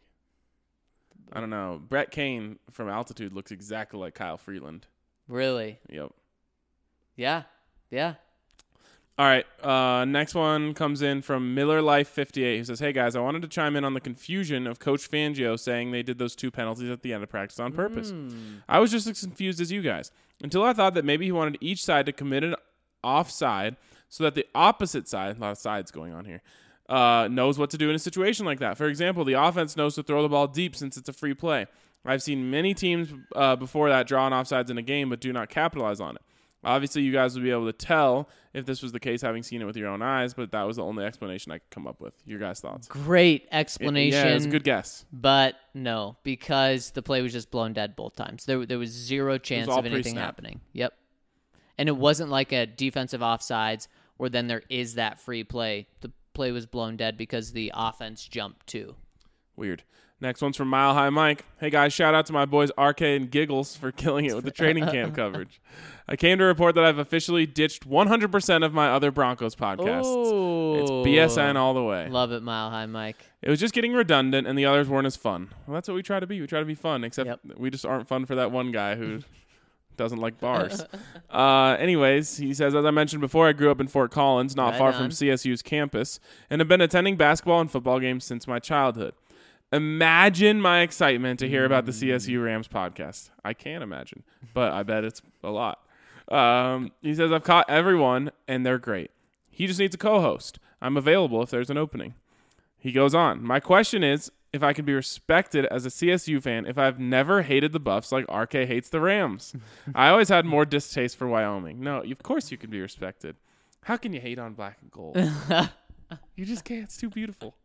I don't know. Brett Kane from Altitude looks exactly like Kyle Freeland. Really? Yep. Yeah. Yeah. All right. Next one comes in from Miller Life 58, who says, "Hey guys, I wanted to chime in on the confusion of Coach Fangio saying they did those 2 penalties at the end of practice on purpose. I was just as confused as you guys until I thought that maybe he wanted each side to commit an offside so that the opposite side, a lot of sides going on here, knows what to do in a situation like that. For example, the offense knows to throw the ball deep since it's a free play. I've seen many teams before that draw on offsides in a game but do not capitalize on it. Obviously, you guys would be able to tell if this was the case, having seen it with your own eyes, but that was the only explanation I could come up with. Your guys' thoughts?" Great explanation. Yeah, it's a good guess. But no, because the play was just blown dead both times. There was zero chance of anything pre-snap. happening. Yep. And it wasn't like a defensive offsides where then there is that free play. The play was blown dead because the offense jumped too. Weird. Next one's from Mile High Mike. "Hey guys, shout out to my boys RK and Giggles for killing it with the training camp coverage. I came to report that I've officially ditched 100% of my other Broncos podcasts. Ooh. It's BSN all the way. Love it, Mile High Mike. It was just getting redundant and the others weren't as fun." Well, that's what we try to be. We try to be fun, except we just aren't fun for that one guy who doesn't like bars. Anyways, he says, "As I mentioned before, I grew up in Fort Collins, not far from CSU's campus, and have been attending basketball and football games since my childhood. Imagine my excitement to hear about the CSU Rams podcast. I can't imagine, but I bet it's a lot." He says, "I've caught everyone, and they're great. He just needs a co-host. I'm available if there's an opening." He goes on, "My question is if I can be respected as a CSU fan if I've never hated the Buffs like RK hates the Rams. I always had more distaste for Wyoming." No, of course you can be respected. How can you hate on black and gold? You just can't. It's too beautiful.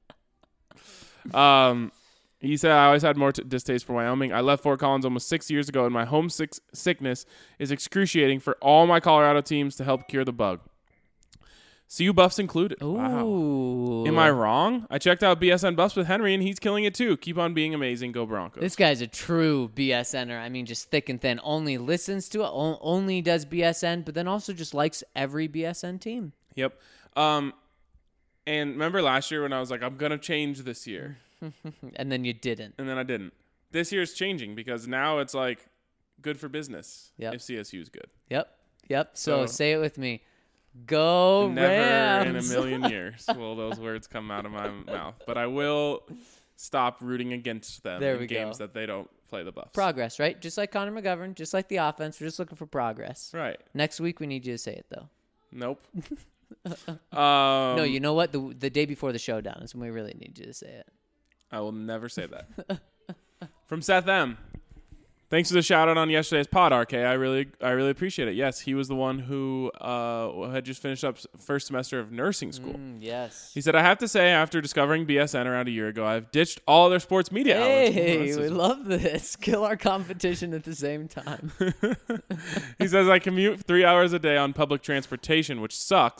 He said, "I always had more distaste for Wyoming. I left Fort Collins almost 6 years ago, and my homesickness is excruciating for all my Colorado teams to help cure the bug. CU Buffs included." Ooh. Wow. Am I wrong? I checked out BSN Buffs with Henry, and he's killing it too. Keep on being amazing. Go Broncos. This guy's a true BSNer. I mean, just thick and thin. Only listens to it, only does BSN, but then also just likes every BSN team. Yep. And remember last year when I was like, I'm going to change this year. And then you didn't. And then I didn't. This year's changing because now it's like good for business if CSU's good. Yep. So say it with me. Go Never Rams. in a million years will those words come out of my mouth. But I will stop rooting against them in games that they don't play the Buffs. Progress, right? Just like Connor McGovern, just like the offense. We're just looking for progress. Right. Next week we need you to say it, though. Nope. No, you know what? The day before the showdown is when we really need you to say it. I will never say that. From Seth M. "Thanks for the shout out on yesterday's pod, RK. I really appreciate it. Yes, he was the one who had just finished up first semester of nursing school. Yes. He said, I have to say, after discovering BSN around a year ago, I've ditched all other sports media outlets." Hey, we love this. Kill our competition at the same time. He says, "I commute 3 hours a day on public transportation, which sucks,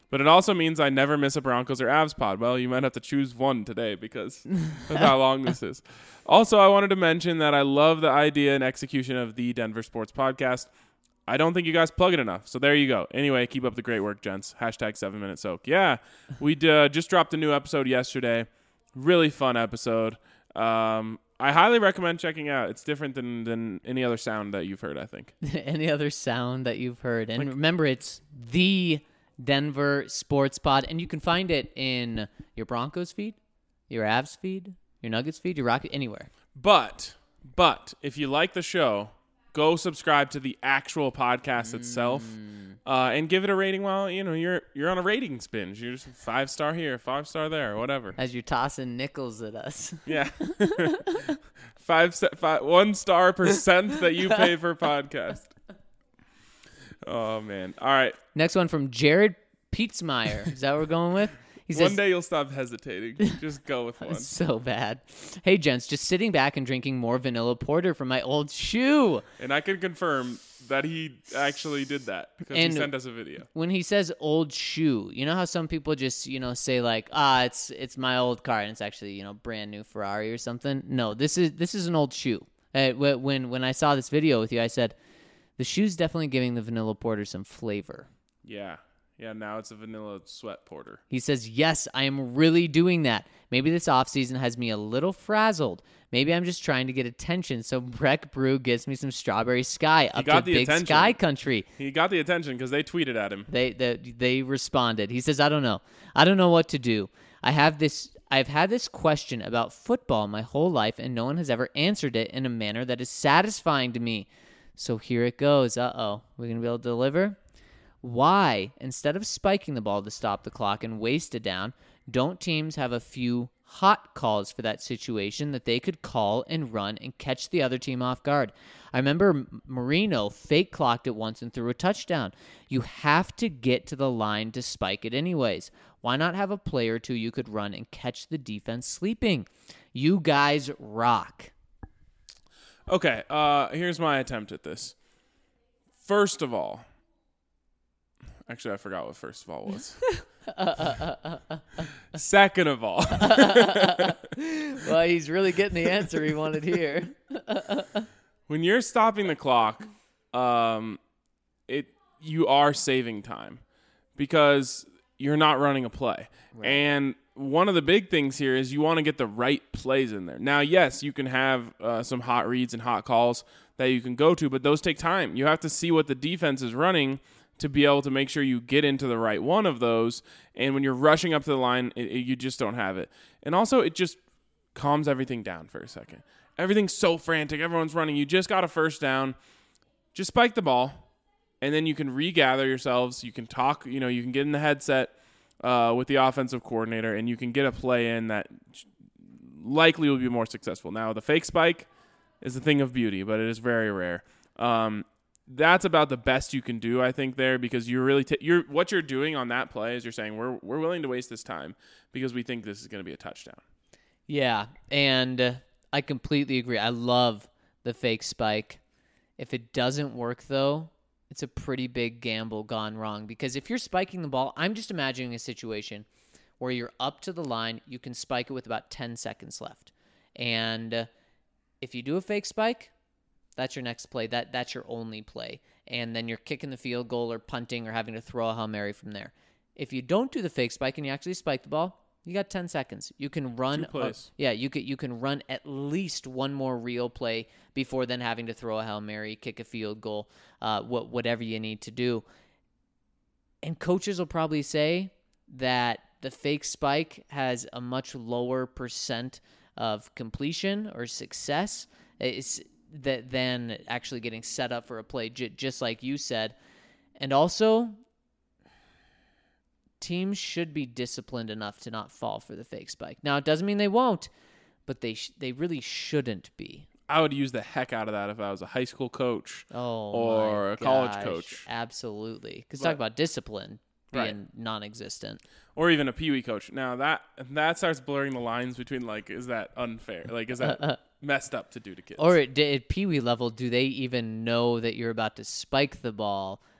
But it also means I never miss a Broncos or Avs pod. Well, you might have to choose one today because of how long this is. Also, I wanted to mention that I love the idea and execution of the Denver Sports Podcast. I don't think you guys plug it enough. So there you go. Anyway, keep up the great work, gents. Hashtag 7-Minute Soak. Yeah, we just dropped a new episode yesterday. Really fun episode. I highly recommend checking out. It's different than any other sound that you've heard, I think. Any other sound that you've heard. And remember, it's the Denver Sports Pod, and you can find it in your Broncos feed, your Avs feed, your Nuggets feed, your Rocket, anywhere. But if you like the show, go subscribe to the actual podcast itself, and give it a rating. While you're on a ratings binge, you're just 5-star here, 5-star there, whatever. As you're tossing nickels at us. Yeah, 1-star percent that you pay per podcast. Oh man! All right. Next one from Jared Pietzmeyer. Is that what we're going with? He says, one day you'll stop hesitating. Just go with one. So bad. Hey, gents, just sitting back and drinking more vanilla porter from my old shoe. And I can confirm that he actually did that because he sent us a video. When he says old shoe, you know how some people just, say like, it's my old car and it's actually, brand new Ferrari or something? No, this is an old shoe. When I saw this video with you, I said, the shoe's definitely giving the vanilla porter some flavor. Yeah, now it's a vanilla sweat porter. He says, yes, I am really doing that. Maybe this offseason has me a little frazzled. Maybe I'm just trying to get attention so Breck Brew gives me some Strawberry Sky up to Big attention. Sky Country. He got the attention because they tweeted at him. They responded. He says, I don't know what to do. I've had this question about football my whole life, and no one has ever answered it in a manner that is satisfying to me. So here it goes. We're going to be able to deliver? Why, instead of spiking the ball to stop the clock and waste it down, don't teams have a few hot calls for that situation that they could call and run and catch the other team off guard? I remember Marino fake clocked it once and threw a touchdown. You have to get to the line to spike it anyways. Why not have a play or two you could run and catch the defense sleeping? You guys rock. Okay, here's my attempt at this. First of all, actually, I forgot what first of all was. Second of all. Well, he's really getting the answer he wanted here. When you're stopping the clock, you are saving time because you're not running a play. Right. And one of the big things here is you want to get the right plays in there. Now, yes, you can have some hot reads and hot calls that you can go to, but those take time. You have to see what the defense is running to be able to make sure you get into the right one of those. And when you're rushing up to the line, you just don't have it. And also, it just calms everything down for a second. Everything's so frantic. Everyone's running. You just got a first down. Just spike the ball, and then you can regather yourselves. You can talk. You can get in the headset with the offensive coordinator, and you can get a play in that likely will be more successful. Now, the fake spike is a thing of beauty, but it is very rare. That's about the best you can do, I think, there, because you're really what you're doing on that play is you're saying we're willing to waste this time because we think this is going to be a touchdown. Yeah, and I completely agree. I love the fake spike. If it doesn't work, though, it's a pretty big gamble gone wrong, because if you're spiking the ball, I'm just imagining a situation where you're up to the line, you can spike it with about 10 seconds left. And if you do a fake spike, that's your next play. That's your only play. And then you're kicking the field goal or punting or having to throw a Hail Mary from there. If you don't do the fake spike and you actually spike the ball, you got 10 seconds. You can run. 2 plays. You can run at least one more real play before then having to throw a Hail Mary, kick a field goal, whatever you need to do. And coaches will probably say that the fake spike has a much lower percent of completion or success than actually getting set up for a play, just like you said. And also, teams should be disciplined enough to not fall for the fake spike. Now, it doesn't mean they won't, but they really shouldn't be. I would use the heck out of that if I was a high school coach or a college coach. Absolutely. Because talk about discipline being non-existent. Or even a peewee coach. Now, that starts blurring the lines between, like, is that unfair? Like, is that messed up to do to kids? Or at peewee level, do they even know that you're about to spike the ball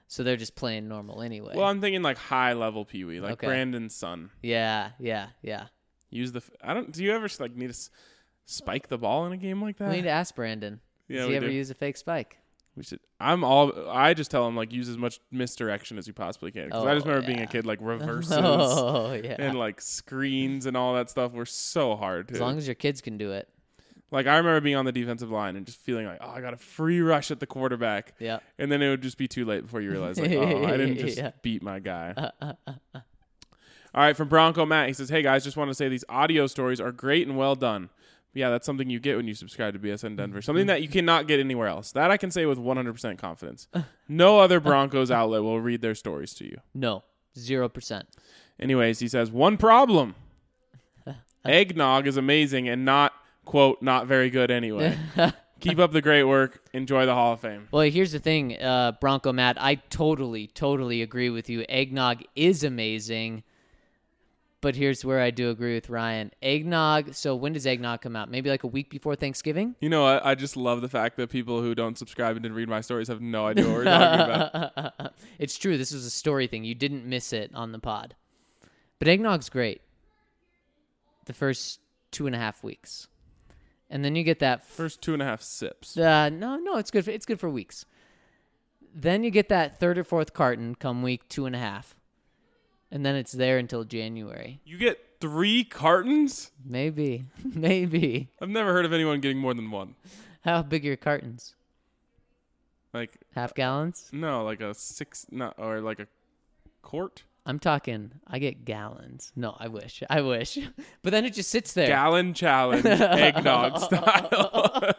So they're just playing normal anyway. Well, I'm thinking like high level Pee Wee, like Okay. Brandon's son. yeah. Use the. Do you ever like need to spike the ball in a game like that? We need to ask Brandon. Yeah, Does we he ever do. use a fake spike? We should. I just tell him like use as much misdirection as you possibly can. Because I just Oh, remember being yeah. a kid like reverses Oh, yeah. and like screens and all that stuff were so hard. As long as your kids can do it. Like I remember being on the defensive line and just feeling like, oh, I got a free rush at the quarterback. Yeah. And then it would just be too late before you realize like, oh, I didn't just Yeah. beat my guy. All right, from Bronco Matt, he says, hey guys, just want to say these audio stories are great and well done. Yeah, that's something you get when you subscribe to BSN Denver. Something that you cannot get anywhere else. That I can say with 100% confidence. No other Broncos outlet will read their stories to you. No. 0%. Anyways, he says, one problem. Eggnog is amazing and not, quote, not very good anyway. Keep up the great work. Enjoy the Hall of Fame. Well, here's the thing, Bronco Matt. I totally agree with you. Eggnog is amazing. But here's where I do agree with Ryan. Eggnog, so when does eggnog come out? Maybe like a week before Thanksgiving? You know what? I just love the fact that people who don't subscribe and didn't read my stories have no idea what we're talking about. It's true. This was a story thing. You didn't miss it on the pod. But eggnog's great. The first 2.5 weeks. And then you get that First 2.5 sips. no, it's good. It's good for weeks. Then you get that third or fourth carton come week 2.5, and then it's there until January. You get 3 cartons? Maybe. I've never heard of anyone getting more than one. How big are your cartons? Like, Half gallons? no, like a 6, not, or like a quart? I'm talking. I get gallons. No, I wish. But then it just sits there. Gallon challenge, eggnog style.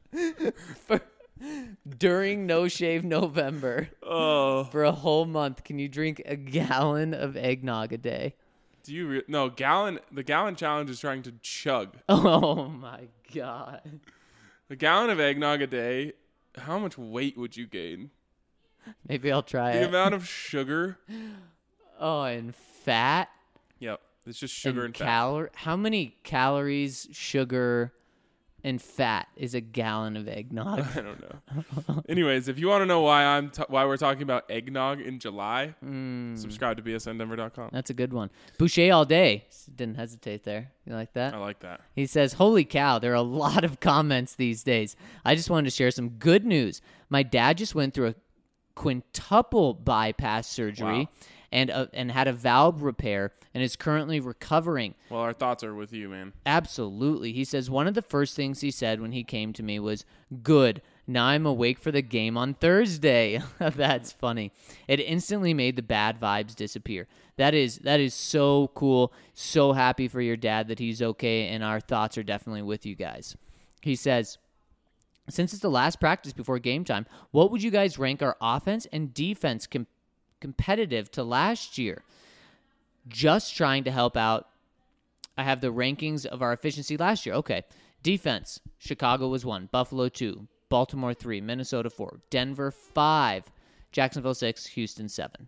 During No Shave November. Oh, For a whole month, can you drink a gallon of eggnog a day? do you? No, gallon. The gallon challenge is trying to chug Oh my God. a gallon of eggnog a day. How much weight would you gain? Maybe I'll try The it. amount of sugar. Oh, and fat Yep, it's just sugar and fat. How many calories, sugar, and fat is a gallon of eggnog? I don't know. Anyways, if you want to know why why we're talking about eggnog in July, subscribe to bsndenver.com. That's a good one. Boucher all day. Didn't hesitate there. You like that? I like that. He says, holy cow, there are a lot of comments these days. I just wanted to share some good news. My dad just went through a quintuple bypass surgery Wow. and had a valve repair and is currently recovering. Well, our thoughts are with you, man. Absolutely. He says one of the first things he said when he came to me was, good, now I'm awake for the game on Thursday. That's funny. It instantly made the bad vibes disappear. That is so cool. So happy for your dad that he's okay, and our thoughts are definitely with you guys. He says, since it's the last practice before game time, what would you guys rank our offense and defense competitive to last year? Just trying to help out. I have the rankings of our efficiency last year. Okay. Defense, Chicago was 1, Buffalo 2, Baltimore 3, Minnesota 4, Denver 5, Jacksonville 6, Houston 7.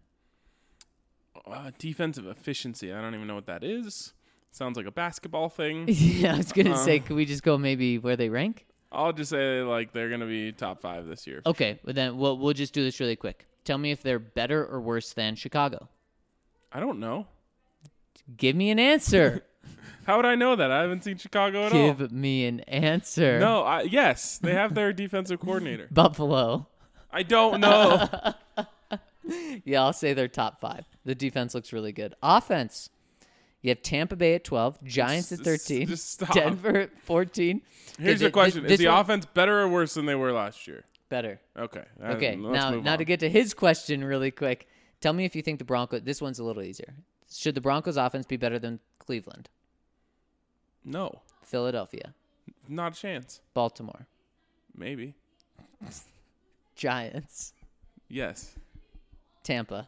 Defensive efficiency. I don't even know what that is. Sounds like a basketball thing. Yeah, I was going to say, could we just go maybe where they rank? I'll just say like they're gonna be top 5 this year. Okay, but then we'll just do this really quick. Tell me if they're better or worse than Chicago. I don't know. Give me an answer. How would I know that? I haven't seen Chicago at all. Give me an answer. No, yes, they have their defensive coordinator. Buffalo. I don't know. Yeah, I'll say they're top 5. The defense looks really good. Offense. You have Tampa Bay at 12, Giants at 13, just stop. Denver at 14. Here's Okay, the question: Is this the one- offense better or worse than they were last year? Better. Okay. Okay, let's move now on. to get to his question really quick. Tell me if you think the Broncos, this one's a little easier. Should the Broncos offense be better than Cleveland, No, Philadelphia, not a chance. Baltimore, Maybe. Giants, Yes. Tampa,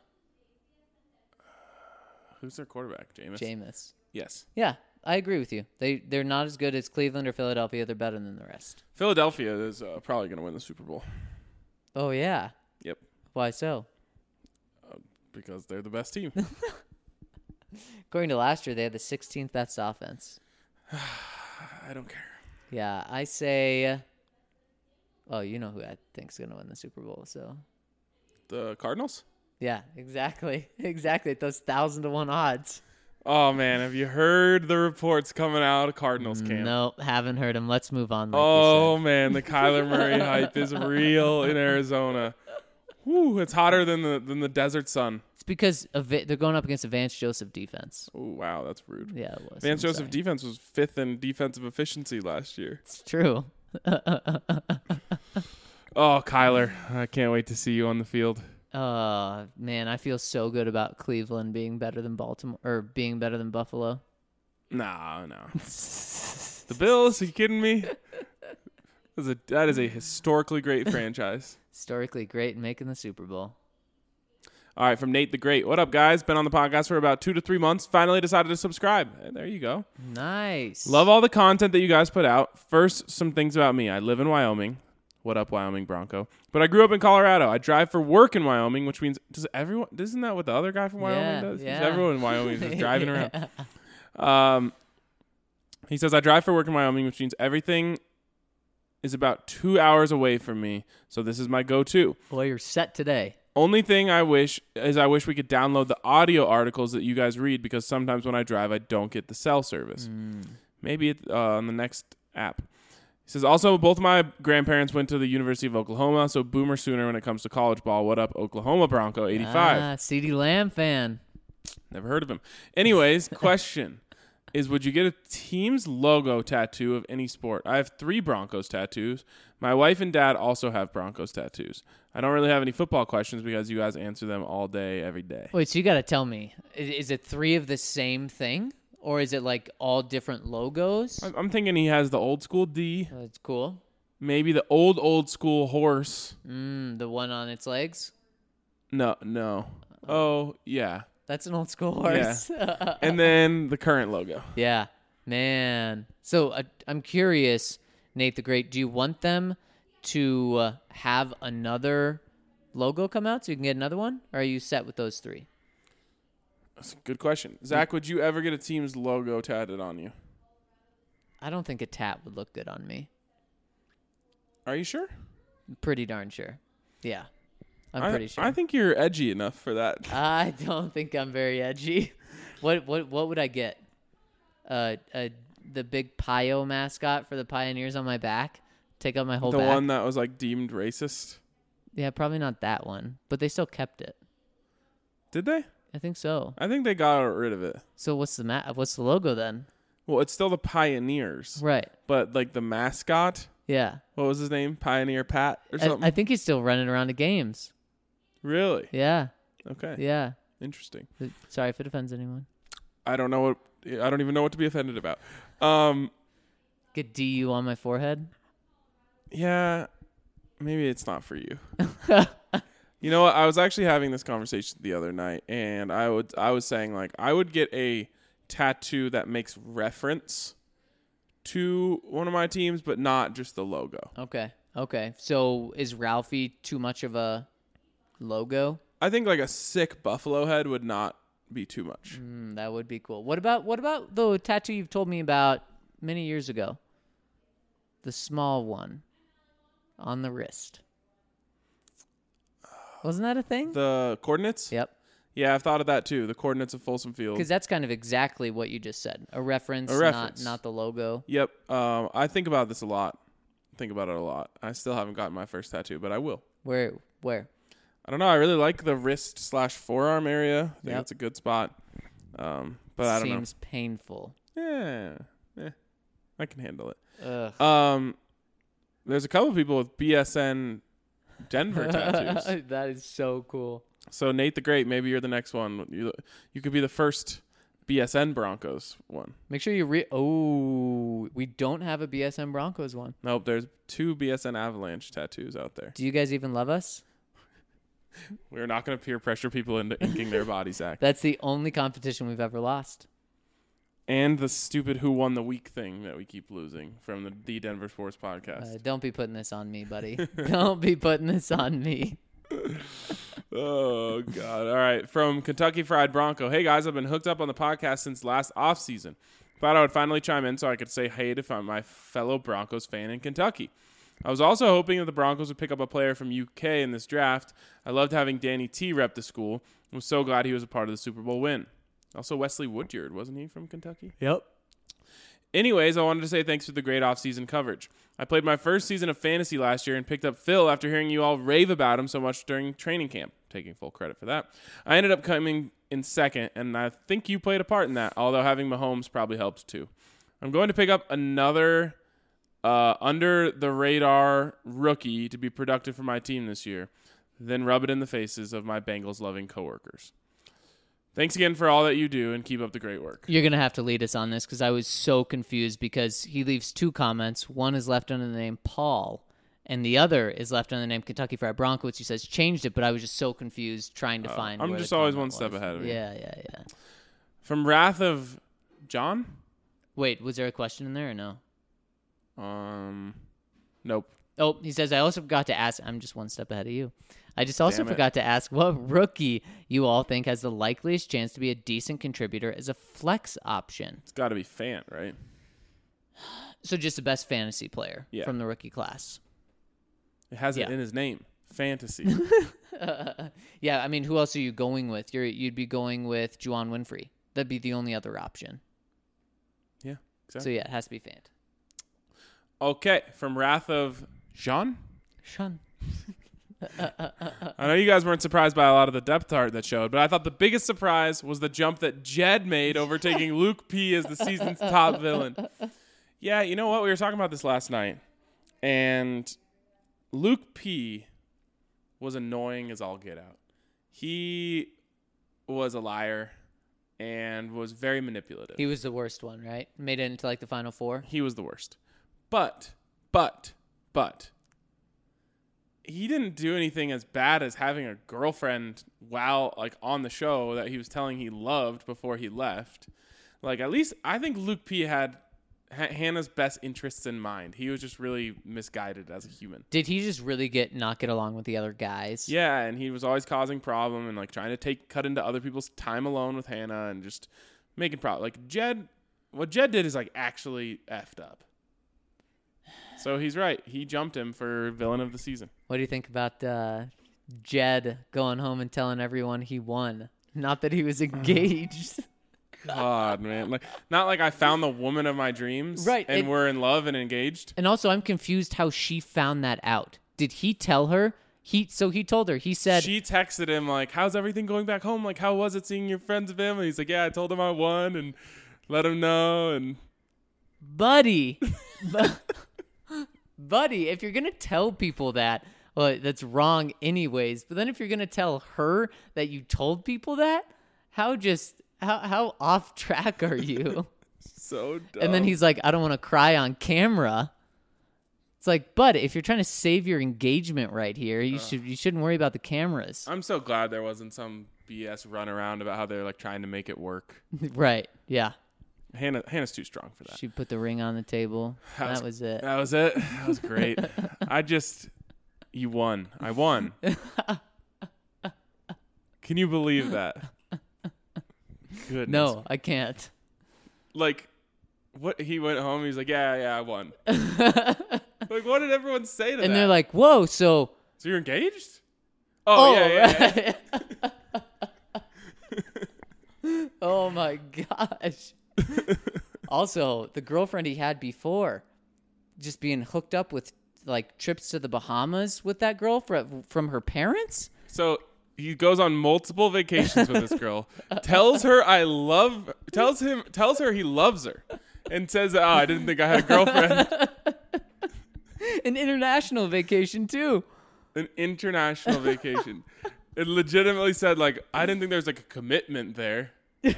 Who's their quarterback? Jameis. Jameis? Yes. Yeah, I agree with you. They're not as good as Cleveland or Philadelphia. They're better than the rest. Philadelphia is probably going to win the Super Bowl. Oh, yeah. Yep. Why so? Because they're the best team. According to last year, they had the 16th best offense. I don't care. Yeah, I say. Oh, you know who I think's going to win the Super Bowl, so. The Cardinals? Yeah, exactly. Exactly. At those 1,000-to-1 odds. Oh, man. Have you heard the reports coming out of Cardinals camp? Nope, haven't heard him. Let's move on. Oh, man. The Kyler Murray hype is real in Arizona. Whew, it's hotter than the desert sun. It's because they're going up against a Vance Joseph defense. Oh, wow. That's rude. Yeah, it was. Vance I'm Joseph sorry. defense was 5th in defensive efficiency last year. It's true. Oh, Kyler. I can't wait to see you on the field. Man, I feel so good about Cleveland being better than Baltimore or being better than Buffalo. No. The Bills? Are you kidding me? That is a historically great franchise. Historically great in making the Super Bowl. All right, from Nate the Great. What up, guys? Been on the podcast for about 2 to 3 months. Finally decided to subscribe. There you go. Nice. Love all the content that you guys put out. First, some things about me. I live in Wyoming. What up, Wyoming Bronco? But I grew up in Colorado. I drive for work in Wyoming, which means isn't that what the other guy from Wyoming does? Yeah. Everyone in Wyoming is just driving around. He says, I drive for work in Wyoming, which means everything is about 2 hours away from me. So this is my go-to. Boy, you're set today. Only thing I wish we could download the audio articles that you guys read, because sometimes when I drive, I don't get the cell service. Maybe on the next app. He says, also, both of my grandparents went to the University of Oklahoma, so boomer sooner when it comes to college ball. What up, Oklahoma Bronco 85? CeeDee Lamb fan. Never heard of him. Anyways, question is, would you get a team's logo tattoo of any sport? I have 3 Broncos tattoos. My wife and dad also have Broncos tattoos. I don't really have any football questions because you guys answer them all day, every day. Wait, so you got to tell me, is it 3 of the same thing? Or is it like all different logos? I'm thinking he has the old school D. That's cool. Maybe the old school horse. The one on its legs? No. Oh, yeah. That's an old school horse. Yeah. And then the current logo. Yeah. Man. So I'm curious, Nate the Great, do you want them to have another logo come out so you can get another one? Or are you set with those 3? That's a good question. Zach, would you ever get a team's logo tatted on you? I don't think a tat would look good on me. Are you sure? Pretty darn sure. Yeah. I'm pretty sure. I think you're edgy enough for that. I don't think I'm very edgy. What would I get? The big Pio mascot for the Pioneers on my back? Take out my whole the back? one that was like deemed racist? Yeah, probably not that one. But they still kept it. Did they? I think so. I think they got rid of it. So what's the logo then? Well, it's still the Pioneers. Right. But like the mascot, Yeah. what was his name? Pioneer Pat or something? I think he's still running around the games. Really? Yeah. Okay. Yeah. Interesting. Sorry if it offends anyone. I don't even know what to be offended about. Get DU on my forehead. Yeah, maybe it's not for you. You know what? I was actually having this conversation the other night, and I was saying, like, I would get a tattoo that makes reference to one of my teams, but not just the logo. Okay. So is Ralphie too much of a logo? I think like a sick buffalo head would not be too much. That would be cool. What about the tattoo you've told me about many years ago? The small one on the wrist. Wasn't that a thing? The coordinates? Yep. Yeah, I've thought of that too. The coordinates of Folsom Field. Because that's kind of exactly what you just said. A reference. Not the logo. Yep. I think about this a lot. Think about it a lot. I still haven't gotten my first tattoo, but I will. Where? I don't know. I really like the wrist/forearm area. I think Yep. that's a good spot. But I don't know. Seems painful. Yeah, I can handle it. Ugh. There's a couple people with BSN Denver tattoos. That is so cool. So Nate the Great, maybe you're the next one. You could be the first BSN Broncos one. Make sure you we don't have a BSN Broncos one. Nope, there's 2 BSN Avalanche tattoos out there. Do you guys even love us? We're not going to peer pressure people into inking their bodies, Zach. That's the only competition we've ever lost. And the stupid Who Won the Week thing that we keep losing from the Denver Sports Podcast. Don't be putting this on me, buddy. Don't be putting this on me. Oh, God. All right. From Kentucky Fried Bronco. Hey, guys, I've been hooked up on the podcast since last offseason. Thought I would finally chime in so I could say hey to my fellow Broncos fan in Kentucky. I was also hoping that the Broncos would pick up a player from UK in this draft. I loved having Danny T rep the school. I was so glad he was a part of the Super Bowl win. Also, Wesley Woodyard, wasn't he from Kentucky? Yep. Anyways, I wanted to say thanks for the great off-season coverage. I played my first season of fantasy last year and picked up Phil after hearing you all rave about him so much during training camp. Taking full credit for that. I ended up coming in second, and I think you played a part in that, although having Mahomes probably helps too. I'm going to pick up another under-the-radar rookie to be productive for my team this year, then rub it in the faces of my Bengals-loving coworkers. Thanks again for all that you do, and keep up the great work. You're going to have to lead us on this because I was so confused because he leaves 2 comments. One is left under the name Paul, and the other is left under the name Kentucky Fried Broncos. He says changed it, but I was just so confused trying to find I'm where just the always comment one step was. ahead of you. Yeah. From Wrath of John? Wait, was there a question in there or no? Nope. Oh, he says, I also forgot to ask. I'm just one step ahead of you. I just also Damn it. forgot to ask what rookie you all think has the likeliest chance to be a decent contributor as a flex option. It's got to be Fant, right? So just the best fantasy player Yeah. from the rookie class. It has it Yeah. in his name. Fantasy. Yeah, I mean, who else are you going with? You'd be going with Juwan Winfrey. That'd be the only other option. Yeah, So exactly. yeah, it has to be Fant. Okay, from Wrath of Jean? Sean. I know you guys weren't surprised by a lot of the depth chart that showed, but I thought the biggest surprise was the jump that Jed made, overtaking Luke P as the season's top villain. Yeah, you know what? We were talking about this last night, and Luke P was annoying as all get out. He was a liar and was very manipulative. He was the worst one, right? Made it into like the final 4. He was the worst. But he didn't do anything as bad as having a girlfriend while like on the show that he was telling he loved before he left. Like, at least I think Luke P had Hannah's best interests in mind. He was just really misguided as a human. Did he just really not get along with the other guys? Yeah, and he was always causing problem and like trying to cut into other people's time alone with Hannah and just making problem. Like what Jed did is like actually effed up. So he's right. He jumped him for villain of the season. What do you think about Jed going home and telling everyone he won? Not that he was engaged. God, man. Like, not like I found the woman of my dreams. Right, And we're in love and engaged. And also, I'm confused how she found that out. Did he tell her? So he told her. He said... She texted him, like, how's everything going back home? Like, how was it seeing your friends and family? He's like, yeah, I told him I won and let him know. And Buddy. Buddy, if you're going to tell people that, well, that's wrong anyways. But then if you're going to tell her that you told people that, how off track are you? so dumb. And then he's like, I don't want to cry on camera. It's like, bud, if you're trying to save your engagement right here, you shouldn't worry about the cameras. I'm so glad there wasn't some BS run around about how they're like trying to make it work. Right. Yeah. Hannah's too strong for that. She put the ring on the table. That was it. That was it. That was great. You won. I won. Can you believe that? Goodness. No, I can't. Like, what? He went home. He's like, yeah, I won. Like, what did everyone say to that? And they're like, whoa, so you're engaged? Oh, yeah. Oh, my gosh. Also, the girlfriend he had before, just being hooked up with, like, trips to the Bahamas with that girl from her parents? So he goes on multiple vacations with this girl, tells her he loves her, and says, oh, I didn't think I had a girlfriend. An international vacation, too. An international vacation. It legitimately said, like, I didn't think there was, like, a commitment there.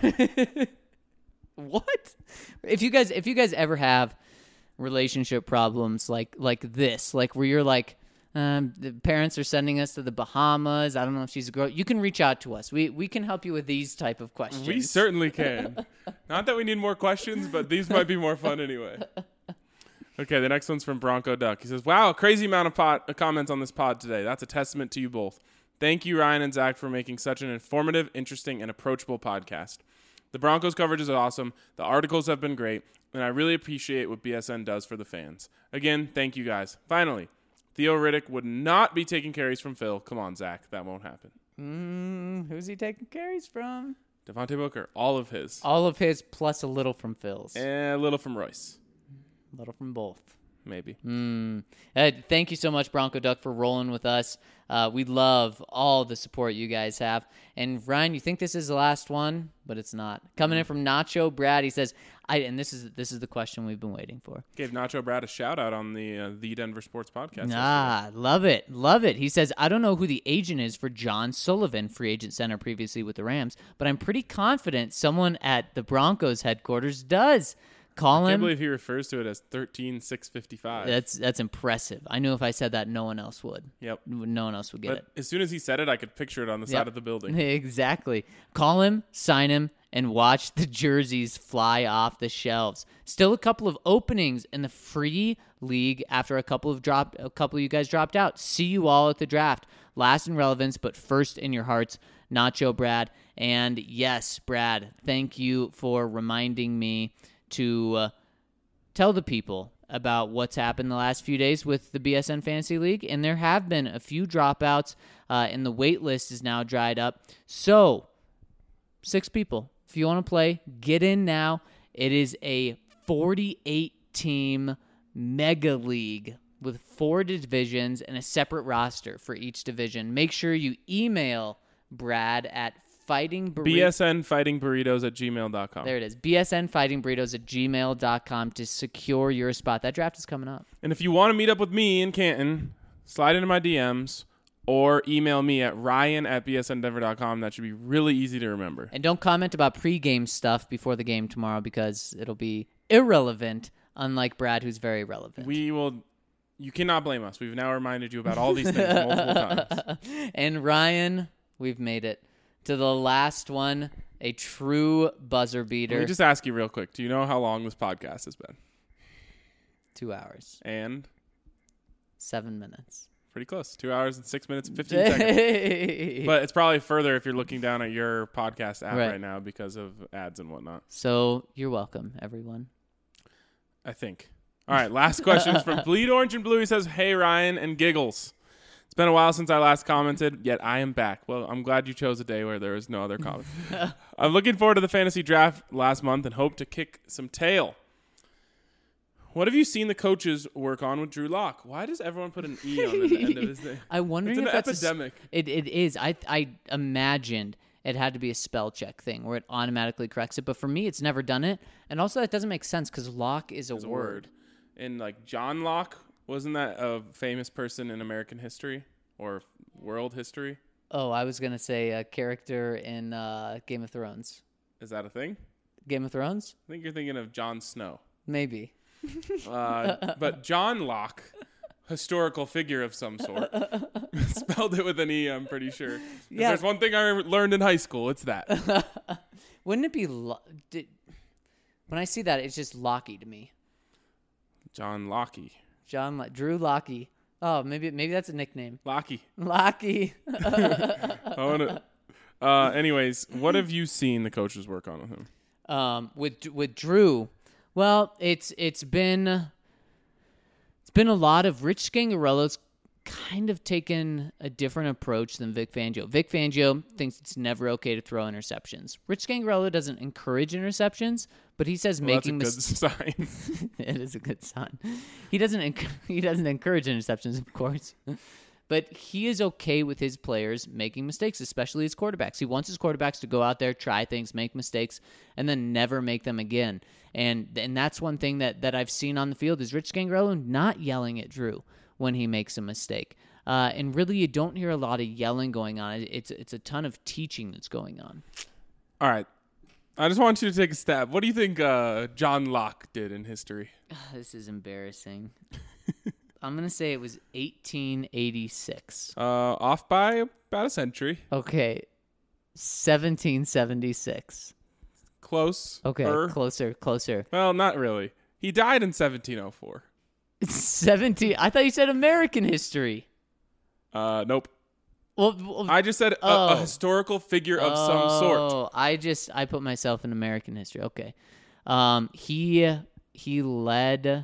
What? If you guys ever have relationship problems like this, like where you're like, the parents are sending us to the Bahamas, I don't know if she's a girl, you can reach out to us. We can help you with these type of questions. We certainly can. Not that we need more questions, but these might be more fun anyway. Okay, the next one's from Bronco Duck. He says, wow, crazy amount of comments on this pod today. That's a testament to you both. Thank you, Ryan and Zach, for making such an informative, interesting, and approachable podcast. The Broncos coverage is awesome. The articles have been great, and I really appreciate what BSN does for the fans. Again, thank you guys. Finally, Theo Riddick would not be taking carries from Phil. Come on, Zach. That won't happen. Who's he taking carries from? Devontae Booker. All of his. All of his plus a little from Phil's. And a little from Royce. A little from both. Maybe. Thank you so much, Bronco Duck, for rolling with us. We love all the support you guys have. And Ryan, you think this is the last one, but it's not. Coming in from Nacho Brad, he says, and this is the question we've been waiting for. Gave Nacho Brad a shout out on the Denver Sports Podcast. Love it. He says, I don't know who the agent is for John Sullivan, free agent center previously with the Rams, but I'm pretty confident someone at the Broncos headquarters does. Call I him. can't believe he refers to it as 13,655. That's impressive. I knew if I said that, no one else would. Yep. No one else would get But it. as soon as he said it, I could picture it on the side of the building. Exactly. Call him, sign him, and watch the jerseys fly off the shelves. Still a couple of openings in the free league after a couple of you guys dropped out. See you all at the draft. Last in relevance, but first in your hearts. Nacho Brad. And yes, Brad, thank you for reminding me to tell the people about what's happened the last few days with the BSN Fantasy League, and there have been a few dropouts, and the wait list is now dried up. So, 6 people. If you want to play, get in now. It is a 48-team mega league with 4 divisions and a separate roster for each division. Make sure you email Brad at BSNfightingburritos@gmail.com. There it is. BSNfightingburritos@gmail.com to secure your spot. That draft is coming up. And if you want to meet up with me in Canton, slide into my DMs or email me at ryan@bsndenver.com. That should be really easy to remember. And don't comment about pregame stuff before the game tomorrow because it'll be irrelevant, unlike Brad, who's very relevant. You cannot blame us. We've now reminded you about all these things multiple times. And Ryan, we've made it to the last one, a true buzzer beater. Let me just ask you real quick. Do you know how long this podcast has been? 2 hours. And? 7 minutes. Pretty close. 2 hours and 6 minutes and 15 seconds. But it's probably further if you're looking down at your podcast app right now because of ads and whatnot. So you're welcome, everyone. I think. All right, last question is from Bleed Orange and Blue. He says, hey, Ryan and Giggles. It's been a while since I last commented, yet I am back. Well, I'm glad you chose a day where there was no other comment. I'm looking forward to the fantasy draft last month and hope to kick some tail. What have you seen the coaches work on with Drew Lock? Why does everyone put an E on the end of his name? I'm wondering it's if that's epidemic. It is. I imagined it had to be a spell check thing where it automatically corrects it. But for me, it's never done it. And also, that doesn't make sense because Locke is a word. And like John Locke, wasn't that a famous person in American history or world history? Oh, I was going to say a character in Game of Thrones. Is that a thing? Game of Thrones? I think you're thinking of Jon Snow. Maybe. But John Locke, historical figure of some sort, spelled it with an E, I'm pretty sure. If there's one thing I learned in high school, it's that. Wouldn't it be... when I see that, it's just Lockie to me. John Lockie. Drew Lockie. Oh, maybe that's a nickname. Lockie. Anyways, what have you seen the coaches work on with him? With Drew, well, it's been a lot of Rich Scangarello's kind of taken a different approach than Vic Fangio. Vic Fangio thinks it's never okay to throw interceptions. Rich Scangarello doesn't encourage interceptions, but he says making mistakes. That's a good sign. It is a good sign. He doesn't encourage interceptions, of course. But he is okay with his players making mistakes, especially his quarterbacks. He wants his quarterbacks to go out there, try things, make mistakes, and then never make them again. And that's one thing that I've seen on the field is Rich Scangarello not yelling at Drew when he makes a mistake. And really, you don't hear a lot of yelling going on. It's a ton of teaching that's going on. All right. I just want you to take a stab. What do you think John Locke did in history? This is embarrassing. I'm going to say it was 1886. Off by about a century. Okay. 1776. Close. Okay, closer. Well, not really. He died in 1704. 17. I thought you said American history. Nope. Well, I just said a historical figure of some sort. I put myself in American history. Okay. He led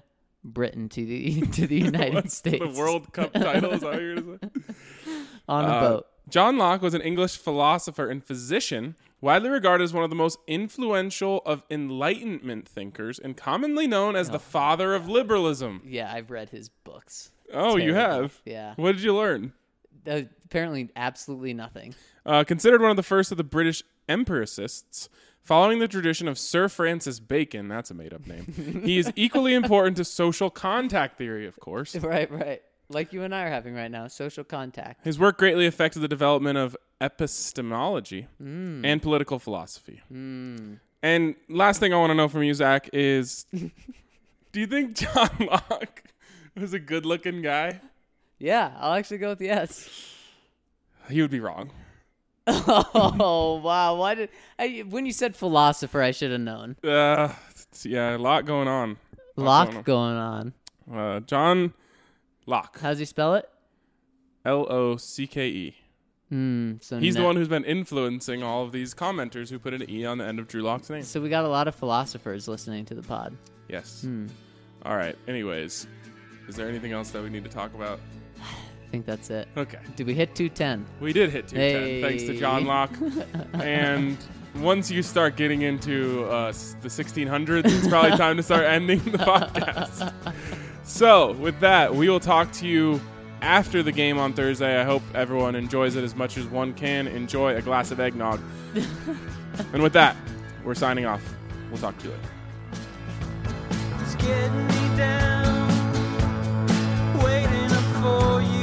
Britain to the United What's States. The World Cup title, is that what you're going to say? On a boat. John Locke was an English philosopher and physician, widely regarded as one of the most influential of Enlightenment thinkers and commonly known as the father of liberalism. Yeah, I've read his books. Oh, you have? Yeah. What did you learn? Apparently absolutely nothing. Considered one of the first of the British empiricists, following the tradition of Sir Francis Bacon, that's a made-up name, he is equally important to social contact theory, of course. Right. Like you and I are having right now, social contact. His work greatly affected the development of epistemology and political philosophy. And last thing I want to know from you, Zach, is do you think John Locke was a good-looking guy? Yeah, I'll actually go with yes. He would be wrong. Oh, wow. When you said philosopher, I should have known. Yeah, a lot going on. Locke going on. John Locke. How's he spell it? Locke. So He's the one who's been influencing all of these commenters who put an E on the end of Drew Locke's name. So we got a lot of philosophers listening to the pod. Yes. All right. Anyways, is there anything else that we need to talk about? I think that's it. Okay. Did we hit 210? We did hit 210, thanks to John Locke. And once you start getting into the 1600s, it's probably time to start ending the podcast. So, with that, we will talk to you after the game on Thursday. I hope everyone enjoys it as much as one can enjoy a glass of eggnog. And with that, we're signing off. We'll talk to you later. It's getting me down, waiting up for you.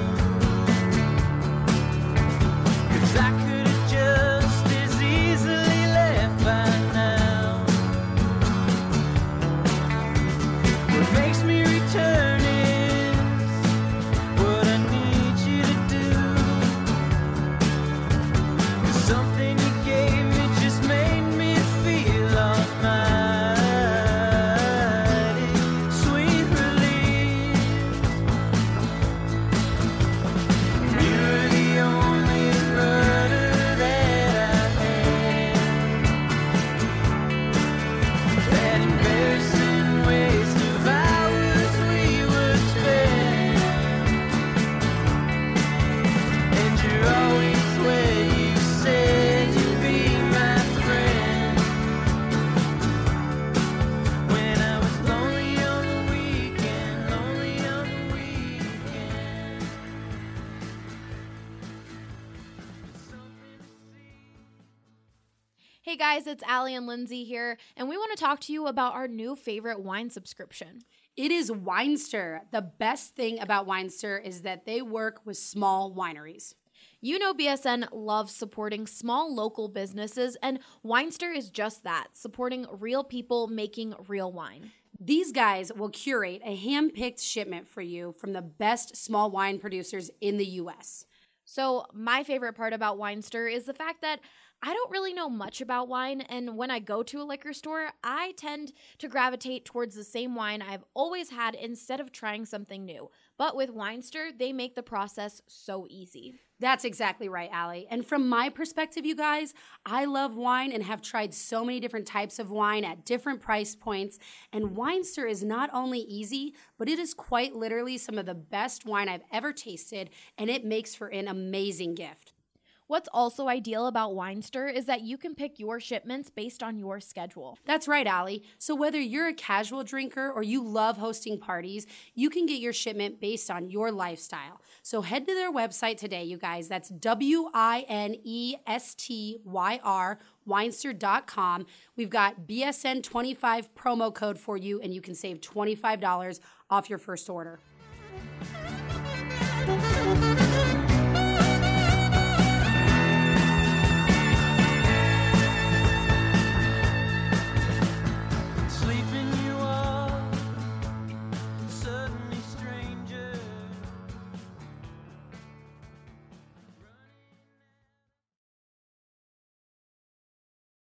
'Cause I could have just as easily left by now. What makes me return is what I need you to do. 'Cause something you gave me just made me feel almighty. Sweet relief. You're the only rudder that I had. That embarrassing waste of hours we would spend. And you're always where you said you'd be my friend. When I was lonely on the weekend. Hey guys, it's Allie and Lindsay here, and we want to talk to you about our new favorite wine subscription. It is Winester. The best thing about Winester is that they work with small wineries. You know BSN loves supporting small local businesses, and Winester is just that, supporting real people making real wine. These guys will curate a hand-picked shipment for you from the best small wine producers in the U.S. So my favorite part about Winester is the fact that I don't really know much about wine, and when I go to a liquor store, I tend to gravitate towards the same wine I've always had instead of trying something new. But with Winester, they make the process so easy. That's exactly right, Allie. And from my perspective, you guys, I love wine and have tried so many different types of wine at different price points. And Winester is not only easy, but it is quite literally some of the best wine I've ever tasted, and it makes for an amazing gift. What's also ideal about Winester is that you can pick your shipments based on your schedule. That's right, Allie. So whether you're a casual drinker or you love hosting parties, you can get your shipment based on your lifestyle. So head to their website today, you guys. That's WINESTYR, Winester.com. We've got BSN25 promo code for you, and you can save $25 off your first order.